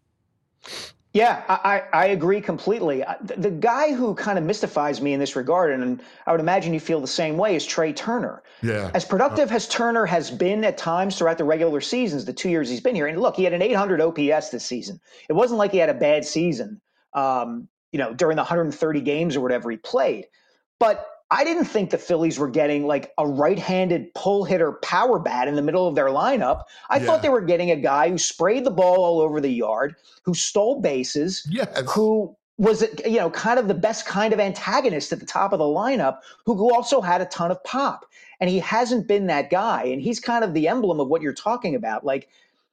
Yeah, I, I agree completely. The, the guy who kind of mystifies me in this regard, and I would imagine you feel the same way, is Trey Turner. Yeah. As productive as Turner has been at times throughout the regular seasons, the two years he's been here, and look, he had an eight hundred O P S this season. It wasn't like he had a bad season, um, you know, during the one hundred thirty games or whatever he played. But I didn't think the Phillies were getting like a right-handed pull hitter power bat in the middle of their lineup. I yeah. thought they were getting a guy who sprayed the ball all over the yard, who stole bases, yes. who was, you know, kind of the best kind of antagonist at the top of the lineup, who also had a ton of pop. And he hasn't been that guy. And he's kind of the emblem of what you're talking about. Like,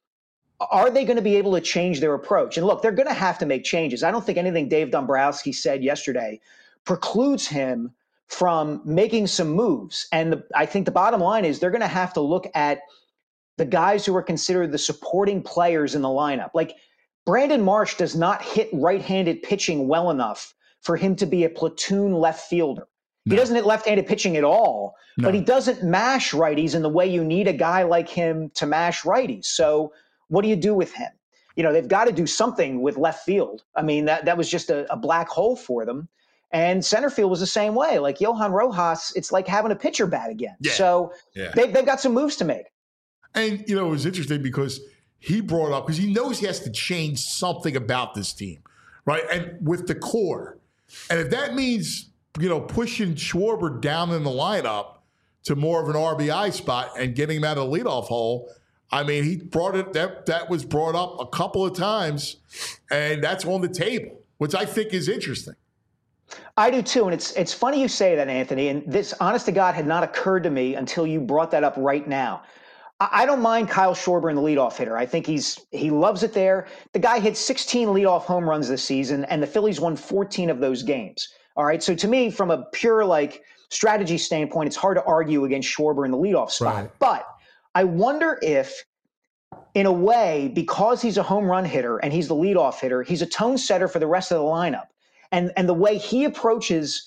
are they going to be able to change their approach? And look, they're going to have to make changes. I don't think anything Dave Dombrowski said yesterday precludes him from making some moves. And the, I think the bottom line is they're going to have to look at the guys who are considered the supporting players in the lineup. Like Brandon Marsh does not hit right-handed pitching well enough for him to be a platoon left fielder. No. He doesn't hit left-handed pitching at all, no. but he doesn't mash righties in the way you need a guy like him to mash righties. So what do you do with him? You know, they've got to do something with left field. I mean, that, that was just a, a black hole for them. And center field was the same way. Like Johan Rojas, it's like having a pitcher bat again. Yeah. So yeah. They, they've got some moves to make. And, you know, it was interesting because he brought up, because he knows he has to change something about this team, right? And with the core. And if that means, you know, pushing Schwarber down in the lineup to more of an R B I spot and getting him out of the leadoff hole, I mean, he brought it, that, that was brought up a couple of times, and that's on the table, which I think is interesting. I do too, and it's it's funny you say that, Anthony, and this, honest to God, had not occurred to me until you brought that up right now. I, I don't mind Kyle Schwarber in the leadoff hitter. I think he's he loves it there. The guy hit sixteen leadoff home runs this season, and the Phillies won fourteen of those games. All right, so to me, from a pure like strategy standpoint, it's hard to argue against Schwarber in the leadoff spot. Right. But I wonder if, in a way, because he's a home run hitter and he's the leadoff hitter, he's a tone setter for the rest of the lineup. And and the way he approaches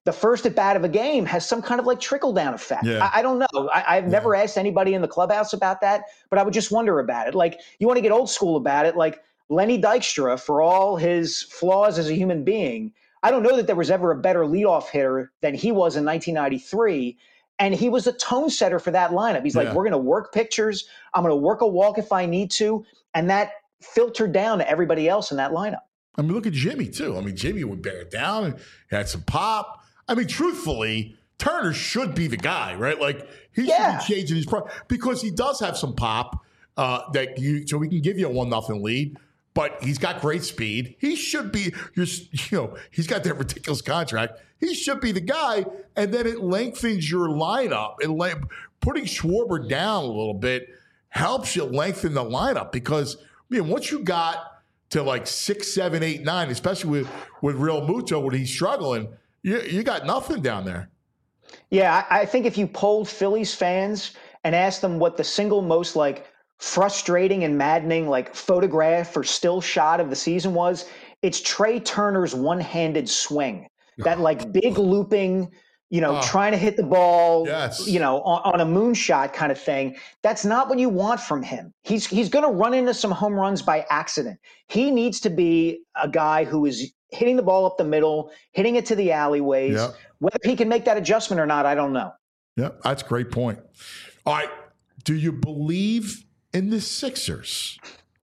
the first at bat of a game has some kind of like trickle down effect. Yeah. I, I don't know. I, I've Yeah. never asked anybody in the clubhouse about that, but I would just wonder about it. Like, you want to get old school about it, like Lenny Dykstra, for all his flaws as a human being, I don't know that there was ever a better leadoff hitter than he was in nineteen ninety-three. And he was a tone setter for that lineup. He's like, Yeah. we're going to work pictures. I'm going to work a walk if I need to. And that filtered down to everybody else in that lineup. I mean, look at Jimmy, too. I mean, Jimmy would bear it down and had some pop. I mean, truthfully, Turner should be the guy, right? Like, he Yeah. should be changing his pro because he does have some pop uh, that you, so we can give you a one nothing lead. But he's got great speed. He should be, you're, you know, he's got that ridiculous contract. He should be the guy, and then it lengthens your lineup. And le- putting Schwarber down a little bit helps you lengthen the lineup because, I mean, once you got to like six, seven, eight, nine, especially with, with Real Muto when he's struggling, you, you got nothing down there. Yeah, I, I think if you polled Phillies fans and asked them what the single most like frustrating and maddening like photograph or still shot of the season was, it's Trey Turner's one-handed swing. That like big looping, you know, Oh. trying to hit the ball, Yes. you know, on, on a moonshot kind of thing. That's not what you want from him. He's he's going to run into some home runs by accident. He needs to be a guy who is hitting the ball up the middle, hitting it to the alleyways. Yep. Whether he can make that adjustment or not, I don't know. Yeah, that's a great point. All right. Do you believe in the Sixers?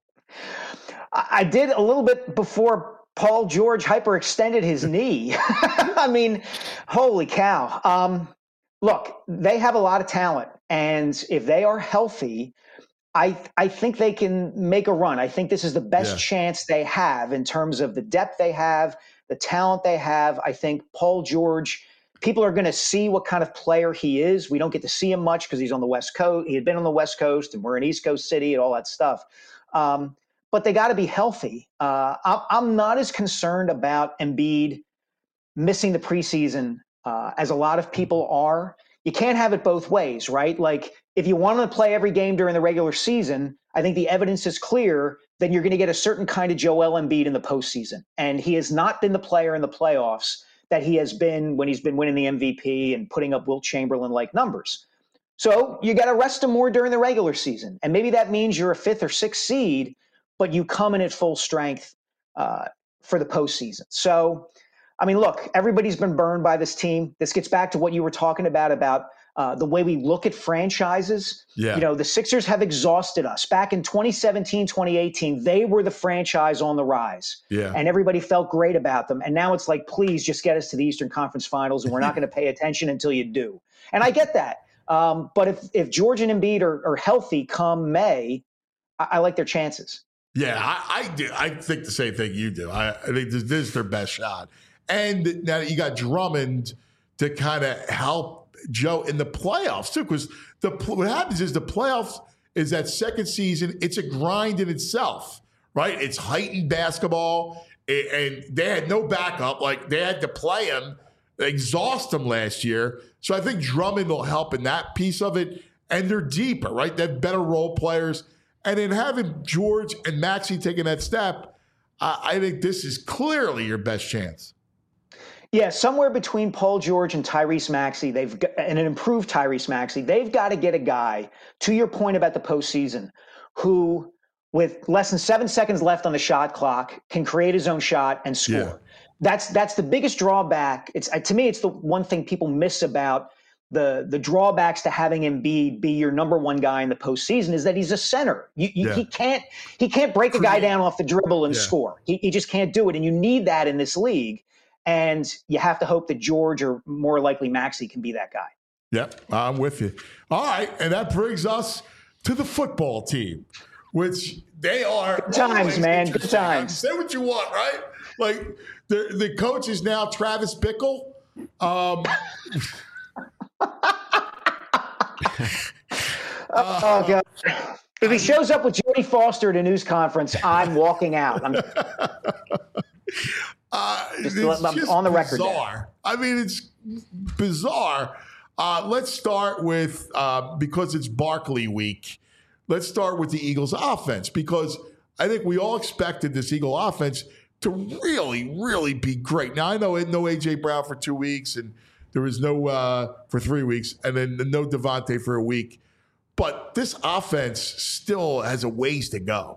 I I did a little bit before Paul George hyperextended his knee. I mean, holy cow. Um, look, they have a lot of talent, and if they are healthy, I I think they can make a run. I think this is the best Yeah. chance they have in terms of the depth they have, the talent they have. I think Paul George, people are going to see what kind of player he is. We don't get to see him much because he's on the West Coast. He had been on the West Coast, and we're in East Coast City and all that stuff. Um, but they got to be healthy. Uh, I'm, I'm not as concerned about Embiid missing the preseason uh, as a lot of people are. You can't have it both ways, right? Like, if you want to play every game during the regular season, I think the evidence is clear that you're going to get a certain kind of Joel Embiid in the postseason. And he has not been the player in the playoffs that he has been when he's been winning the M V P and putting up Wilt Chamberlain-like numbers. So you got to rest him more during the regular season. And maybe that means you're a fifth or sixth seed, but you come in at full strength uh, for the postseason. So, I mean, look, everybody's been burned by this team. This gets back to what you were talking about, about uh, the way we look at franchises. Yeah. You know, the Sixers have exhausted us. Back in twenty seventeen, twenty eighteen, they were the franchise on the rise. Yeah. And everybody felt great about them. And now it's like, please just get us to the Eastern Conference Finals, and we're not going to pay attention until you do. And I get that. Um, but if, if George and Embiid are, are healthy come May, I, I like their chances. Yeah, I, I do. I think the same thing you do. I, I think this, this is their best shot. And now that you got Drummond to kind of help Joe in the playoffs too, because the what happens is the playoffs is that second season. It's a grind in itself, right? It's heightened basketball, and they had no backup. Like, they had to play him, exhaust him last year. So I think Drummond will help in that piece of it. And they're deeper, right? They have better role players. And in having George and Maxey taking that step, I, I think this is clearly your best chance. Yeah, somewhere between Paul George and Tyrese Maxey, they've got, and an improved Tyrese Maxey, they've got to get a guy, to your point about the postseason, who, with less than seven seconds left on the shot clock, can create his own shot and score. Yeah. That's that's the biggest drawback. It's uh, to me, it's the one thing people miss about the the drawbacks to having Embiid be your number one guy in the postseason is that he's a center. You, you, Yeah. He can't he can't break a guy down off the dribble and Yeah. score. He, he just can't do it, and you need that in this league. And you have to hope that George, or more likely Maxey, can be that guy. Yep, I'm with you. All right, and that brings us to the football team, which they are Good times, always man. Good interesting. times. Say what you want, right? Like, the the coach is now Travis Bickle. Um, Oh God! If he shows up with Jodie Foster at a news conference, I'm walking out. I'm uh, Just it's let- I'm just on the record there. bizarre. I mean, it's bizarre. Uh, let's start with, uh, because it's Barkley week, let's start with the Eagles offense, because I think we all expected this Eagle offense to really, really be great. Now, I know no A J Brown for two weeks, and there was no uh, for three weeks, and then no Devontae for a week. But this offense still has a ways to go.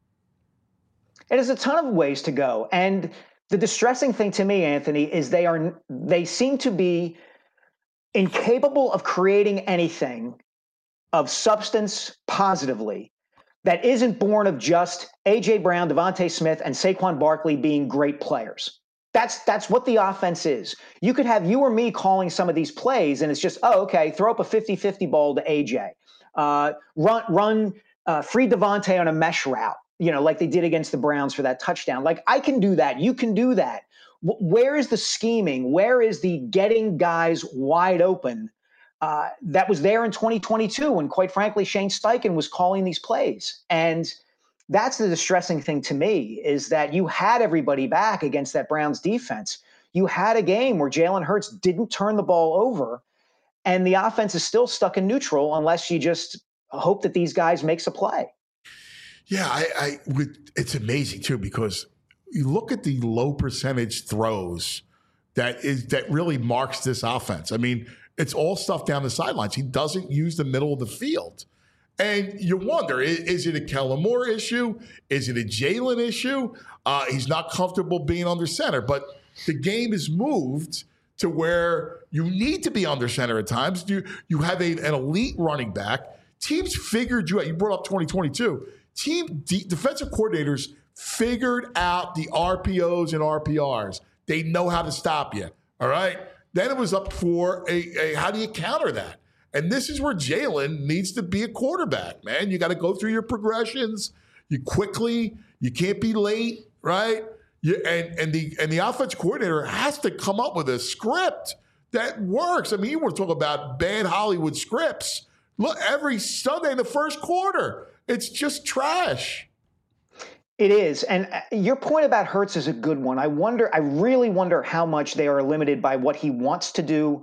It has a ton of ways to go. And the distressing thing to me, Anthony, is they are they seem to be incapable of creating anything of substance positively that isn't born of just A J Brown, Devontae Smith, and Saquon Barkley being great players. That's that's what the offense is. You could have you or me calling some of these plays, and it's just, oh, okay, throw up a fifty-fifty ball to A J. Uh, run run uh, free Devontae on a mesh route, you know, like they did against the Browns for that touchdown. Like, I can do that. You can do that. W- where is the scheming? Where is the getting guys wide open uh, that was there in twenty twenty-two when, quite frankly, Shane Steichen was calling these plays? And that's the distressing thing to me, is that you had everybody back against that Browns defense. You had a game where Jalen Hurts didn't turn the ball over, and the offense is still stuck in neutral unless you just hope that these guys makes a play. Yeah, I, I would, it's amazing too, because you look at the low percentage throws that is that really marks this offense. I mean, it's all stuff down the sidelines. He doesn't use the middle of the field. And you wonder, is, is it a Kellen Moore issue? Is it a Jalen issue? Uh, he's not comfortable being under center. But the game is moved to where you need to be under center at times. You, you have a, an elite running back. Teams figured you out. You brought up twenty twenty-two. Team de- defensive coordinators figured out the R P Os and R P Rs. They know how to stop you, all right? Then it was up for a, a how do you counter that? And this is where Jalen needs to be a quarterback, man. You got to go through your progressions. You quickly, you can't be late, right? You, and and the and the offense coordinator has to come up with a script that works. I mean, you want to talk about bad Hollywood scripts. Look, every Sunday in the first quarter, it's just trash. It is. And your point about Hurts is a good one. I wonder, I really wonder how much they are limited by what he wants to do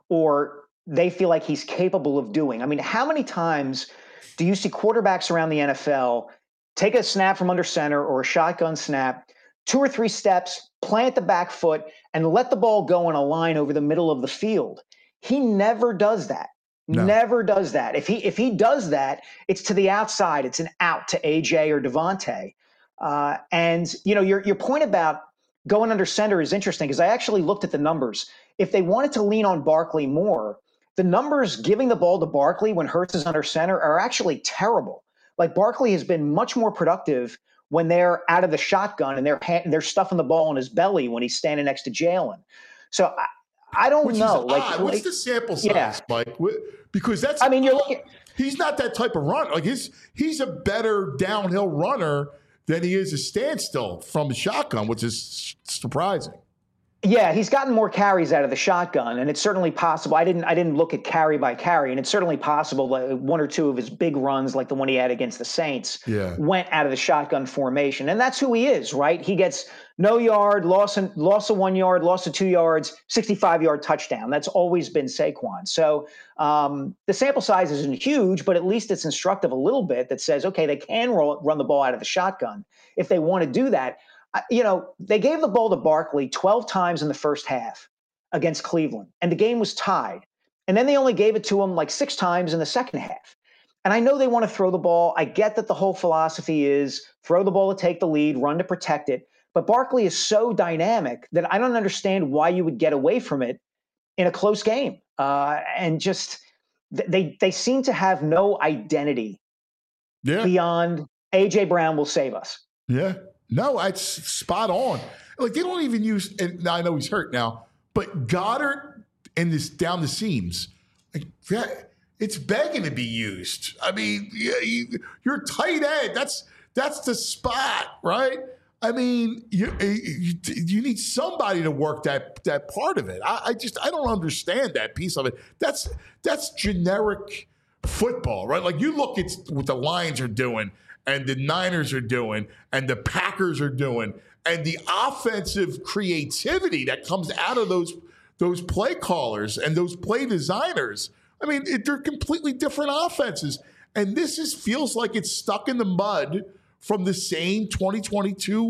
or they feel like he's capable of doing. I mean, how many times do you see quarterbacks around the N F L take a snap from under center or a shotgun snap, two or three steps, plant the back foot, and let the ball go in a line over the middle of the field? He never does that. No. Never does that. If he if he does that, it's to the outside. It's an out to A J or Devontae. Uh, and, you know, your your point about going under center is interesting because I actually looked at the numbers. If they wanted to lean on Barkley more, the numbers giving the ball to Barkley when Hurts is under center are actually terrible. Like, Barkley has been much more productive when they're out of the shotgun and they're they're stuffing the ball in his belly when he's standing next to Jalen. So I, I don't Which know. Is like, odd. like, what's the sample size, yeah. Mike? Because that's I mean, you're looking. He's not that type of runner. Like his, he's a better downhill runner than he is a standstill from the shotgun, which is surprising. Yeah, he's gotten more carries out of the shotgun, and it's certainly possible. I didn't I didn't look at carry by carry, and it's certainly possible that one or two of his big runs, like the one he had against the Saints, yeah. went out of the shotgun formation. And that's who he is, right? He gets no yard, loss, and, loss of one yard, loss of two yards, sixty-five-yard touchdown. That's always been Saquon. So um, the sample size isn't huge, but at least it's instructive a little bit that says, okay, they can roll, run the ball out of the shotgun if they want to do that. You know, they gave the ball to Barkley twelve times in the first half against Cleveland, and the game was tied. And then they only gave it to him like six times in the second half. And I know they want to throw the ball. I get that the whole philosophy is throw the ball to take the lead, run to protect it. But Barkley is so dynamic that I don't understand why you would get away from it in a close game. Uh, and just they they seem to have no identity yeah. beyond A J Brown will save us. Yeah. No, it's spot on. Like, they don't even use, and now I know he's hurt now, but Goddard and this down the seams, like that, it's begging to be used. I mean, yeah, you, you're tight end. That's that's the spot, right? I mean, you you, you need somebody to work that that part of it. I, I just I don't understand that piece of it. That's that's generic football, right? Like, you look at what the Lions are doing, and the Niners are doing, and the Packers are doing, and the offensive creativity that comes out of those those play callers and those play designers. I mean, it, they're completely different offenses. And this is feels like it's stuck in the mud from the same twenty twenty-two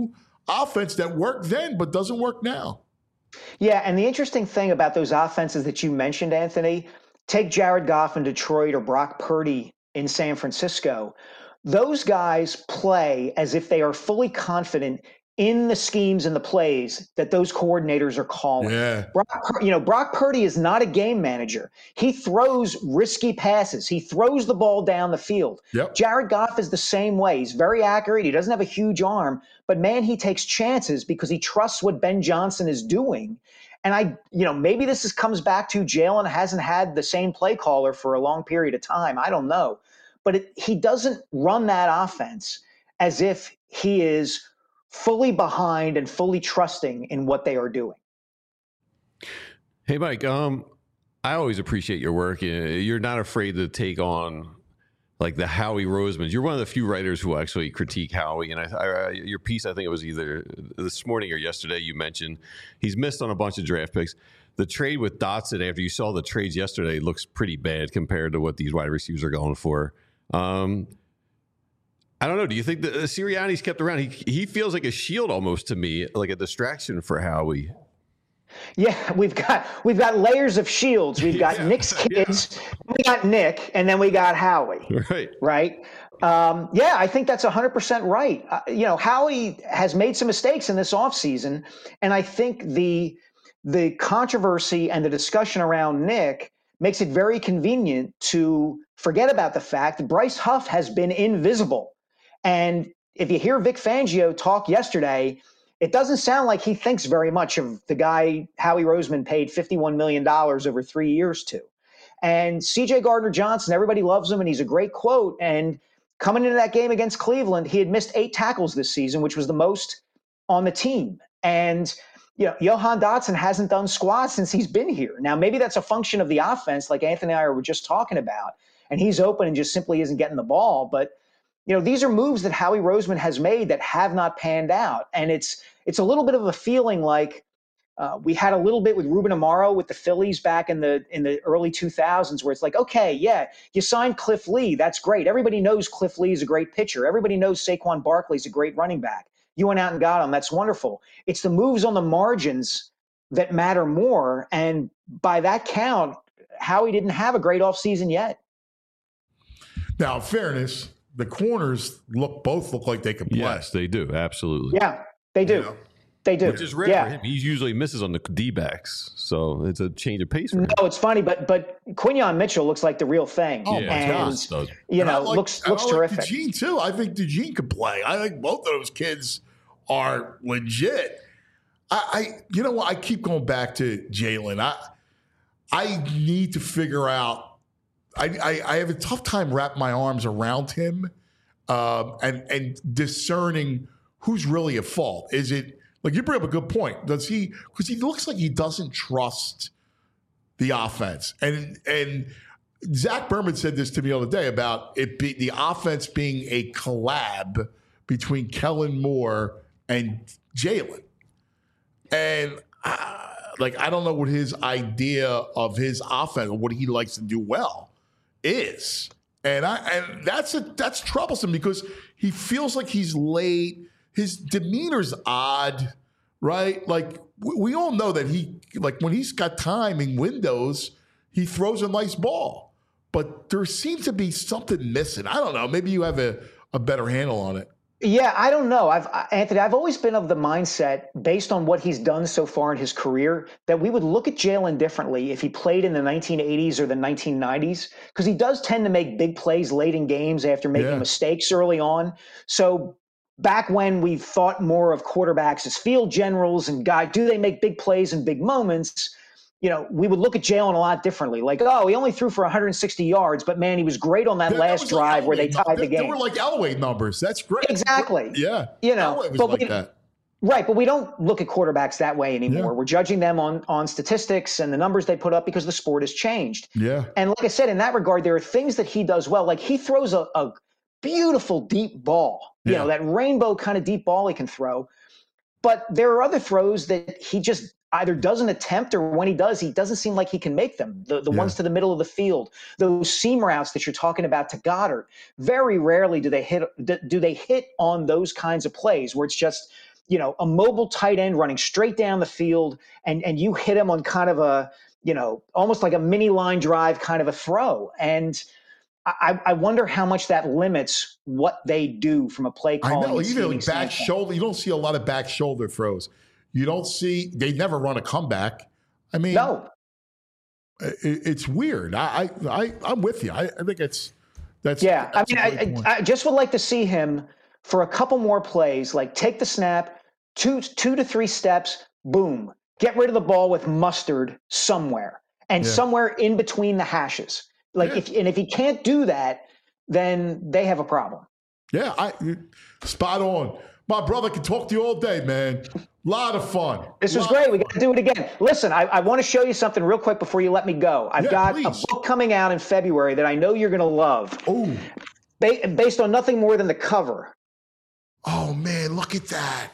offense that worked then but doesn't work now. Yeah, and the interesting thing about those offenses that you mentioned, Anthony, take Jared Goff in Detroit or Brock Purdy in San Francisco. Those guys play as if they are fully confident in the schemes and the plays that those coordinators are calling. Yeah. Brock, you know, Brock Purdy is not a game manager. He throws risky passes. He throws the ball down the field. Yep. Jared Goff is the same way. He's very accurate. He doesn't have a huge arm, but man, he takes chances because he trusts what Ben Johnson is doing. And I, you know, maybe this is, comes back to Jalen hasn't had the same play caller for a long period of time. I don't know. But it, he doesn't run that offense as if he is fully behind and fully trusting in what they are doing. Hey, Mike, um, I always appreciate your work. You're not afraid to take on like the Howie Roseman. You're one of the few writers who actually critique Howie. And I, I, your piece, I think it was either this morning or yesterday, you mentioned he's missed on a bunch of draft picks. The trade with Dotson, after you saw the trades yesterday, looks pretty bad compared to what these wide receivers are going for. Um, I don't know. Do you think that Sirianni's kept around? He he feels like a shield almost to me, like a distraction for Howie. Yeah, we've got we've got layers of shields. We've got Yeah, Nick's kids, yeah. We got Nick, and then we got Howie. Right. Right. Um, yeah, I think that's one hundred percent right. Uh, you know, Howie has made some mistakes in this offseason, and I think the the controversy and the discussion around Nick makes it very convenient to forget about the fact that Bryce Huff has been invisible. And if you hear Vic Fangio talk yesterday, it doesn't sound like he thinks very much of the guy Howie Roseman paid fifty-one million dollars over three years to. And C J Gardner-Johnson, everybody loves him, and he's a great quote. And coming into that game against Cleveland, he had missed eight tackles this season, which was the most on the team. And you know, Johan Dotson hasn't done squat since he's been here. Now, maybe that's a function of the offense, like Anthony and I were just talking about, and he's open and just simply isn't getting the ball. But you know, these are moves that Howie Roseman has made that have not panned out. And it's it's a little bit of a feeling like uh, we had a little bit with Ruben Amaro with the Phillies back in the in the early two thousands, where it's like, okay, yeah, you signed Cliff Lee. That's great. Everybody knows Cliff Lee is a great pitcher. Everybody knows Saquon Barkley is a great running back. You went out and got him. That's wonderful. It's the moves on the margins that matter more. And by that count, Howie didn't have a great offseason yet. Now, in fairness, the corners look both look like they can play. Yes, they do. Absolutely. Yeah, they do. You know? They do. Which is rare yeah. for him. He usually misses on the D-backs. So it's a change of pace for him. No, it's funny, but but Quinyon Mitchell looks like the real thing. Oh, yeah, my and, gosh. Does. you And I know, like- looks I looks like terrific. DeGene, too. I think DeGene could play. I think both of those kids are legit. I, I you know what? I keep going back to Jalen. I I need to figure out. I, I, I have a tough time wrapping my arms around him um, and and discerning who's really at fault. Is it like you bring up a good point? Does he? Because he looks like he doesn't trust the offense. And and Zach Berman said this to me the other day about it be, the offense being a collab between Kellen Moore and Jalen. And uh, like I don't know what his idea of his offense, what he likes to do well, is. And I and that's a that's troublesome because he feels like he's late. His demeanor's odd, right? Like we, we all know that he like when he's got time in windows, he throws a nice ball. But there seems to be something missing. I don't know. Maybe you have a, a better handle on it. Yeah, I don't know. I've Anthony, I've always been of the mindset, based on what he's done so far in his career, that we would look at Jalen differently if he played in the nineteen eighties or the nineteen nineties, because he does tend to make big plays late in games after making Yeah. mistakes early on. So back when we thought more of quarterbacks as field generals and guy, do they make big plays in big moments? You know, we would look at Jalen a lot differently. Like, oh, he only threw for one hundred sixty yards, but man, he was great on that There- there last was like drive where they Elway tied num- the there- game. There were like Elway numbers. That's great. Exactly. Yeah. You know, Elway was but like we- that. Right, but we don't look at quarterbacks that way anymore. Yeah. We're judging them on on statistics and the numbers they put up because the sport has changed. Yeah. And like I said, in that regard, there are things that he does well. Like he throws a, a beautiful deep ball, you Yeah. know, that rainbow kind of deep ball he can throw. But there are other throws that he just either doesn't attempt, or when he does, he doesn't seem like he can make them. The the Yeah. ones to the middle of the field, those seam routes that you're talking about to Goddard, very rarely do they hit do they hit on those kinds of plays where it's just you know, a mobile tight end running straight down the field, and and you hit him on kind of a, you know, almost like a mini line drive kind of a throw. And I, I wonder how much that limits what they do from a play calling. I know, even like back standpoint. shoulder, you don't see a lot of back shoulder throws. You don't see, they never run a comeback. I mean, no, it, it's weird. I, I, I, I'm with you. I, I think it's, that's, yeah. that's I mean, I, I, I just would like to see him for a couple more plays, like take the snap, two, two to three steps, boom, get rid of the ball with mustard somewhere and Yeah. somewhere in between the hashes. Like Yeah. if and if he can't do that, then they have a problem. Yeah, I spot on. My brother can talk to you all day, man. A lot of fun. This was Lot great. of We got to do it again. Listen, I, I want to show you something real quick before you let me go. I've Yeah, got please. a book coming out in February that I know you're going to love, Oh, ba- based on nothing more than the cover. oh man, look at that.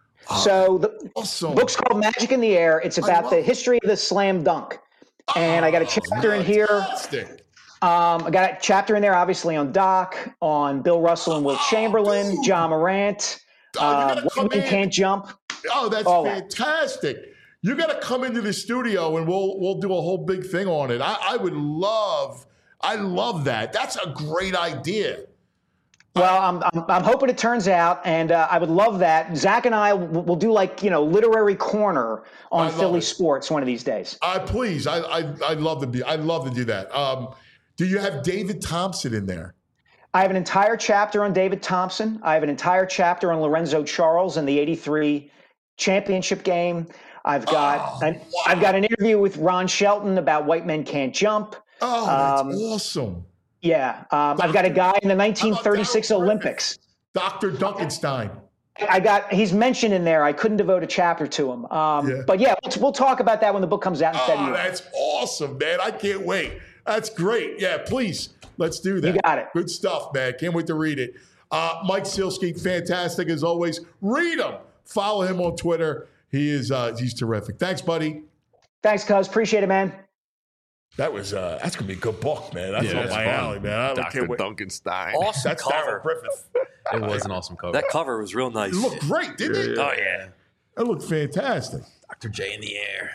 So the Awesome. book's called Magic in the Air. It's about love the it. history of the slam dunk. And I got a chapter in here. Fantastic. Um, I got a chapter in there, obviously, on Doc, on Bill Russell and Will Chamberlain, dude. John Morant. Oh, you Uh, gotta come Women in. Can't Jump. Oh, that's All that. fantastic. You got to come into the studio and we'll we'll do a whole big thing on it. I, I would love, I love that. That's a great idea. Well, I'm, I'm, I'm hoping it turns out, and uh, I would love that. Zach and I will, will do like, you know, literary corner on I love Philly it. sports one of these days. I please, I I I'd love to be. I'd love to do that. Um, do you have David Thompson in there? I have an entire chapter on David Thompson. I have an entire chapter on Lorenzo Charles and the eighty-three championship game. I've got Oh, an, I've got an interview with Ron Shelton about White Men Can't Jump. Oh, that's Um, awesome. Yeah, um, I've got a guy in the nineteen thirty-six Darryl Griffith? Olympics. Doctor Duncanstein. I got he's mentioned in there. I couldn't devote a chapter to him. Um, Yeah. But yeah, we'll, we'll talk about that when the book comes out in Oh, February. that's awesome, man. I can't wait. That's great. Yeah, please. Let's do that. You got it. Good stuff, man. Can't wait to read it. Uh, Mike Sealski, fantastic as always. Read him. Follow him on Twitter. He is uh, he's terrific. Thanks, buddy. Thanks, cuz. Appreciate it, man. That was uh, that's gonna be a good book, man. That's Yeah, up that's my fun. alley, man. I Doctor can't wait. Duncanstein. Awesome That's cover. Darryl Griffith. It was an awesome cover. That cover was real nice. It looked great, didn't it? Oh yeah. It looked fantastic. Doctor J in the air.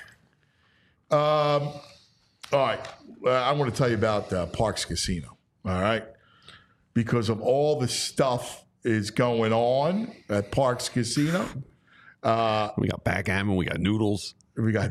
Um, all right. Uh, I want to tell you about uh, Parks Casino. All right. Because of all the stuff is going on at Parks Casino. Uh, We got backgammon. We got noodles. we got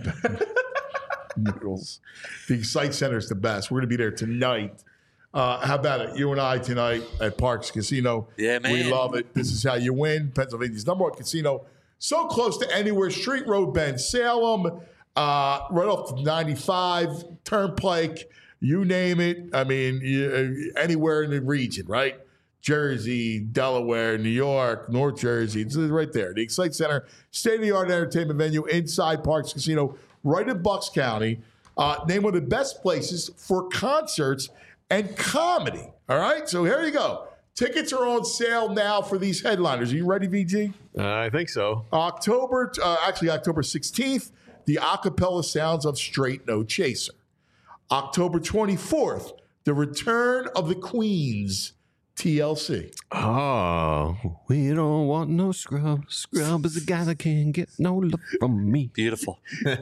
noodles. The Excite Center is the best. We're going to be there tonight. Uh, how about it? You and I tonight at Parks Casino. Yeah, man. We love it. This is how you win. Pennsylvania's number one casino. So close to anywhere. Street Road Bend, Salem, uh, right off the ninety-five, Turnpike, you name it. I mean, you, anywhere in the region, right? Jersey, Delaware, New York, North Jersey. It's right there. The Excite Center, state-of-the-art entertainment venue inside Parks Casino, right in Bucks County. Uh, named one of the best places for concerts and comedy. All right? So here you go. Tickets are on sale now for these headliners. Are you ready, V G? Uh, I think so. October, uh, actually October sixteenth, the acapella sounds of Straight No Chaser. October twenty-fourth, the return of the Queens, T L C. Oh, we don't want no scrub. Scrub is a guy that can't get no love from me. Beautiful.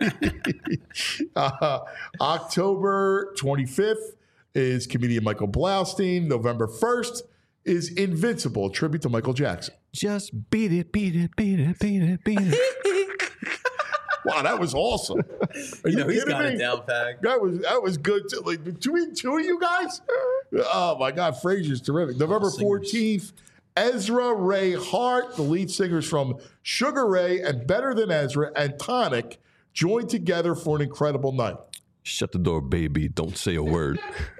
Uh, October twenty-fifth is comedian Michael Blaustein. November first is Invincible, a tribute to Michael Jackson. Just beat it, beat it, beat it, beat it, beat it. Wow, that was awesome. Are you, You know, he's kidding got me? it down pat. That was that was good too. Like between two of you guys. Oh my God, Frazier's terrific. November fourteenth, Ezra Ray Hart, the lead singers from Sugar Ray and Better Than Ezra and Tonic, joined together for an incredible night. Shut the door, baby. Don't say a word.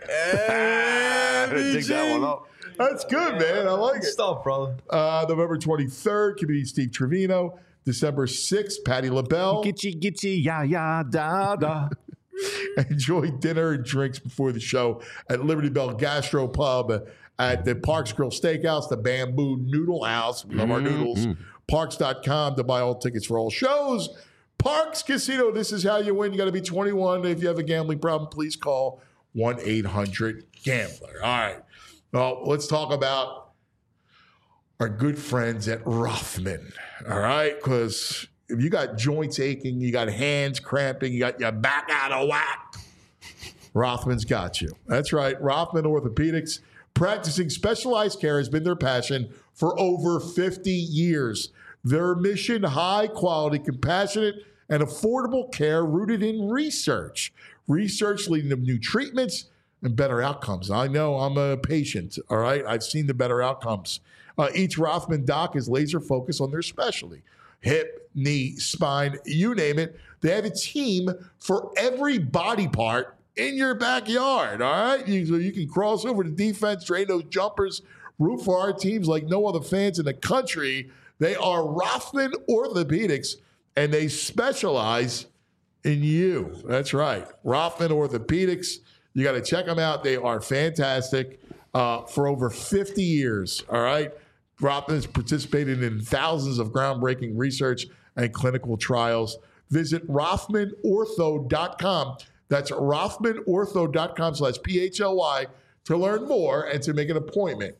Dig that one up. That's good, man. I like it. Stop, brother. Uh, November twenty-third, comedian Steve Trevino. December sixth, Patti LaBelle. Gitchy, gitchy, ya, ya, da, da. Enjoy dinner and drinks before the show at Liberty Bell Gastro Pub, at the Parks Grill Steakhouse, the Bamboo Noodle House. We love our noodles. Parks dot com to buy all tickets for all shows. Parks Casino, this is how you win. You got to be twenty-one. If you have a gambling problem, please call one eight hundred gambler. All right. Well, let's talk about our good friends at Rothman. All right? Because if you got joints aching, you got hands cramping, you got your back out of whack, Rothman's got you. That's right. Rothman Orthopedics, practicing specialized care has been their passion for over fifty years. Their mission, high quality, compassionate, and affordable care rooted in research. Research leading to new treatments and better outcomes. I know I'm a patient, all right? I've seen the better outcomes. Uh, each Rothman doc is laser focused on their specialty. Hip, knee, spine, you name it. They have a team for every body part in your backyard, all right? You, so you can cross over to defense, train those jumpers, root for our teams like no other fans in the country. They are Rothman Orthopedics, and they specialize in you. That's right. Rothman Orthopedics. You got to check them out. They are fantastic uh, for over fifty years, all right? Rothman has participated in thousands of groundbreaking research and clinical trials. Visit Rothman Ortho dot com. That's Rothman Ortho dot com slash P H L Y to learn more and to make an appointment.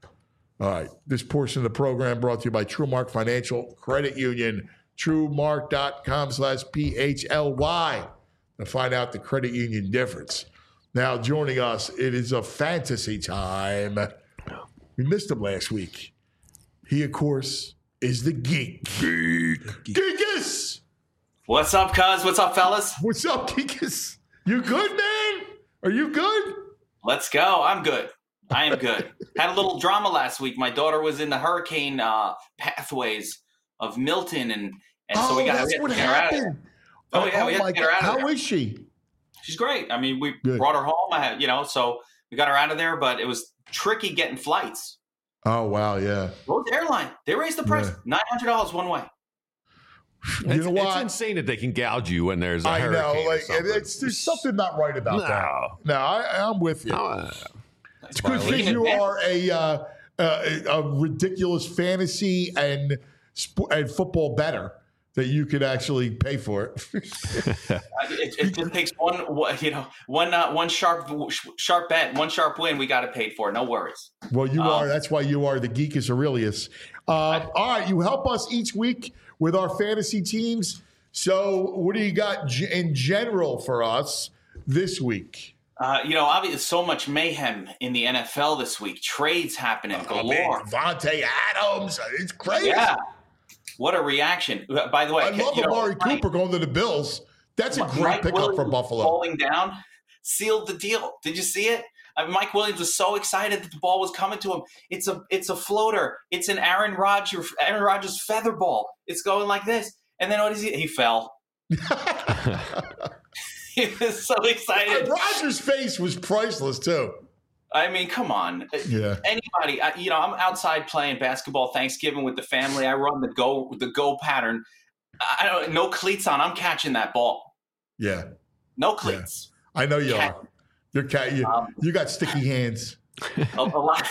All right. This portion of the program brought to you by TrueMark Financial Credit Union. TrueMark dot com slash P H L Y to find out the credit union difference. Now, joining us, it is a fantasy time. We missed him last week. He, of course, is the geek. Geek. Geekus! What's up, cuz? What's up, fellas? What's up, Geekus? You good, man? Are you good? Let's go. I'm good. I am good. Had a little drama last week. My daughter was in the hurricane uh, pathways of Milton, and, and so oh, we got that's to what get her out of there. happened. Oh, yeah, oh, we had my to get her out of God. there. How is she? She's great. I mean, we Good. brought her home. I had, you know, so we got her out of there, but it was tricky getting flights. Oh, wow, yeah. Rhodes Airline, they raised the price. Yeah. nine hundred dollars one way. You it's, know what? It's insane that they can gouge you when there's a I hurricane. know. or Like, something. it's, there's something not right about No. that. No, I, I'm with you. No, uh, It's because you are a, uh, a a ridiculous fantasy and sp- and football better that you could actually pay for it. It, it just takes one, one- you know, one uh, one sharp sharp bet, one sharp win. We got it paid for. No worries. Well, you Um, are. That's why you are the Geekus Aurelius. Uh, all right, you help us each week with our fantasy teams. So, what do you got g- in general for us this week? Uh, you know, obviously, so much mayhem in the N F L this week. Trades happening galore. Devontae Adams. It's crazy. Yeah. What a reaction. By the way, I love you know, Amari Mike- Cooper going to the Bills. That's a Mike great pickup Williams for Buffalo. Falling down, sealed the deal. Did you see it? I mean, Mike Williams was so excited that the ball was coming to him. It's a it's a floater. It's an Aaron Rodgers Aaron Rodgers feather ball. It's going like this. And then what is he? He fell. He was so excited. Rodgers' face was priceless too. I mean, come on. Yeah. Anybody, I, you know, I'm outside playing basketball Thanksgiving with the family. I run the go the go pattern. I don't no cleats on. I'm catching that ball. Yeah. No cleats. Yeah. I know you Cat- are. You're cat. You, Um, you got sticky hands. a, a lot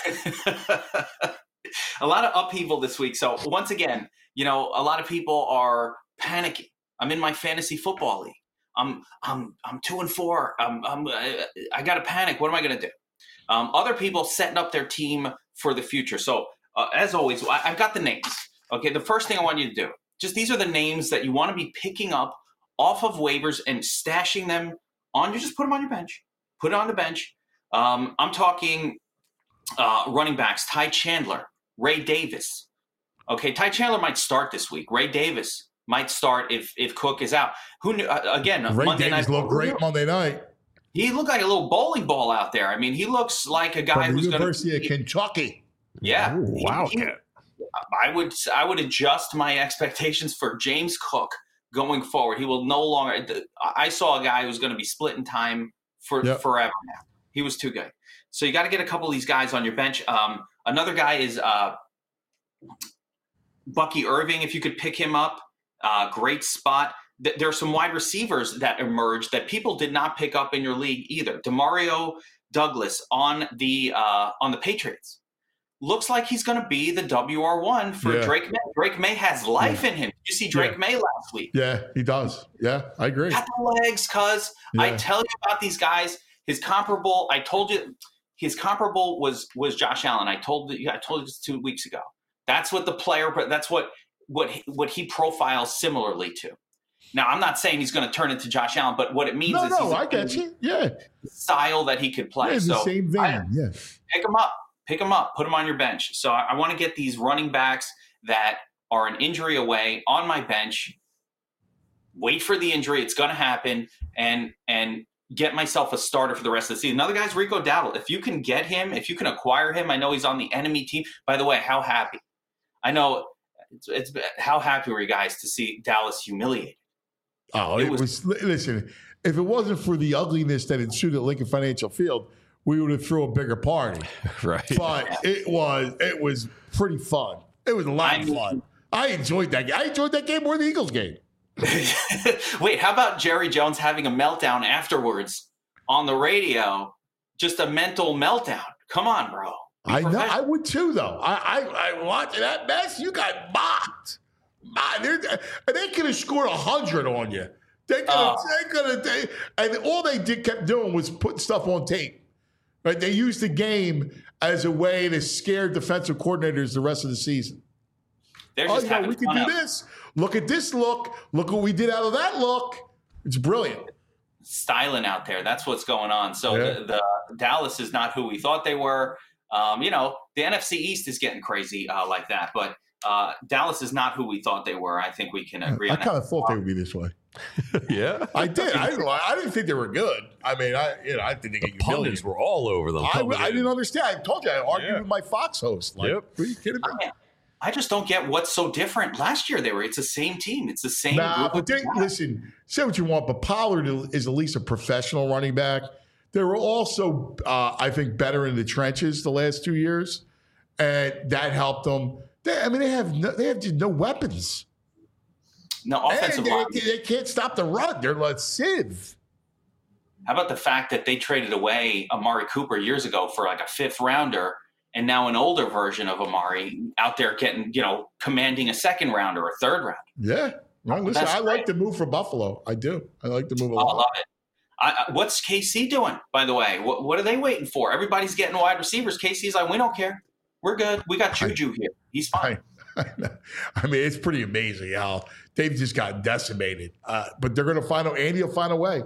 a lot of upheaval this week. So once again, you know, a lot of people are panicking. I'm in my fantasy football league. I'm I'm I'm two and four. I'm, I'm I, I got to panic. What am I going to do? Um, other people setting up their team for the future. So uh, as always, I, I've got the names. Okay, the first thing I want you to do, just these are the names that you want to be picking up off of waivers and stashing them on. You just put them on your bench. Put it on the bench. Um, I'm talking uh, running backs: Ty Chandler, Ray Davis. Okay, Ty Chandler might start this week. Ray Davis might start if if Cook is out. Who knew? Uh, again, Ray Monday Davis night. looked great Monday night. He looked like a little bowling ball out there. I mean, he looks like a guy From the who's going University to of Kentucky. Yeah, Ooh, He- wow. he- I would I would adjust my expectations for James Cook going forward. He will no longer. I saw a guy who's going to be splitting time for Yep. forever now. He was too good. So you got to get a couple of these guys on your bench. Um, another guy is uh, Bucky Irving. If you could pick him up, uh, great spot. Th- there are some wide receivers that emerged that people did not pick up in your league either. Demario Douglas on the uh, on the Patriots. Looks like he's going to be the W R one for Yeah. Drake May. Drake May has life in him. Did you see Drake Yeah. May last week? Yeah, he does. Yeah, I agree. Got the legs, cuz. I Yeah. tell you about these guys. His comparable, I told you, his comparable was was Josh Allen. I told you, I told you this two weeks ago. That's what the player, but that's what what he, what he profiles similarly to. Now, I'm not saying he's going to turn into Josh Allen, but what it means No, is no, he's I get you. Yeah. style that he could play. Yeah, it's so the same vein. I- Yeah. pick him up, pick him up, put him on your bench. So I, I want to get these running backs that are an injury away on my bench. Wait for the injury; it's going to happen, and and get myself a starter for the rest of the season. Another guy's Rico Dowdle. If you can get him, if you can acquire him, I know he's on the enemy team. By the way, how happy? I know it's, it's how happy were you guys to see Dallas humiliated? Oh, It it, was- was, listen, if it wasn't for the ugliness that ensued at Lincoln Financial Field, we would have threw a bigger party. Right. But it was it was pretty fun. It was a lot I of mean- fun. I enjoyed that game. I enjoyed that game more than the Eagles game. Wait, how about Jerry Jones having a meltdown afterwards on the radio? Just a mental meltdown. Come on, bro. Be I know. professional. I would too, though. I I, I watched that mess. You got mocked. Mocked. They're- And they could have scored a hundred on you. They could have. Oh. They could have. They, and all they did kept doing was putting stuff on tape. Right? They used the game as a way to scare defensive coordinators the rest of the season. They're Oh just yeah, having we can fun do out. this. Look at this look. Look what we did out of that look. It's brilliant. Styling out there. That's what's going on. So Yeah. the, the Dallas is not who we thought they were. Um, you know, the N F C East is getting crazy uh, like that, but uh, Dallas is not who we thought they were. I think we can agree I on kind that. of thought they would be this way. Yeah. I did. I didn't. I didn't think they were good. I mean, I you know I didn't think they get Pundits humiliated. were all over them. I, coming I in. didn't understand. I told you I argued Yeah. with my Fox host. Like, Yep. are you kidding me? I, I just don't get what's so different. Last year they were. It's the same team. It's the same. Nah, group but of they, guys. listen, say what you want, but Pollard is at least a professional running back. They were also, uh, I think, better in the trenches the last two years, and that helped them. They, I mean, they have no, they have just no weapons, No offensive and they, line. they can't stop the run. They're like Civ. How about the fact that they traded away Amari Cooper years ago for like a fifth rounder, and now an older version of Amari out there getting, you know, commanding a second round or a third round. Yeah. Well, listen, That's I like great. the move for Buffalo. I do. I like the move a I lot. love it. I, I, what's K C doing, by the way? What, what are they waiting for? Everybody's getting wide receivers. K C's like, we don't care. We're good. We got Juju here. He's fine. I, I mean, it's pretty amazing how they've just gotten decimated. Uh, but they're going to find a Andy will find a way.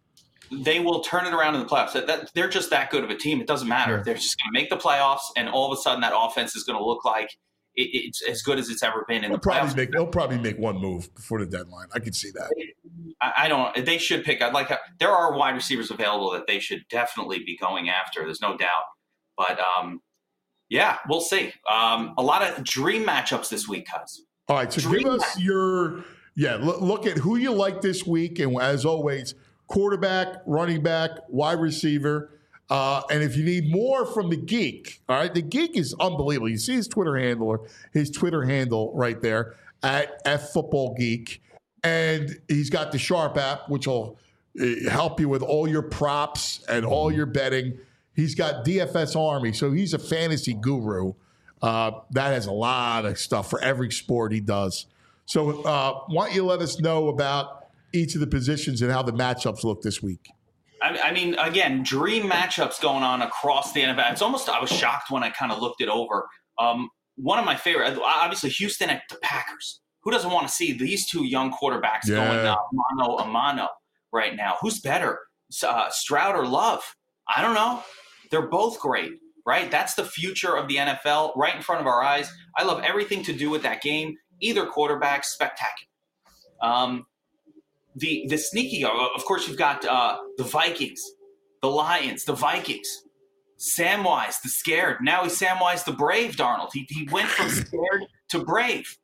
They will turn it around in the playoffs. That, that, they're just that good of a team. It doesn't matter. Yeah. They're just going to make the playoffs, and all of a sudden that offense is going to look like it, it's as good as it's ever been in He'll the playoffs. probably make he'll probably make one move before the deadline. I can see that. I, I don't. They should pick. I'd like. There are wide receivers available that they should definitely be going after. There's no doubt. But um, yeah, we'll see. Um, a lot of dream matchups this week, cuz. All right, so Dream give us your yeah. Look, look at who you like this week, and as always, quarterback, running back, wide receiver. Uh, and if you need more from the geek, all right, the geek is unbelievable. You see his Twitter handle, his Twitter handle right there at F Football Geek, and he's got the Sharp app, which will uh, help you with all your props and all your betting. He's got D F S Army, so he's a fantasy guru. Uh, that has a lot of stuff for every sport he does. So uh, why don't you let us know about each of the positions and how the matchups look this week? I, I mean, again, dream matchups going on across the N F L. It's almost. I was shocked when I kind of looked it over. Um, one of my favorite, obviously, Houston at the Packers. Who doesn't want to see these two young quarterbacks Yeah. going uh, mano a mano right now? Who's better, uh, Stroud or Love? I don't know. They're both great, right? That's the future of the N F L right in front of our eyes. I love everything to do with that game. Either quarterback, spectacular. Um, the the sneaky, of course, you've got uh, the Vikings, the Lions, the Vikings. Samwise, the scared. Now he's Samwise, the brave, Darnold. He, he went from scared to brave.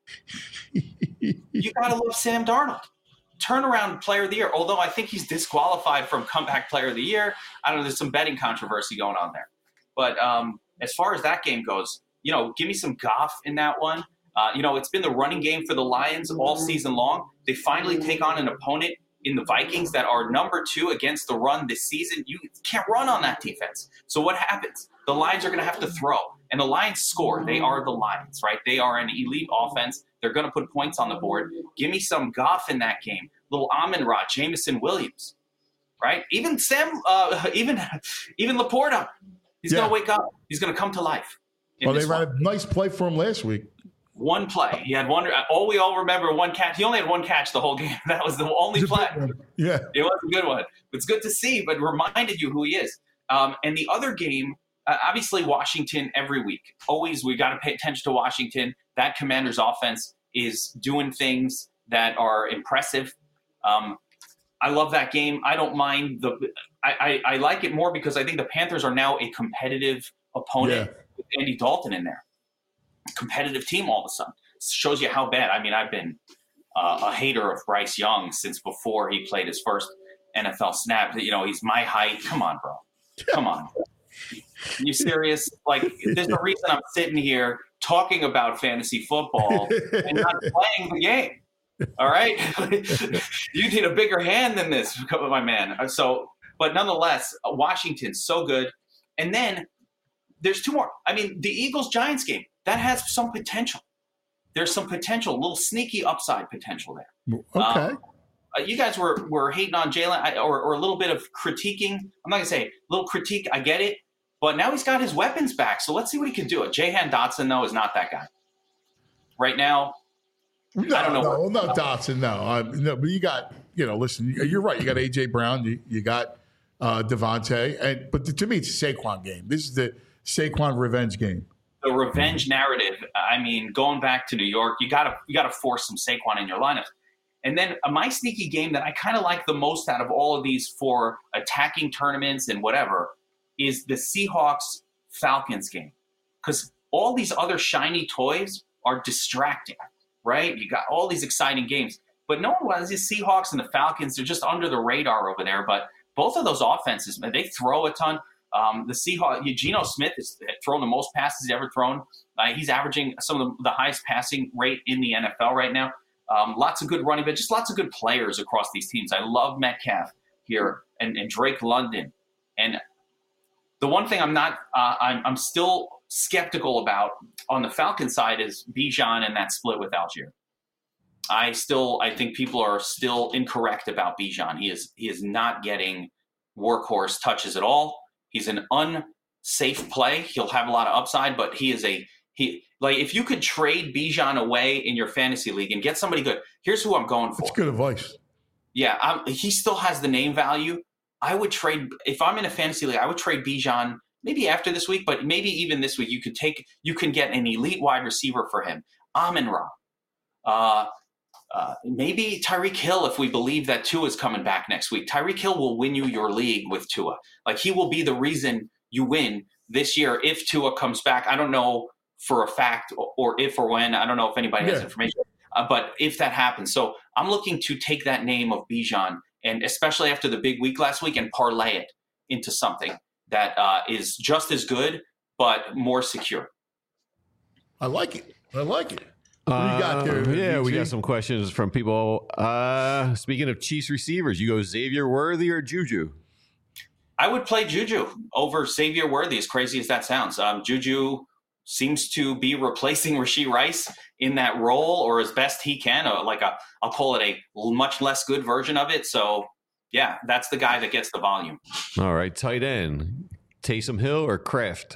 You got to love Sam Darnold. Turnaround player of the year, although I think he's disqualified from comeback player of the year. I don't know, there's some betting controversy going on there. But um, as far as that game goes, you know, give me some Goff in that one. Uh, you know, it's been the running game for the Lions all season long. They finally take on an opponent in the Vikings that are number two against the run this season. You can't run on that defense. So what happens? The Lions are going to have to throw. And the Lions score. They are the Lions, right? They are an elite offense. They're going to put points on the board. Give me some Goff in that game. Little Amon-Ra, Jameson Williams, right? Even Sam, uh, even even Laporta, he's Yeah. going to wake up. He's going to come to life. in Well, they this ran one. a nice play for him last week. One play. He had one. All we all remember one catch. He only had one catch the whole game. That was the only play. Yeah, it was a good one. It's good to see, but reminded you who he is. Um, and the other game, uh, obviously Washington every week. Always we got to pay attention to Washington. That Commanders offense is doing things that are impressive. Um, I love that game. I don't mind the. I, I, I like it more because I think the Panthers are now a competitive opponent Yeah. with Andy Dalton in there. Competitive team all of a sudden. Shows you how bad. I mean, I've been uh, a hater of Bryce Young since before he played his first N F L snap. You know, he's my height. Come on, bro. Come on. Are you serious? Like, there's a reason I'm sitting here talking about fantasy football and not playing the game. All right? You need a bigger hand than this, my man. So, but nonetheless, Washington's so good. And then there's two more. I mean, the Eagles-Giants game, that has some potential. There's some potential, a little sneaky upside potential there. Okay. Um, uh, you guys were were hating on Jalen, or, or a little bit of critiquing. I'm not going to say a little critique. I get it. But now he's got his weapons back, so let's see what he can do. Jahan Dotson, though, is not that guy. Right now, no, I don't know. No, no, Dotson, no. Uh, no. But you got, you know, listen, you're right. You got A J. Brown. You, you got uh, Devontae. And, but to me, it's a Saquon game. This is the Saquon revenge game. The revenge narrative. I mean, going back to New York, you got to you got to force some Saquon in your lineup. And then uh, my sneaky game that I kind of like the most out of all of these for attacking tournaments and whatever is the Seahawks-Falcons game. Because all these other shiny toys are distracting, right? You got all these exciting games. But no one wants these Seahawks and the Falcons. They're just under the radar over there. But both of those offenses, man, they throw a ton. Um, the Seahawks, Geno Smith has thrown the most passes he's ever thrown. Uh, he's averaging some of the, the highest passing rate in the N F L right now. Um, lots of good running, but just lots of good players across these teams. I love Metcalf here and, and Drake London. And the one thing I'm not, uh, I'm, I'm still skeptical about on the Falcons side is Bijan and that split with Algier. I still, I think people are still incorrect about Bijan. He is, he is not getting workhorse touches at all. He's an unsafe play. He'll have a lot of upside, but he is a he. Like if you could trade Bijan away in your fantasy league and get somebody good, here's who I'm going for. That's good advice. Yeah, I'm, he still has the name value. I would trade if I'm in a fantasy league. I would trade Bijan maybe after this week, but maybe even this week. You could take you can get an elite wide receiver for him. Amon-Ra. Uh, Uh, maybe Tyreek Hill, if we believe that Tua is coming back next week. Tyreek Hill will win you your league with Tua. Like, he will be the reason you win this year if Tua comes back. I don't know for a fact or, or if or when. I don't know if anybody has Yeah. information. Uh, but if that happens. So I'm looking to take that name of Bijan, and especially after the big week last week, and parlay it into something that uh, is just as good but more secure. I like it. I like it. What do you got there? Uh, yeah, we V G? got some questions from people. Uh, speaking of Chiefs receivers, you go Xavier Worthy or Juju? I would play Juju over Xavier Worthy, as crazy as that sounds. Um, Juju seems to be replacing Rashee Rice in that role, or as best he can, uh, like a, I'll call it a much less good version of it. So, yeah, that's the guy that gets the volume. All right, tight end, Taysom Hill or Kraft?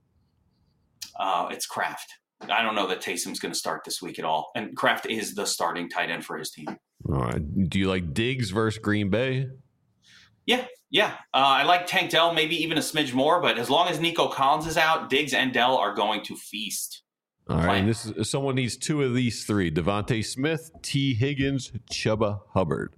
Uh, it's Kraft. I don't know that Taysom's going to start this week at all. And Kraft is the starting tight end for his team. All right. Do you like Diggs versus Green Bay? Yeah, yeah. Uh, I like Tank Dell, maybe even a smidge more. But as long as Nico Collins is out, Diggs and Dell are going to feast. All right. And this is, someone needs two of these three: Devontae Smith, T. Higgins, Chuba Hubbard.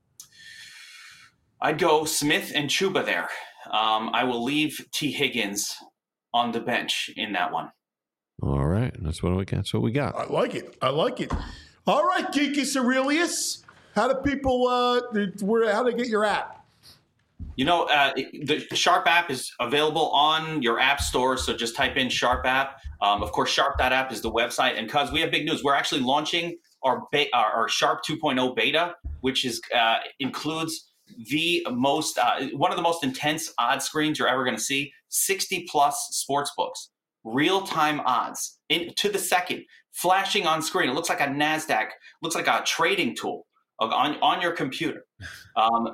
I'd go Smith and Chuba there. Um, I will leave T. Higgins on the bench in that one. All right, that's what we got. That's what we got. I like it. I like it. All right, Geekus Aurelius. How do people? Uh, where? How do they get your app? You know, uh, the Sharp app is available on your app store, so just type in Sharp app. Um, of course, Sharp dot app is the website. And cuz we have big news, we're actually launching our be- our Sharp two point oh beta, which is uh, includes the most uh, one of the most intense odds screens you're ever going to see. sixty plus sports books. Real-time odds in, to the second, flashing on screen. It looks like a NASDAQ, looks like a trading tool on, on your computer. Um,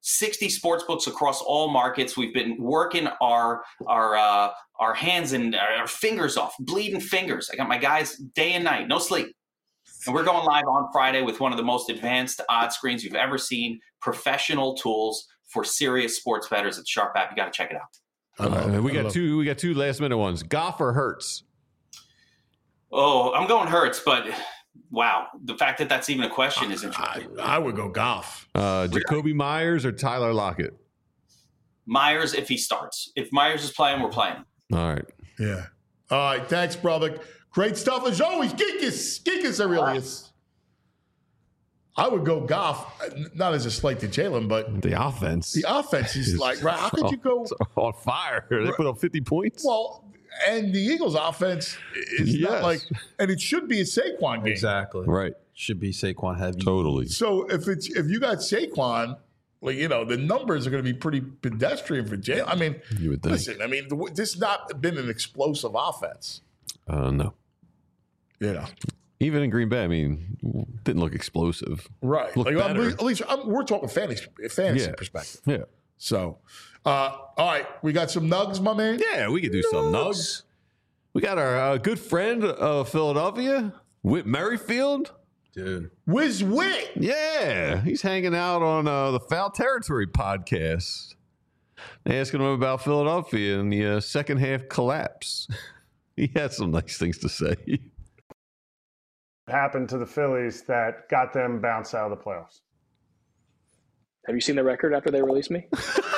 sixty sports books across all markets. We've been working our our uh, our hands and our fingers off, bleeding fingers. I got my guys day and night, no sleep. And we're going live on Friday with one of the most advanced odds screens you've ever seen, professional tools for serious sports bettors at Sharp App. You got to check it out. All right, we got two. We got two last minute ones. Goff or Hurts? Oh, I'm going Hurts, but wow, the fact that that's even a question is interesting. I, I would go Goff. Uh, Jacoby Myers or Tyler Lockett? Myers, if he starts. If Myers is playing, we're playing. All right. Yeah. All right. Thanks, brother. Great stuff as always. Geekus. Geekus Aurelius. I would go Goff, not as a slight to Jalen, but the offense. The offense is like, right, how could you go on fire? They put up fifty points. Well, and the Eagles' offense is Yes. not like, and it should be a Saquon game. Exactly. Right. Should be Saquon heavy. Totally. So if it's if you got Saquon, like you know, the numbers are going to be pretty pedestrian for Jalen. I mean, You would think. listen, I mean, the, this has not been an explosive offense. Uh, no. You know, Even in Green Bay, I mean, didn't look explosive. right? Looked Like, I'm- better. at least I'm, we're talking fantasy fantasy Yeah. perspective. Yeah. So, uh, all right, we got some nugs, my man. Yeah, we could do some nugs. We got our uh, good friend of Philadelphia, Whit Merrifield. Dude. Wiz Wit. Yeah, he's hanging out on uh, the Foul Territory podcast, asking him about Philadelphia and the uh, second half collapse. He had some nice things to say. Happened to the Phillies that got them bounced out of the playoffs? Have you seen the record after they released me?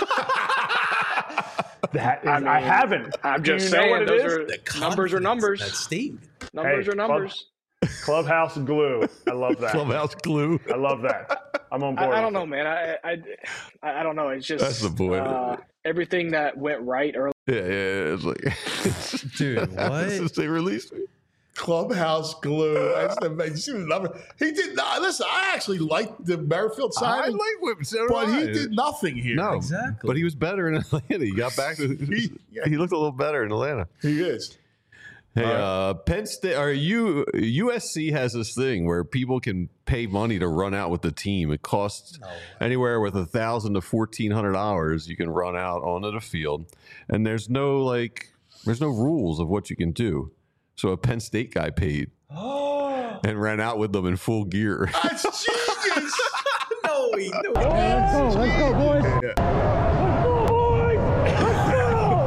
That is, I I, mean, haven't. I'm Do just you know saying, what it those is? are The numbers are confidence, numbers. That statement. Numbers Hey, are numbers. Club, clubhouse glue. I love that. Clubhouse glue. I love that. I'm on I, board. I don't with know, man. I, I I I don't know. It's just That's the point. Uh, everything that went right early. Yeah, yeah, it's like, Dude, what? Since they released me. Clubhouse glue. That's the you see the number. He did not. Listen, I actually liked the Merrifield I signing, like Whit, so do but he I. did nothing here. No, Exactly. But he was better in Atlanta. He got back to. He- yeah. He looked a little better in Atlanta. He is. Hey, All right. uh, Penn State or U U S C has this thing where people can pay money to run out with the team. It costs anywhere with a thousand to fourteen hundred dollars. You can run out onto the field, and there's no like, there's no rules of what you can do. So a Penn State guy paid and ran out with them in full gear. That's genius. No, he, no. Let's go, let's go, boys. Let's go, boys. Let's go.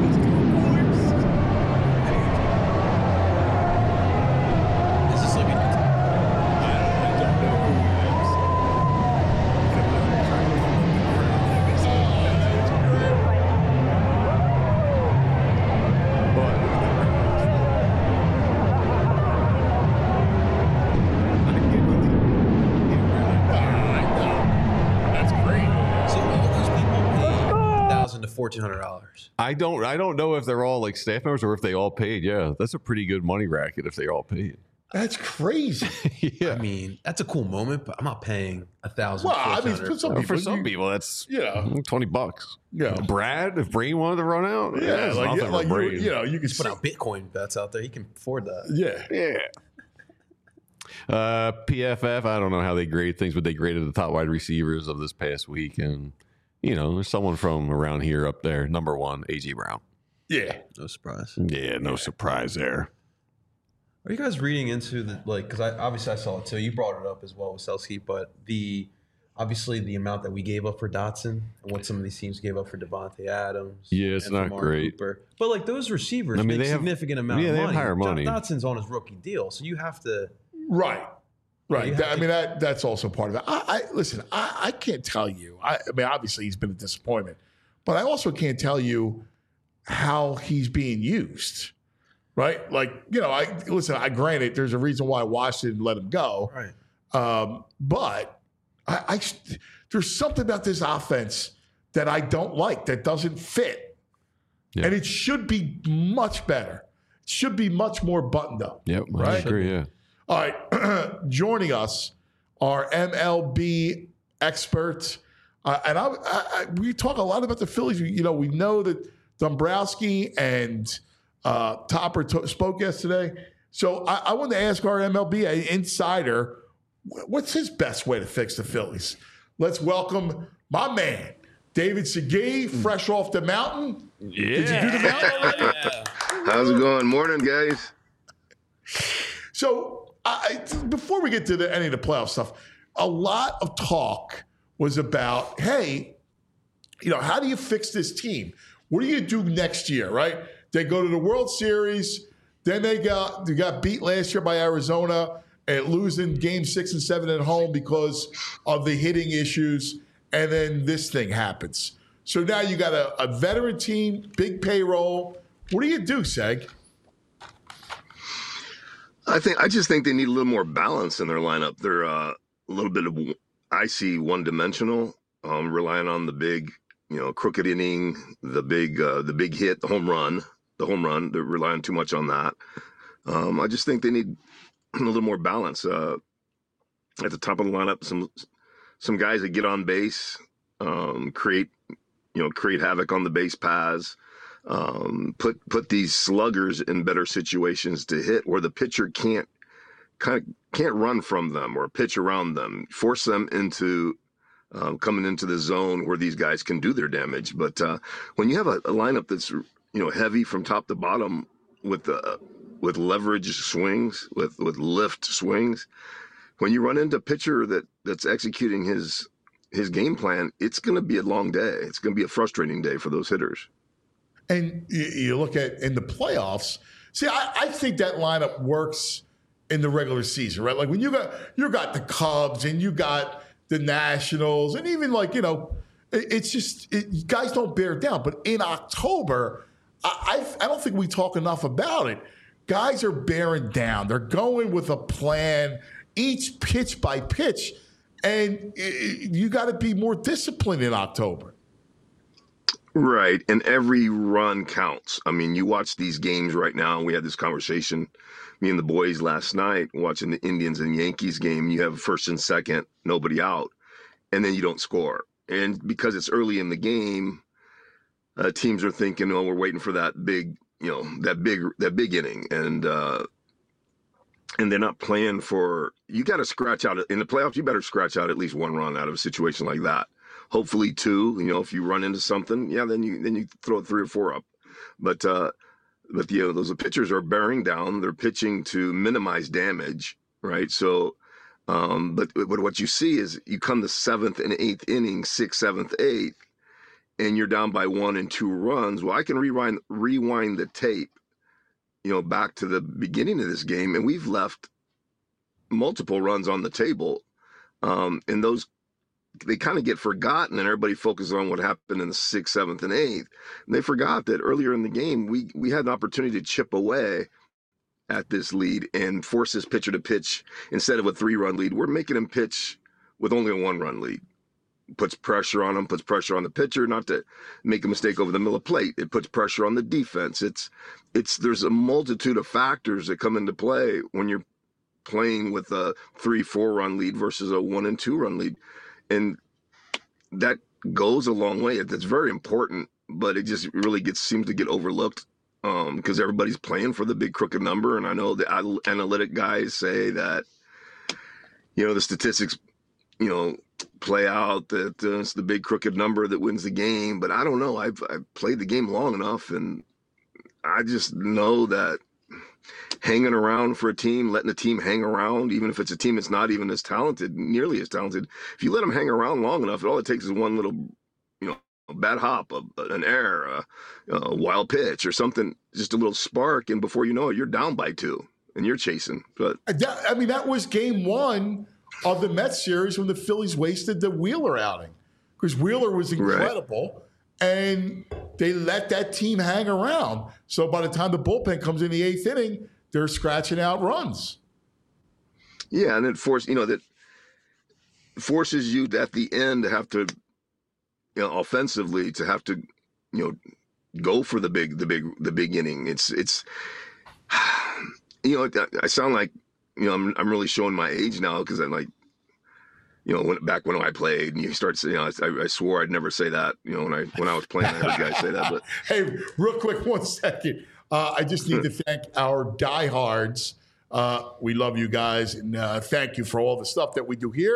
Is this like a That's great. So all those people paid thousand to fourteen hundred dollars. I don't I don't know if they're all like staff members or if they all paid. Yeah, that's a pretty good money racket if they all paid. That's crazy. yeah. I mean, that's a cool moment, but I'm not paying a thousand. Well, I mean, for some Well, people, for some you- people, that's you know, twenty bucks. Yeah. Brad, if Brain wanted to run out, yeah, it's like, nothing yeah, for like you, Brain. you know, you can put see, out Bitcoin bets out there. He can afford that. yeah. Yeah. Uh, P F F, I don't know how they grade things, but they graded the top wide receivers of this past week. And, you know, there's someone from around here up there. Number one, A J Brown. Yeah. No surprise. Yeah, no surprise there. Are you guys reading into the like? Because I obviously I saw it too. You brought it up as well with Selsky, but the obviously the amount that we gave up for Dotson and what some of these teams gave up for Devontae Adams. Yeah, it's and for not Mark great. Cooper. But like those receivers I mean, make they have- significant amount yeah, of they have money. higher Dot- money. Dotson's on his rookie deal, so you have to. Right. Right. You have That- I to- mean, that that's also part of it. I, I listen. I, I can't tell you. I, I mean, obviously he's been a disappointment, but I also can't tell you how he's being used. Right. Like you know, I listen. I granted there's a reason why Washington let him go. Right. Um, but I, I there's something about this offense that I don't like that doesn't fit, Yeah. and it should be much better. It should be much more buttoned up. Yep, I Right? agree, yeah. All right, joining us are M L B experts, uh, and I, I, I, we talk a lot about the Phillies. You know, we know that Dombrowski and uh, Topper to- spoke yesterday. So I, I wanted to ask our M L B insider, wh- what's his best way to fix the Phillies? let's welcome my man, David Segui, fresh off the mountain. Yeah. Did you do the mountain already? How's it going? Morning, guys. So I, before we get to the, any of the playoff stuff, a lot of talk was about, hey, you know, how do you fix this team? What do you do next year, right? They go to the World Series, then they got they got beat last year by Arizona and losing game six and seven at home because of the hitting issues, and then this thing happens. So now you got a, a veteran team, big payroll. What do you do, Seg? I think I just think they need a little more balance in their lineup. They're uh, a little bit of, I see, one-dimensional, um, relying on the big, you know, crooked inning, the big, uh, the big hit, the home run, the home run. They're relying too much on that. Um, I just think they need a little more balance uh, at the top of the lineup. Some some guys that get on base, um, create, you know, create havoc on the base paths. Um, put put these sluggers in better situations to hit, where the pitcher can't kind of can't run from them or pitch around them. Force them into um, coming into the zone where these guys can do their damage. But uh, when you have a, a lineup that's, you know, heavy from top to bottom with uh, with leverage swings, with with lift swings, when you run into a pitcher that that's executing his his game plan, it's going to be a long day. It's going to be a frustrating day for those hitters. And you, you look at in the playoffs. See, I, I think that lineup works in the regular season, right? Like when you got you got the Cubs and you got the Nationals, and even like, you know, it, it's just it, guys don't bear down. But in October, I, I I don't think we talk enough about it. Guys are bearing down. They're going with a plan, each pitch by pitch, and it, you got to be more disciplined in October. Right. And every run counts. I mean, you watch these games right now. We had this conversation, me and the boys last night, watching the Indians and Yankees game. You have first and second, nobody out, and then you don't score. And because it's early in the game, uh, teams are thinking, oh, we're waiting for that big, you know, that big, that big inning. And, uh, and they're not playing for, you got to scratch out in the playoffs. You better scratch out at least one run out of a situation like that. Hopefully two, you know, if you run into something, yeah, then you then you throw three or four up. But uh, but you know, those pitchers are bearing down. They're pitching to minimize damage, right? So, um, but but what you see is you come to seventh and eighth inning, sixth, seventh, eighth, and you're down by one and two runs. Well, I can rewind rewind the tape, you know, back to the beginning of this game, and we've left multiple runs on the table, um, and those. They kind of get forgotten, and everybody focuses on what happened in the sixth, seventh, and eighth. And they forgot that earlier in the game, we we had an opportunity to chip away at this lead and force this pitcher to pitch instead of a three-run lead. We're making him pitch with only a one-run lead. Puts pressure on him, puts pressure on the pitcher, not to make a mistake over the middle of plate. It puts pressure on the defense. It's it's there's a multitude of factors that come into play when you're playing with a three, four-run lead versus a one and two-run lead. And that goes a long way. That's very important, but it just really gets seems to get overlooked um, because everybody's playing for the big crooked number. And I know the analytic guys say that, you know, the statistics, you know, play out that uh, it's the big crooked number that wins the game. But I don't know. I've, I've played the game long enough, and I just know that hanging around for a team, letting the team hang around, even if it's a team that's not even as talented, nearly as talented, if you let them hang around long enough, all it takes is one little, you know, a bad hop, a, an error, a, a wild pitch or something, just a little spark, and before you know it, you're down by two and you're chasing. But that, I mean, that was game one of the Mets series when the Phillies wasted the Wheeler outing, because Wheeler was incredible. Right. And they let that team hang around. So by the time the bullpen comes in the eighth inning, they're scratching out runs. Yeah, and it forces, you know, that forces you at the end to have to, you know, offensively to have to, you know, go for the big, the big, the big inning. It's, it's, you know, I sound like, you know, I'm, I'm really showing my age now because I'm like, you know, when, back when I played, and you start saying, you know, I, I swore I'd never say that. You know, when I when I was playing, I heard guys say that. But hey, real quick, one second. Uh, I just need to thank our diehards. Uh, we love you guys, and uh, thank you for all the stuff that we do here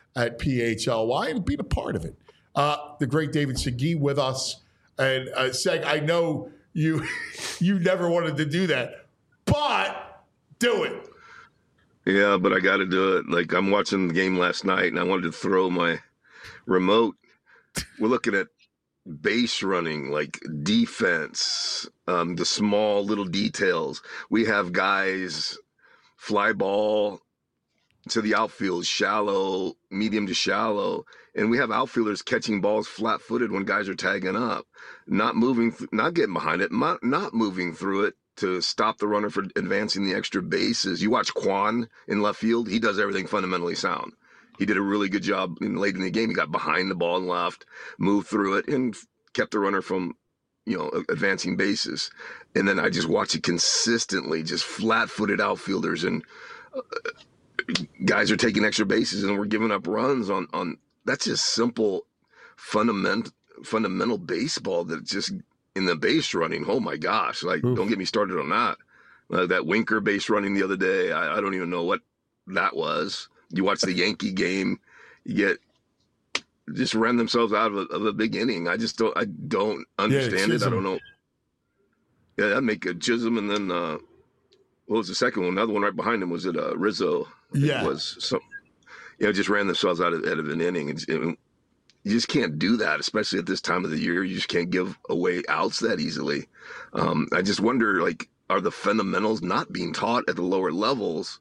at P H L Y and being a part of it. Uh, the great David Segui with us. And uh, Seg, I know you you never wanted to do that, but do it. Yeah, but I got to do it. Like, I'm watching the game last night, and I wanted to throw my remote. We're looking at base running, like defense, um, the small little details. We have guys fly ball to the outfield, shallow, medium to shallow, and we have outfielders catching balls flat-footed when guys are tagging up, not moving, th- not getting behind it, not, not moving through it to stop the runner from advancing the extra bases. You watch Quan in left field; he does everything fundamentally sound. He did a really good job in late in the game. He got behind the ball and left, moved through it, and kept the runner from, you know, advancing bases. And then I just watch it consistently, just flat-footed outfielders, and uh, guys are taking extra bases, and we're giving up runs on on. That's just simple, fundamental fundamental baseball that just in the base running. Oh my gosh! Like, Oof. Don't get me started on that. Uh, that Winker base running the other day. I, I don't even know what that was. You watch the Yankee game, you get just ran themselves out of a, of a big inning. I just don't. I don't understand yeah, it. I don't know. Yeah, that make a Chisholm, and then uh, what was the second one? Another one right behind him. Was it uh, Rizzo? Yeah, it was some. You know, just ran themselves out of, out of an inning. It's, it, you just can't do that, especially at this time of the year. You just can't give away outs that easily. Um, I just wonder, like, are the fundamentals not being taught at the lower levels?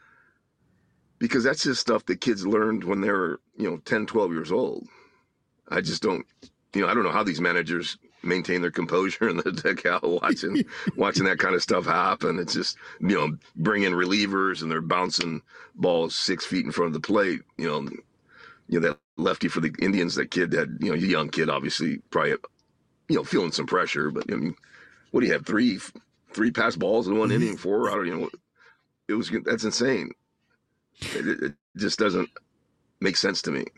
Because that's just stuff that kids learned when they were, you know, ten, twelve years old. I just don't, you know, I don't know how these managers maintain their composure in the dugout watching watching that kind of stuff happen. It's just, you know, bring in relievers and they're bouncing balls six feet in front of the plate. You know, you know that lefty for the Indians, that kid had, you know, a young kid, obviously, probably, you know, feeling some pressure. But I mean, what do you have? Three, three pass balls in one inning, four. I don't, you know, it was that's insane. It, it just doesn't make sense to me.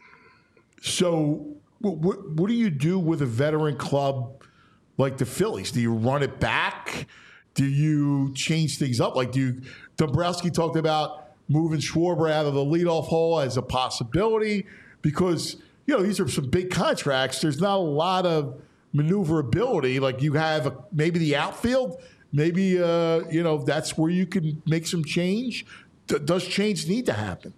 So, what what do you do with a veteran club like the Phillies? Do you run it back? Do you change things up? Like, do you, Dombrowski talked about moving Schwarber out of the leadoff hole as a possibility because, you know, these are some big contracts. There's not a lot of maneuverability. Like, you have a, maybe the outfield, maybe, uh, you know, that's where you can make some change. D- does change need to happen?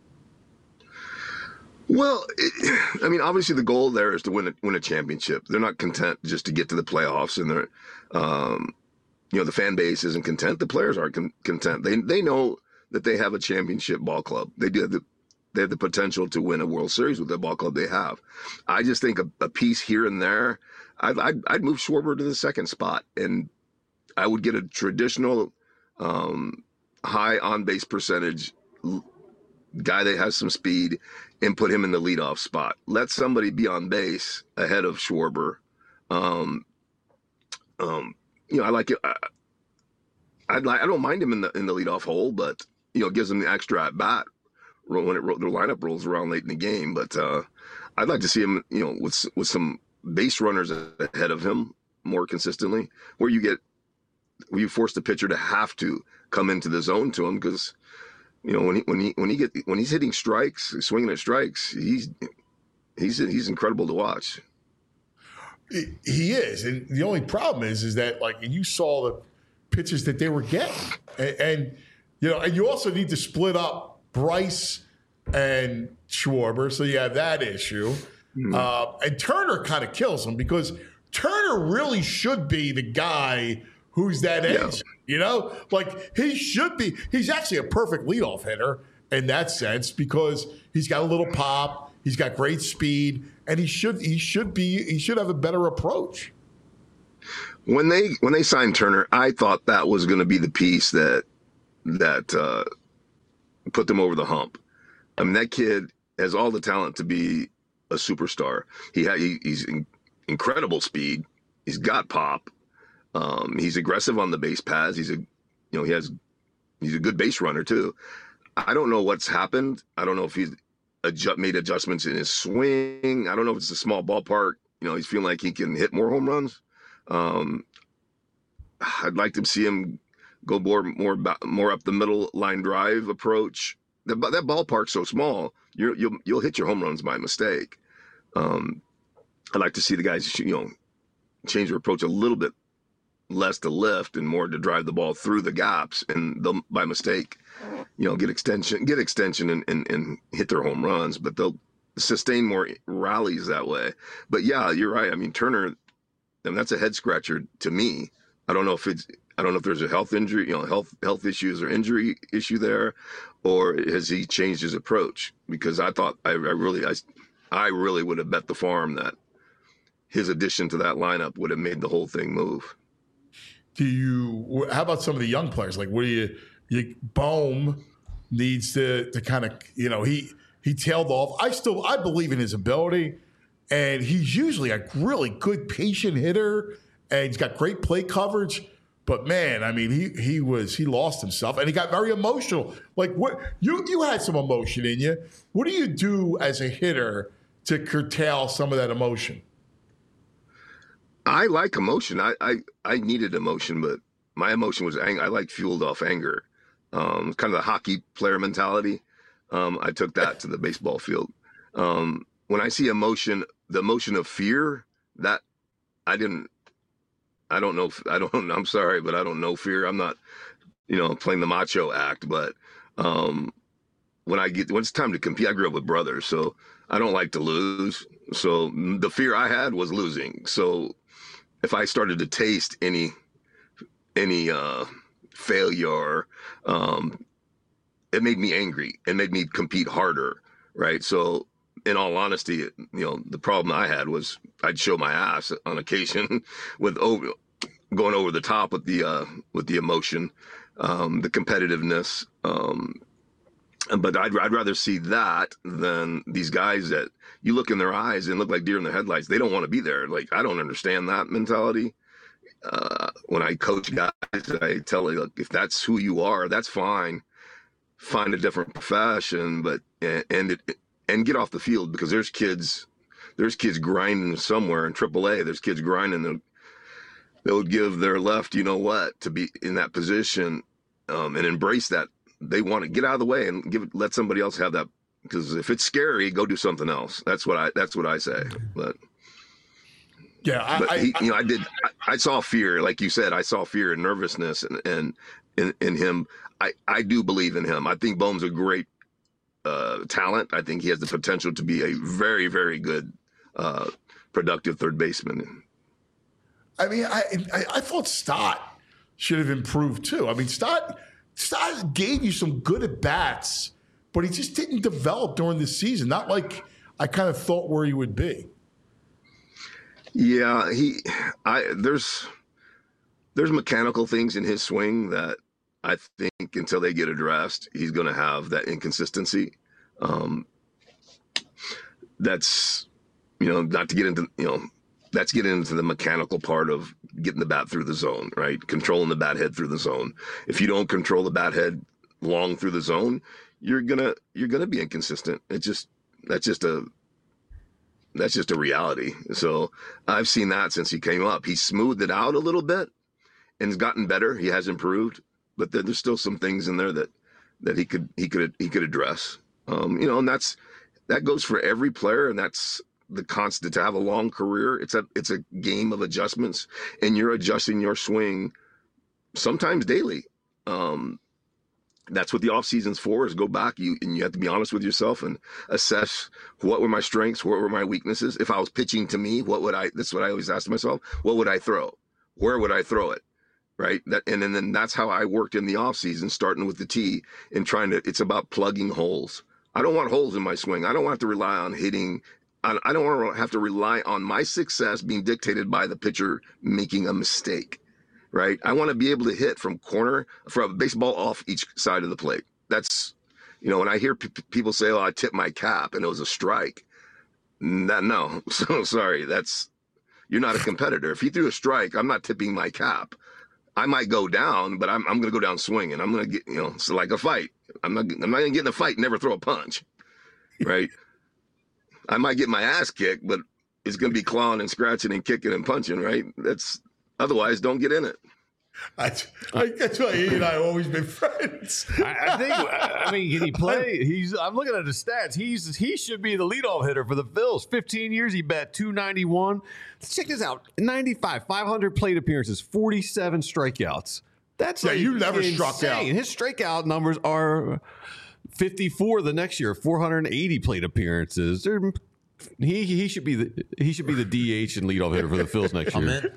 Well, it, I mean, obviously the goal there is to win a, win a championship. They're not content just to get to the playoffs, and they're, um, you know, the fan base isn't content. The players aren't con- content. They they know that they have a championship ball club. They do have the they have the potential to win a World Series with the ball club they have. I just think a, a piece here and there. I'd, I'd I'd move Schwarber to the second spot, and I would get a traditional um, high on base percentage guy that has some speed and put him in the leadoff spot. Let somebody be on base ahead of Schwarber. Um, um, you know, I like it. I, I'd like. I don't mind him in the in the leadoff hole, but you know, it gives him the extra at bat when it the lineup rolls around late in the game. But uh, I'd like to see him, you know, with with some base runners ahead of him more consistently, where you get where you force the pitcher to have to come into the zone to him because. You know, when he when he when he get when he's hitting strikes, swinging at strikes, he's he's he's incredible to watch. He is, and the only problem is, is that like you saw the pitches that they were getting, and, and you know, and you also need to split up Bryce and Schwarber, so you have that issue. Mm-hmm. Uh, and Turner kind of kills him because Turner really should be the guy who's that edge. Yeah. You know, like he should be. He's actually a perfect leadoff hitter in that sense because he's got a little pop, he's got great speed, and he should he should be he should have a better approach. When they when they signed Turner, I thought that was going to be the piece that that uh, put them over the hump. I mean, that kid has all the talent to be a superstar. He ha- he, he's in, incredible speed. He's got pop. Um, he's aggressive on the base paths. He's a, you know, he has, he's a good base runner too. I don't know what's happened. I don't know if he's adjust, made adjustments in his swing. I don't know if it's a small ballpark. You know, he's feeling like he can hit more home runs. Um, I'd like to see him go more, more, more up the middle line drive approach the, that ballpark's so small, you're, you'll you'll hit your home runs by mistake. Um, I like to see the guys, you know, change their approach a little bit, less to lift and more to drive the ball through the gaps, and they'll by mistake, you know, get extension, get extension, and and, and hit their home runs. But they'll sustain more rallies that way. But yeah, you're right. I mean, Turner, I mean, that's a head scratcher to me. I don't know if it's, I don't know if there's a health injury, you know, health health issues or injury issue there, or has he changed his approach? Because I thought I, I really I, I really would have bet the farm that his addition to that lineup would have made the whole thing move. Do you? How about some of the young players? Like, what do you? You Bohm needs to to kind of, you know, he he tailed off. I still I believe in his ability, and he's usually a really good patient hitter, and he's got great plate coverage. But man, I mean, he he was he lost himself, and he got very emotional. Like, what you you had some emotion in you. What do you do as a hitter to curtail some of that emotion? I like emotion. I I, I needed emotion, but my emotion was anger. I like fueled off anger. Um, kind of the hockey player mentality. Um, I took that to the baseball field. Um, when I see emotion, the emotion of fear, that I didn't. I don't know. If, I don't. I'm sorry, but I don't know fear. I'm not, you know, playing the macho act. But um, when I get when it's time to compete, I grew up with brothers, so I don't like to lose. So the fear I had was losing. So if I started to taste any any uh, failure, um, it made me angry. It made me compete harder. Right. So in all honesty, you know, the problem I had was I'd show my ass on occasion with over, going over the top with the uh, with the emotion, um, the competitiveness. Um, but I'd I'd rather see that than these guys that you look in their eyes and look like deer in the headlights. They don't want to be there. Like, I don't understand that mentality. Uh, when I coach guys, I tell them, look, if that's who you are, that's fine. Find a different profession, but and, and it. And get off the field, because there's kids, there's kids grinding somewhere in triple A. There's kids grinding that they would give their left, you know what, to be in that position, um, and embrace that. They want to get out of the way and give let somebody else have that. Because if it's scary, go do something else. That's what I. That's what I say. But yeah, I, but I, he, I you know, I did. I, I saw fear, like you said. I saw fear and nervousness, and and in, in him. I I do believe in him. I think Bohm's a great. Uh, talent. I think he has the potential to be a very, very good, uh, productive third baseman. I mean, I, I I thought Stott should have improved too. I mean, Stott Stott gave you some good at bats, but he just didn't develop during the season. Not like I kind of thought where he would be. Yeah, he. I there's there's mechanical things in his swing that I think until they get addressed, he's going to have that inconsistency. Um, that's, you know, not to get into, you know, that's getting into the mechanical part of getting the bat through the zone, right? Controlling the bat head through the zone. If you don't control the bat head long through the zone, you're gonna you're gonna be inconsistent. It's just that's just a that's just a reality. So I've seen that since he came up. He smoothed it out a little bit and has gotten better. He has improved. But there's still some things in there that, that he could he could he could address, um, you know, and that's that goes for every player, and that's the constant to have a long career. It's a it's a game of adjustments, and you're adjusting your swing sometimes daily. Um, that's what the off season's for, is go back you and you have to be honest with yourself and assess what were my strengths, what were my weaknesses. If I was pitching to me, what would I? That's what I always ask myself. What would I throw? Where would I throw it? Right. That, and, and then that's how I worked in the off season, starting with the tee and trying to, it's about plugging holes. I don't want holes in my swing. I don't want to rely on hitting. I, I don't want to have to rely on my success being dictated by the pitcher making a mistake. Right. I want to be able to hit from corner, from a baseball off each side of the plate. That's, you know, when I hear p- people say, oh, I tipped my cap and it was a strike. That, no, so sorry. That's, you're not a competitor. If he threw a strike, I'm not tipping my cap. I might go down, but I'm I'm going to go down swinging. I'm going to get, you know, it's like a fight. I'm not I'm not going to get in a fight and never throw a punch, right? I might get my ass kicked, but it's going to be clawing and scratching and kicking and punching, right? That's otherwise, don't get in it. That's, that's why he and I have always been friends. I, I think. I mean, can he play? He's. I'm looking at his stats. He's. He should be the leadoff hitter for the Phils. fifteen years, he bat two ninety-one. Check this out: ninety-five, five hundred plate appearances, forty-seven strikeouts. That's yeah. Like You never insane. struck out. His strikeout numbers are fifty-four the next year, four hundred eighty plate appearances. They're, He he should be the he should be the D H and leadoff hitter for the Phils next year.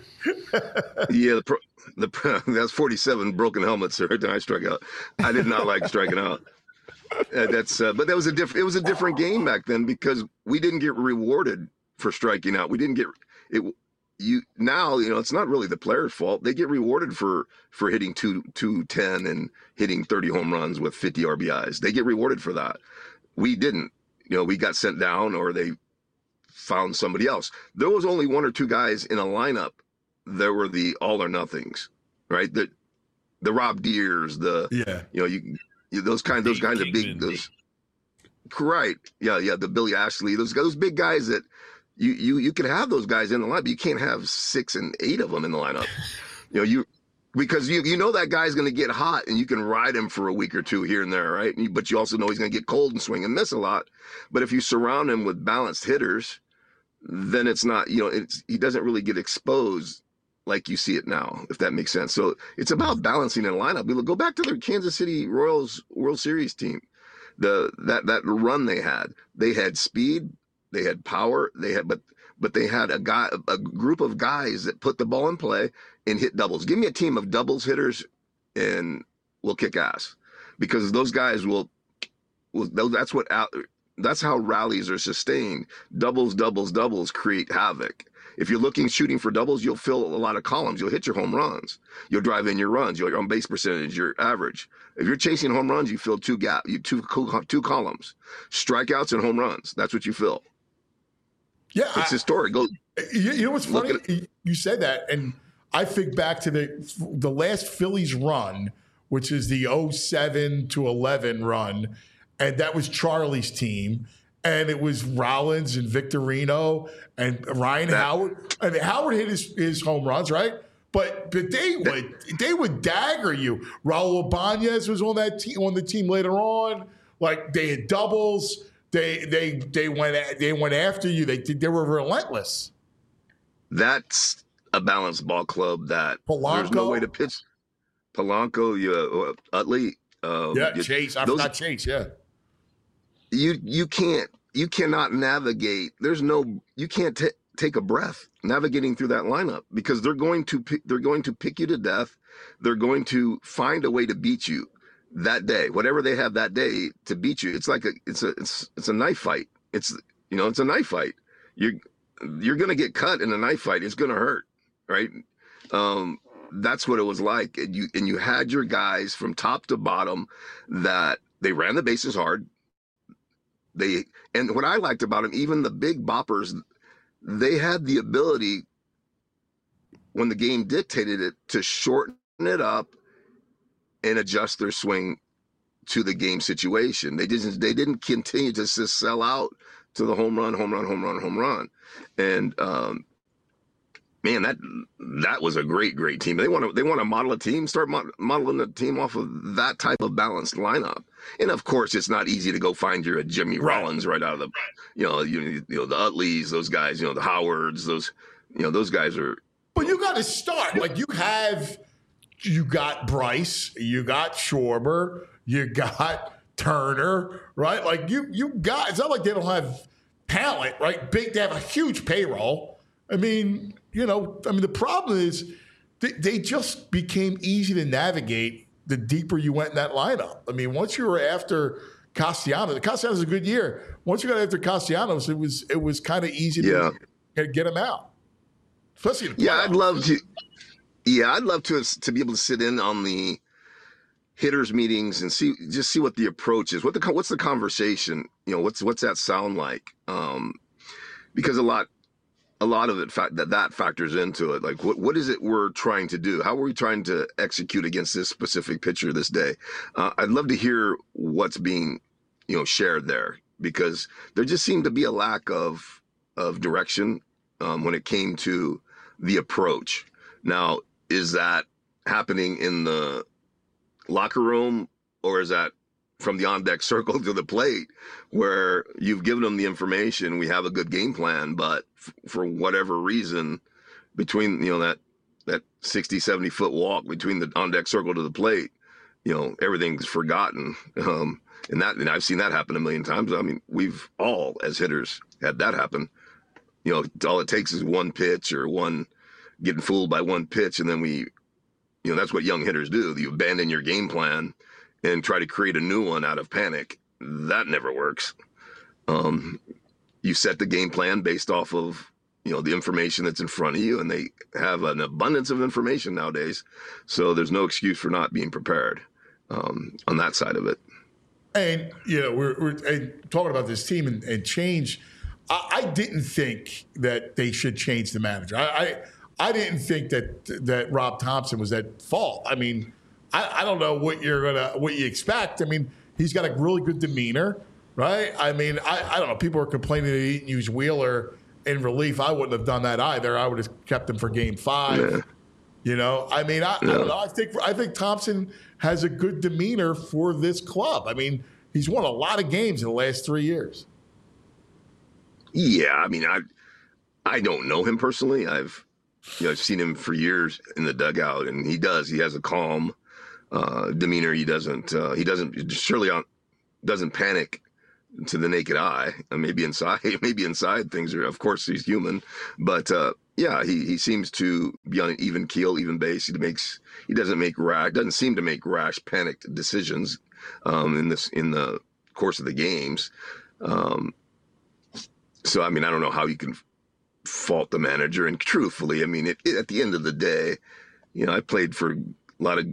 Yeah, the, pro, the pro, that's forty-seven broken helmets every time I struck out. I did not like striking out. Uh, that's uh, but that was a different. It was a different game back then because we didn't get rewarded for striking out. We didn't get it. You now you know it's not really the player's fault. They get rewarded for for hitting two two ten and hitting thirty home runs with fifty R B Is. They get rewarded for that. We didn't. You know, we got sent down or they found somebody else. There was only one or two guys in a lineup. There were the all or nothings, right? The the Rob Deers, the yeah, you know, you, you those kind those kinds of big those. Right, yeah, yeah, the Billy Ashley, those those big guys that you you you could have those guys in the lineup, but you can't have six and eight of them in the lineup. You know, you because you you know that guy's going to get hot and you can ride him for a week or two here and there, right? And you, but you also know he's going to get cold and swing and miss a lot. But if you surround him with balanced hitters, then it's not, you know, it's he doesn't really get exposed like you see it now, if that makes sense. So it's about balancing in a lineup. We go back to the Kansas City Royals World Series team. The that that run they had, they had speed, they had power, they had but but they had a guy a group of guys that put the ball in play and hit doubles. Give me a team of doubles hitters and we'll kick ass. Because those guys will will that's what that's how rallies are sustained. Doubles, doubles, doubles create havoc. If you're looking shooting for doubles, you'll fill a lot of columns. You'll hit your home runs. You'll drive in your runs. Your on base percentage, your average. If you're chasing home runs, you fill two gap, you two two columns. Strikeouts and home runs. That's what you fill. Yeah, it's historic. Go. You, you know what's funny? You said that, and I think back to the the last Phillies run, which is the oh seven to eleven run, and that was Charlie's team. And it was Rollins and Victorino and Ryan Howard. And Howard hit his, his home runs, right? But but they would they would dagger you. Raul Ibanez was on that team on the team later on. Like they had doubles. They they they went they went after you. They they were relentless. That's a balanced ball club. That Polanco. There's no way to pitch. Polanco, you uh, Utley. Uh, yeah, you, Chase. I those, forgot Chase. Yeah. You you can't you cannot navigate. There's no you can't t- take a breath navigating through that lineup because they're going to pick, they're going to pick you to death. They're going to find a way to beat you that day. Whatever they have that day to beat you. It's like a it's a it's it's a knife fight. It's you know it's a knife fight. You're you're gonna get cut in a knife fight. It's gonna hurt, right? Um, that's what it was like. And you and you had your guys from top to bottom that they ran the bases hard. They and what I liked about them, even the big boppers, they had the ability when the game dictated it to shorten it up and adjust their swing to the game situation. They didn't they didn't continue to just sell out to the home run, home run, home run, home run. And um, man, that that was a great, great team. They want to they want to model a team, start mod- modeling the team off of that type of balanced lineup. And of course, it's not easy to go find your Jimmy right. Rollins right out of the, you know, you, you know the Utleys, those guys, you know, the Howards, those, you know, those guys are. But you got to start like you have. You got Bryce, you got Schwarber, you got Turner, right? Like you, you got. It's not like they don't have talent, right? Big, they have a huge payroll. I mean, you know, I mean, the problem is they, they just became easy to navigate the deeper you went in that lineup. I mean, once you were after Castellanos, Castellanos is a good year. Once you got after Castellanos, it was it was kind of easy to yeah. get him out. Especially in the yeah, I'd love to. Yeah, I'd love to to be able to sit in on the hitters meetings and see just see what the approach is. What the what's the conversation? You know, what's what's that sound like? Um, because a lot. A lot of it fa- that that factors into it. Like, what what is it we're trying to do? How are we trying to execute against this specific pitcher this day? Uh, I'd love to hear what's being, you know, shared there because there just seemed to be a lack of of direction um, when it came to the approach. Now, is that happening in the locker room, or is that from the on-deck circle to the plate, where you've given them the information, we have a good game plan, but f- for whatever reason, between, you know, that that sixty, seventy foot walk between the on-deck circle to the plate, you know, everything's forgotten. Um, and that, and I've seen that happen a million times. I mean, we've all, as hitters, had that happen. You know, all it takes is one pitch or one getting fooled by one pitch, and then we, you know, that's what young hitters do. You abandon your game plan and try to create a new one out of panic. That never works. Um, you set the game plan based off of, you know, the information that's in front of you, and they have an abundance of information nowadays. So there's no excuse for not being prepared um, on that side of it. And, you know, we're, we're and talking about this team and, and change. I, I didn't think that they should change the manager. I, I I didn't think that that Rob Thompson was at fault. I mean, I, I don't know what you're gonna what you expect. I mean, he's got a really good demeanor, right? I mean, I, I don't know. People are complaining that he didn't use Wheeler in relief. I wouldn't have done that either. I would have kept him for Game Five. Yeah. You know, I mean, I, yeah. I don't know. I think I think Thompson has a good demeanor for this club. I mean, he's won a lot of games in the last three years. Yeah, I mean, I I don't know him personally. I've you know I've seen him for years in the dugout, and he does. He has a calm uh, demeanor. He doesn't. Uh, he doesn't surely on, doesn't panic to the naked eye. And maybe inside, maybe inside things are. Of course, he's human, but uh, yeah, he he seems to be on an even keel, even base. He makes he doesn't make rash. Doesn't seem to make rash, panicked decisions um, in this in the course of the games. Um, So, I mean, I don't know how you can fault the manager. And truthfully, I mean, it, it, at the end of the day, you know, I played for a lot of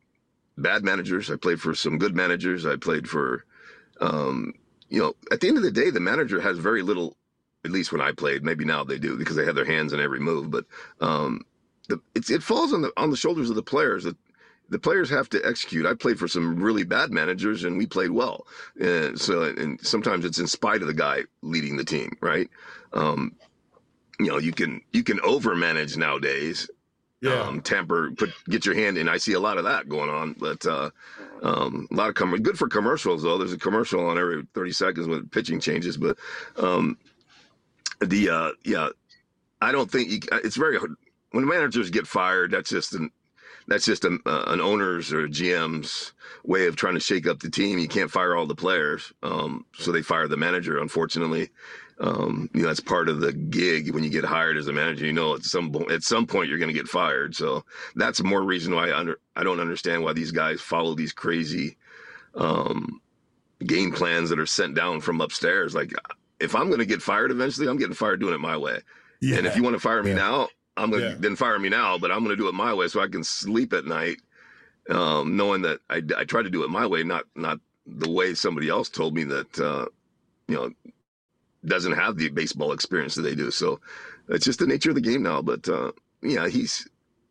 bad managers. I played for some good managers. I played for, um, you know, at the end of the day, the manager has very little, at least when I played, maybe now they do because they have their hands in every move. But um, the, it's, it falls on the on the shoulders of the players. The, the players have to execute. I played for some really bad managers, and we played well. And so, and sometimes it's in spite of the guy leading the team, right? Um, you know, you can you can overmanage nowadays. Yeah. Um, tamper, put get your hand in. I see a lot of that going on, but uh, um, a lot of com- good for commercials though. There's a commercial on every thirty seconds when pitching changes, but um, the uh, yeah, I don't think you, it's very hard when managers get fired. That's just an That's just a, uh, an owner's or G M's way of trying to shake up the team. You can't fire all the players, um, so they fire the manager. Unfortunately, um, you know that's part of the gig. When you get hired as a manager, you know at some at some point you're going to get fired. So that's more reason why I under I don't understand why these guys follow these crazy um, game plans that are sent down from upstairs. Like if I'm going to get fired eventually, I'm getting fired doing it my way. Yeah. And if you want to fire me yeah. now. I'm gonna yeah. then fire me now, but I'm gonna do it my way so I can sleep at night, um, knowing that I, I try to do it my way, not not the way somebody else told me that uh, you know doesn't have the baseball experience that they do. So it's just the nature of the game now. But uh, yeah, he's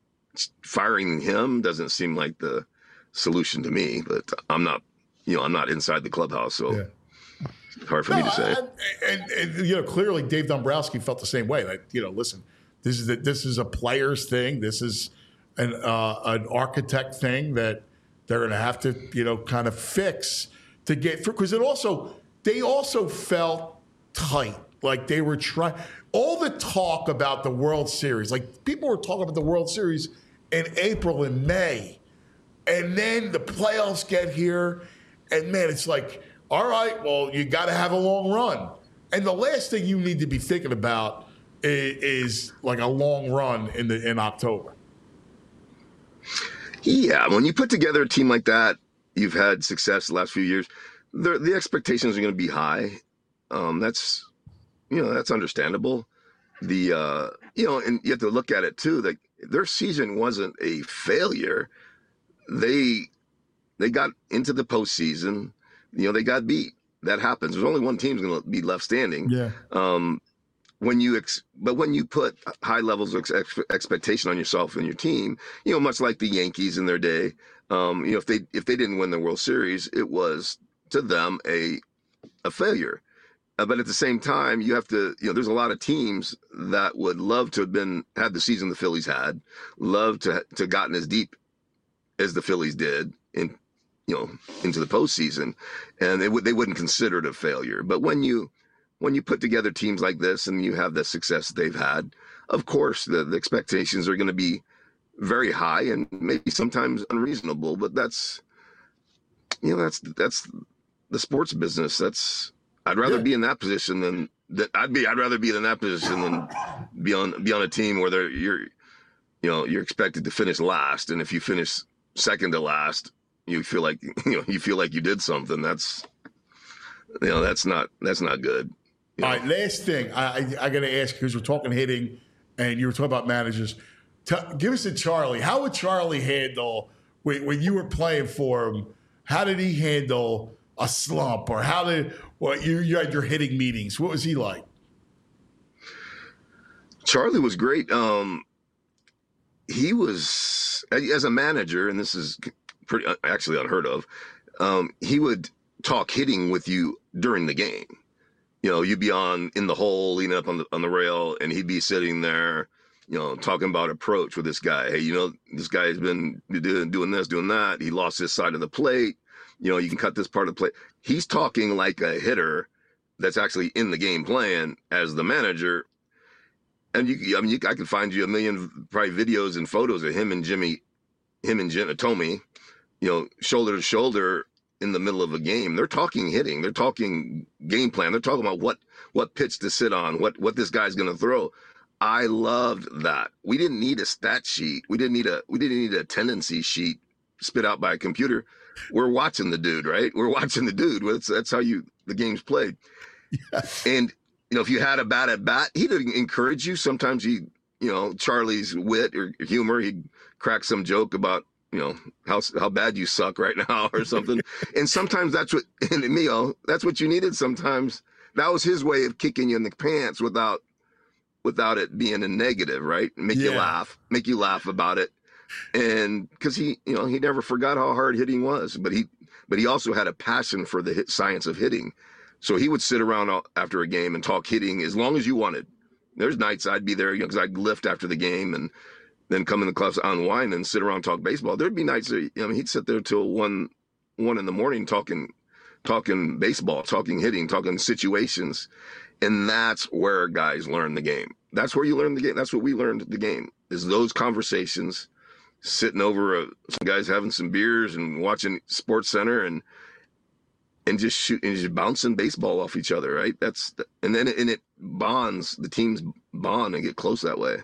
firing him doesn't seem like the solution to me. But I'm not, you know, I'm not inside the clubhouse, so. Yeah. It's hard for no, me to say. I, and, and you know, clearly Dave Dombrowski felt the same way. Like, you know, listen. This is a, this is a players thing. This is an uh, an architect thing that they're going to have to you know kind of fix to get through. Because it also they also felt tight, like they were trying. All the talk about the World Series, like people were talking about the World Series in April and May, and then the playoffs get here, and man, it's like, all right, well, you got to have a long run, and the last thing you need to be thinking about is like a long run in the in October. Yeah, when you put together a team like that, you've had success the last few years. The, the expectations are going to be high. Um, that's you know that's understandable. The uh, you know, and you have to look at it too. Like their season wasn't a failure. They they got into the postseason. You know, they got beat. That happens. There's only one team's going to be left standing. Yeah. Um, When you, ex- but when you put high levels of ex- expectation on yourself and your team, you know, much like the Yankees in their day, um, you know, if they if they didn't win the World Series, it was to them a a failure. Uh, but at the same time, you have to, you know, there's a lot of teams that would love to have been had the season the Phillies had, love to to gotten as deep as the Phillies did in, you know, into the postseason, and they would they wouldn't consider it a failure. But when you when you put together teams like this and you have the success that they've had, of course the, the expectations are going to be very high and maybe sometimes unreasonable. But that's you know that's that's the sports business. That's I'd rather Yeah. be in that position than that. I'd be I'd rather be in that position than be on be on a team where they're you're you know you're expected to finish last, and if you finish second to last, you feel like you know you feel like you did something. That's you know that's not that's not good. You All know? right, last thing I I, I got to ask because we're talking hitting, and you were talking about managers. T- give us a Charlie. How would Charlie handle when, when you were playing for him? How did he handle a slump, or how did what you you had your hitting meetings? What was he like? Charlie was great. Um, he was as a manager, and this is pretty actually unheard of. Um, he would talk hitting with you during the game. You know, you'd be on in the hole, leaning up on the on the rail, and he'd be sitting there, you know, talking about approach with this guy. Hey, you know, this guy's been doing, doing this, doing that. He lost his side of the plate. You know, you can cut this part of the plate. He's talking like a hitter that's actually in the game playing as the manager. And you, I mean, you, I could find you a million probably videos and photos of him and Jimmy, him and Jim, Tommy, you know, shoulder to shoulder in the middle of a game. They're talking hitting. They're talking game plan. They're talking about what what pitch to sit on, what what this guy's going to throw. I loved that. We didn't need a stat sheet. We didn't need a we didn't need a tendency sheet spit out by a computer. We're watching the dude, right? We're watching the dude. That's that's how you the game's played. Yeah. And you know, if you had a bat at bat, he'd encourage you. Sometimes he, you know, Charlie's wit or humor, he'd crack some joke about, you know, how how bad you suck right now or something. And sometimes that's what, and me, oh, that's what you needed. Sometimes that was his way of kicking you in the pants without, without it being a negative, right? Make Yeah. you laugh, make you laugh about it. And because he, you know, he never forgot how hard hitting was, but he, but he also had a passion for the hit science of hitting. So he would sit around after a game and talk hitting as long as you wanted. There's nights I'd be there, you know, because I'd lift after the game and then come in the clubs, unwind and sit around and talk baseball. There'd be nights that, I mean, he'd sit there till one, one in the morning talking, talking baseball, talking hitting, talking situations. And that's where guys learn the game. That's where you learn the game. That's what we learned the game, is those conversations, sitting over a, some guys having some beers and watching Sports Center and, and just shooting, and just bouncing baseball off each other. Right. That's, the, and then it, and it bonds, the teams bond and get close that way.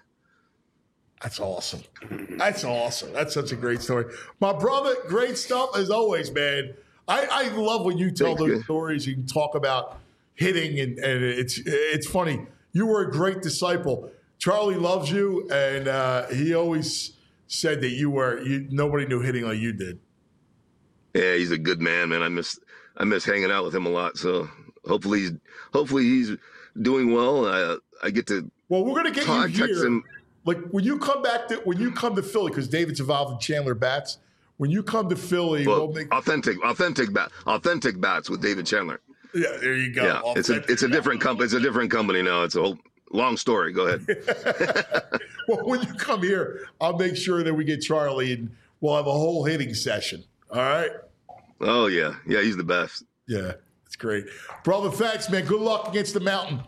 That's awesome. That's awesome. That's such a great story. My brother, great stuff as always, man. I, I love when you tell Thank those you. stories. You can talk about hitting, and, and it's it's funny. You were a great disciple. Charlie loves you, and uh, he always said that you were you. Nobody knew hitting like you did. Yeah, he's a good man, man. I miss I miss hanging out with him a lot. So hopefully he's hopefully he's doing well. I I get to Well, we're gonna get talk, you text here. him. Like when you come back to when you come to Philly, because David's involved in Chandler Bats. When you come to Philly, Well, we'll make authentic authentic bat authentic bats with David Chandler. yeah. There you go. Yeah, it's a it's a different company. It's a different company now. It's a whole long story. Go ahead. Well, when you come here, I'll make sure that we get Charlie, and we'll have a whole hitting session. All right. Oh yeah, yeah. He's the best. Yeah, it's great, brother. Thanks, man. Good luck against the Mountain.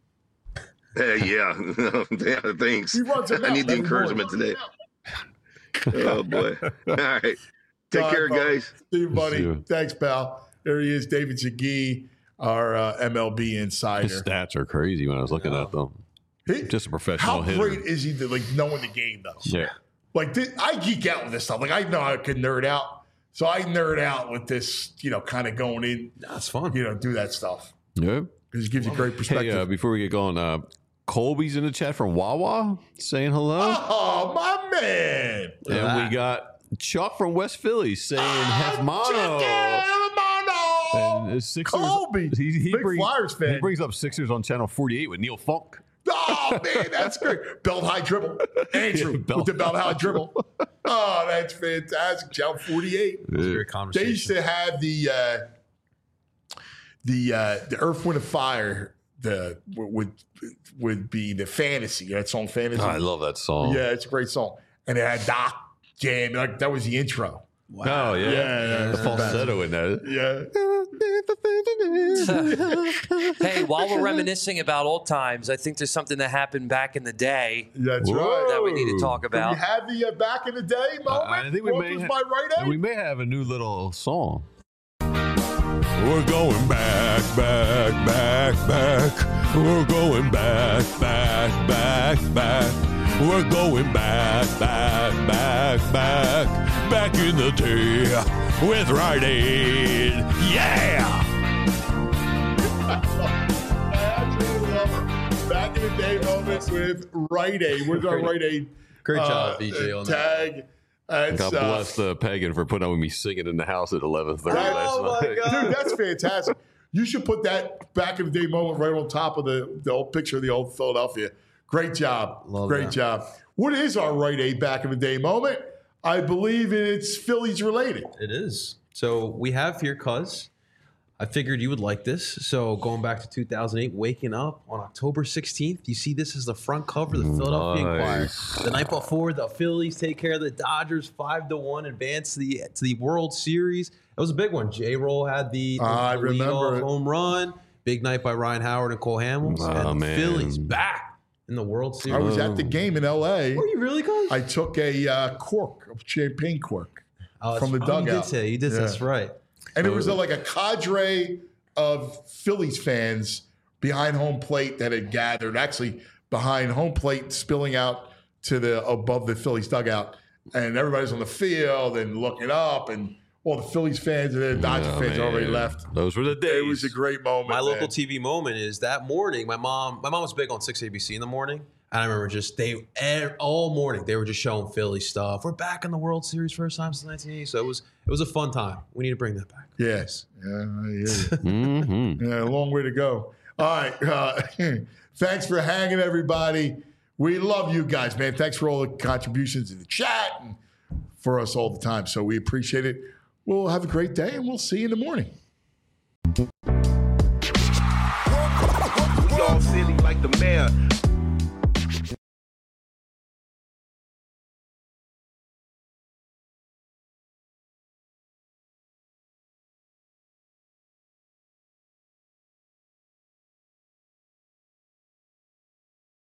Hey, yeah. yeah thanks. He runs a I need the mountain every encouragement morning. today. Oh boy. All right. Take All right, care, brother. guys. See you, buddy. See you. Thanks, pal. There he is, David Zagee, our uh, M L B insider. His stats are crazy when I was looking at them. He- Just a professional How hitter. great is he to like knowing the game though? Yeah. Like this, I geek out with this stuff. Like I know I can nerd out, so I nerd out with this. You know, kind of going in. That's fun. You know, do that stuff Yeah. because it gives you great perspective. Hey, uh, before we get going, uh, Colby's in the chat from Wawa saying hello. Oh, my man. And we got Chuck from West Philly saying Hefmano. And his Sixers, Colby. He, he, Big brings, Flyers fan. he brings up Sixers on channel forty-eight with Neil Funk. Oh, man, that's great. Belt high dribble. Andrew Yeah, belt with the belt high dribble. Oh, that's fantastic. Channel forty-eight. Yeah. Great They conversation. used to have the uh, the uh, the Earth, Wind, and Fire. The would would be the fantasy. That song, fantasy. Oh, I love that song. Yeah, it's a great song. And it had Doc. jam. Like that was the intro. Wow. Oh, yeah. Yeah, yeah, the falsetto in there. Yeah. Hey, while we're reminiscing about old times, I think there's something that happened back in the day. That's right. That we need to talk Do about. we have the uh, back in the day moment? I think we What may, was ha- my right aid? we may have a new little song. We're going back, back, back, back. We're going back, back, back, back. We're going back, back, back, back. Back in the day with Rite Aid. Yeah! I absolutely love it. Back in the day moment with Rite Aid. Where's our Rite Aid? Great uh, job, B J, on that. tag. And God stuff. bless uh, Pagan for putting up with me singing in the house at eleven thirty That- last Oh, my night. God. Dude, that's fantastic. You should put that back in the day moment right on top of the, the old picture of the old Philadelphia. Great job. Love Great that. job. What is our Rite Aid back in the day moment? I believe it's Phillies related. It is. So we have here, cuz I figured you would like this. So going back to two thousand eight, waking up on October sixteenth, you see this is the front cover of the Philadelphia Inquirer. Nice. The night before, the Phillies take care of the Dodgers five to one, advance to the to the World Series. It was a big one. J-Roll had the, the, I the remember leadoff it. home run. Big night by Ryan Howard and Cole Hamels. Oh, and the man. Phillies back in the World Series. I was at the game in L A. Were you really, cuz? I took a uh, cork, a champagne cork, Oh, from the that's- oh, you dugout. did say. You did. Yeah. That's right. and it was a, like a cadre of Phillies fans behind home plate that had gathered, actually behind home plate, spilling out to the above the Phillies dugout, and everybody's on the field and looking up, and all the Phillies fans and the Dodger Oh, fans man. already left. Those were the days. It was a great moment. My local man. T V moment is that morning. My mom, my mom was big on six A B C in the morning, and I remember just they eh, all morning they were just showing Philly stuff. We're back in the World Series first time since nineteen eighty, so it was it was a fun time. We need to bring that back. Yes. Yeah, I hear you. Mm-hmm. Yeah, a long way to go. All right. Uh, thanks for hanging, everybody. We love you guys, man. Thanks for all the contributions in the chat and for us all the time. So we appreciate it. We'll have a great day, and we'll see you in the morning.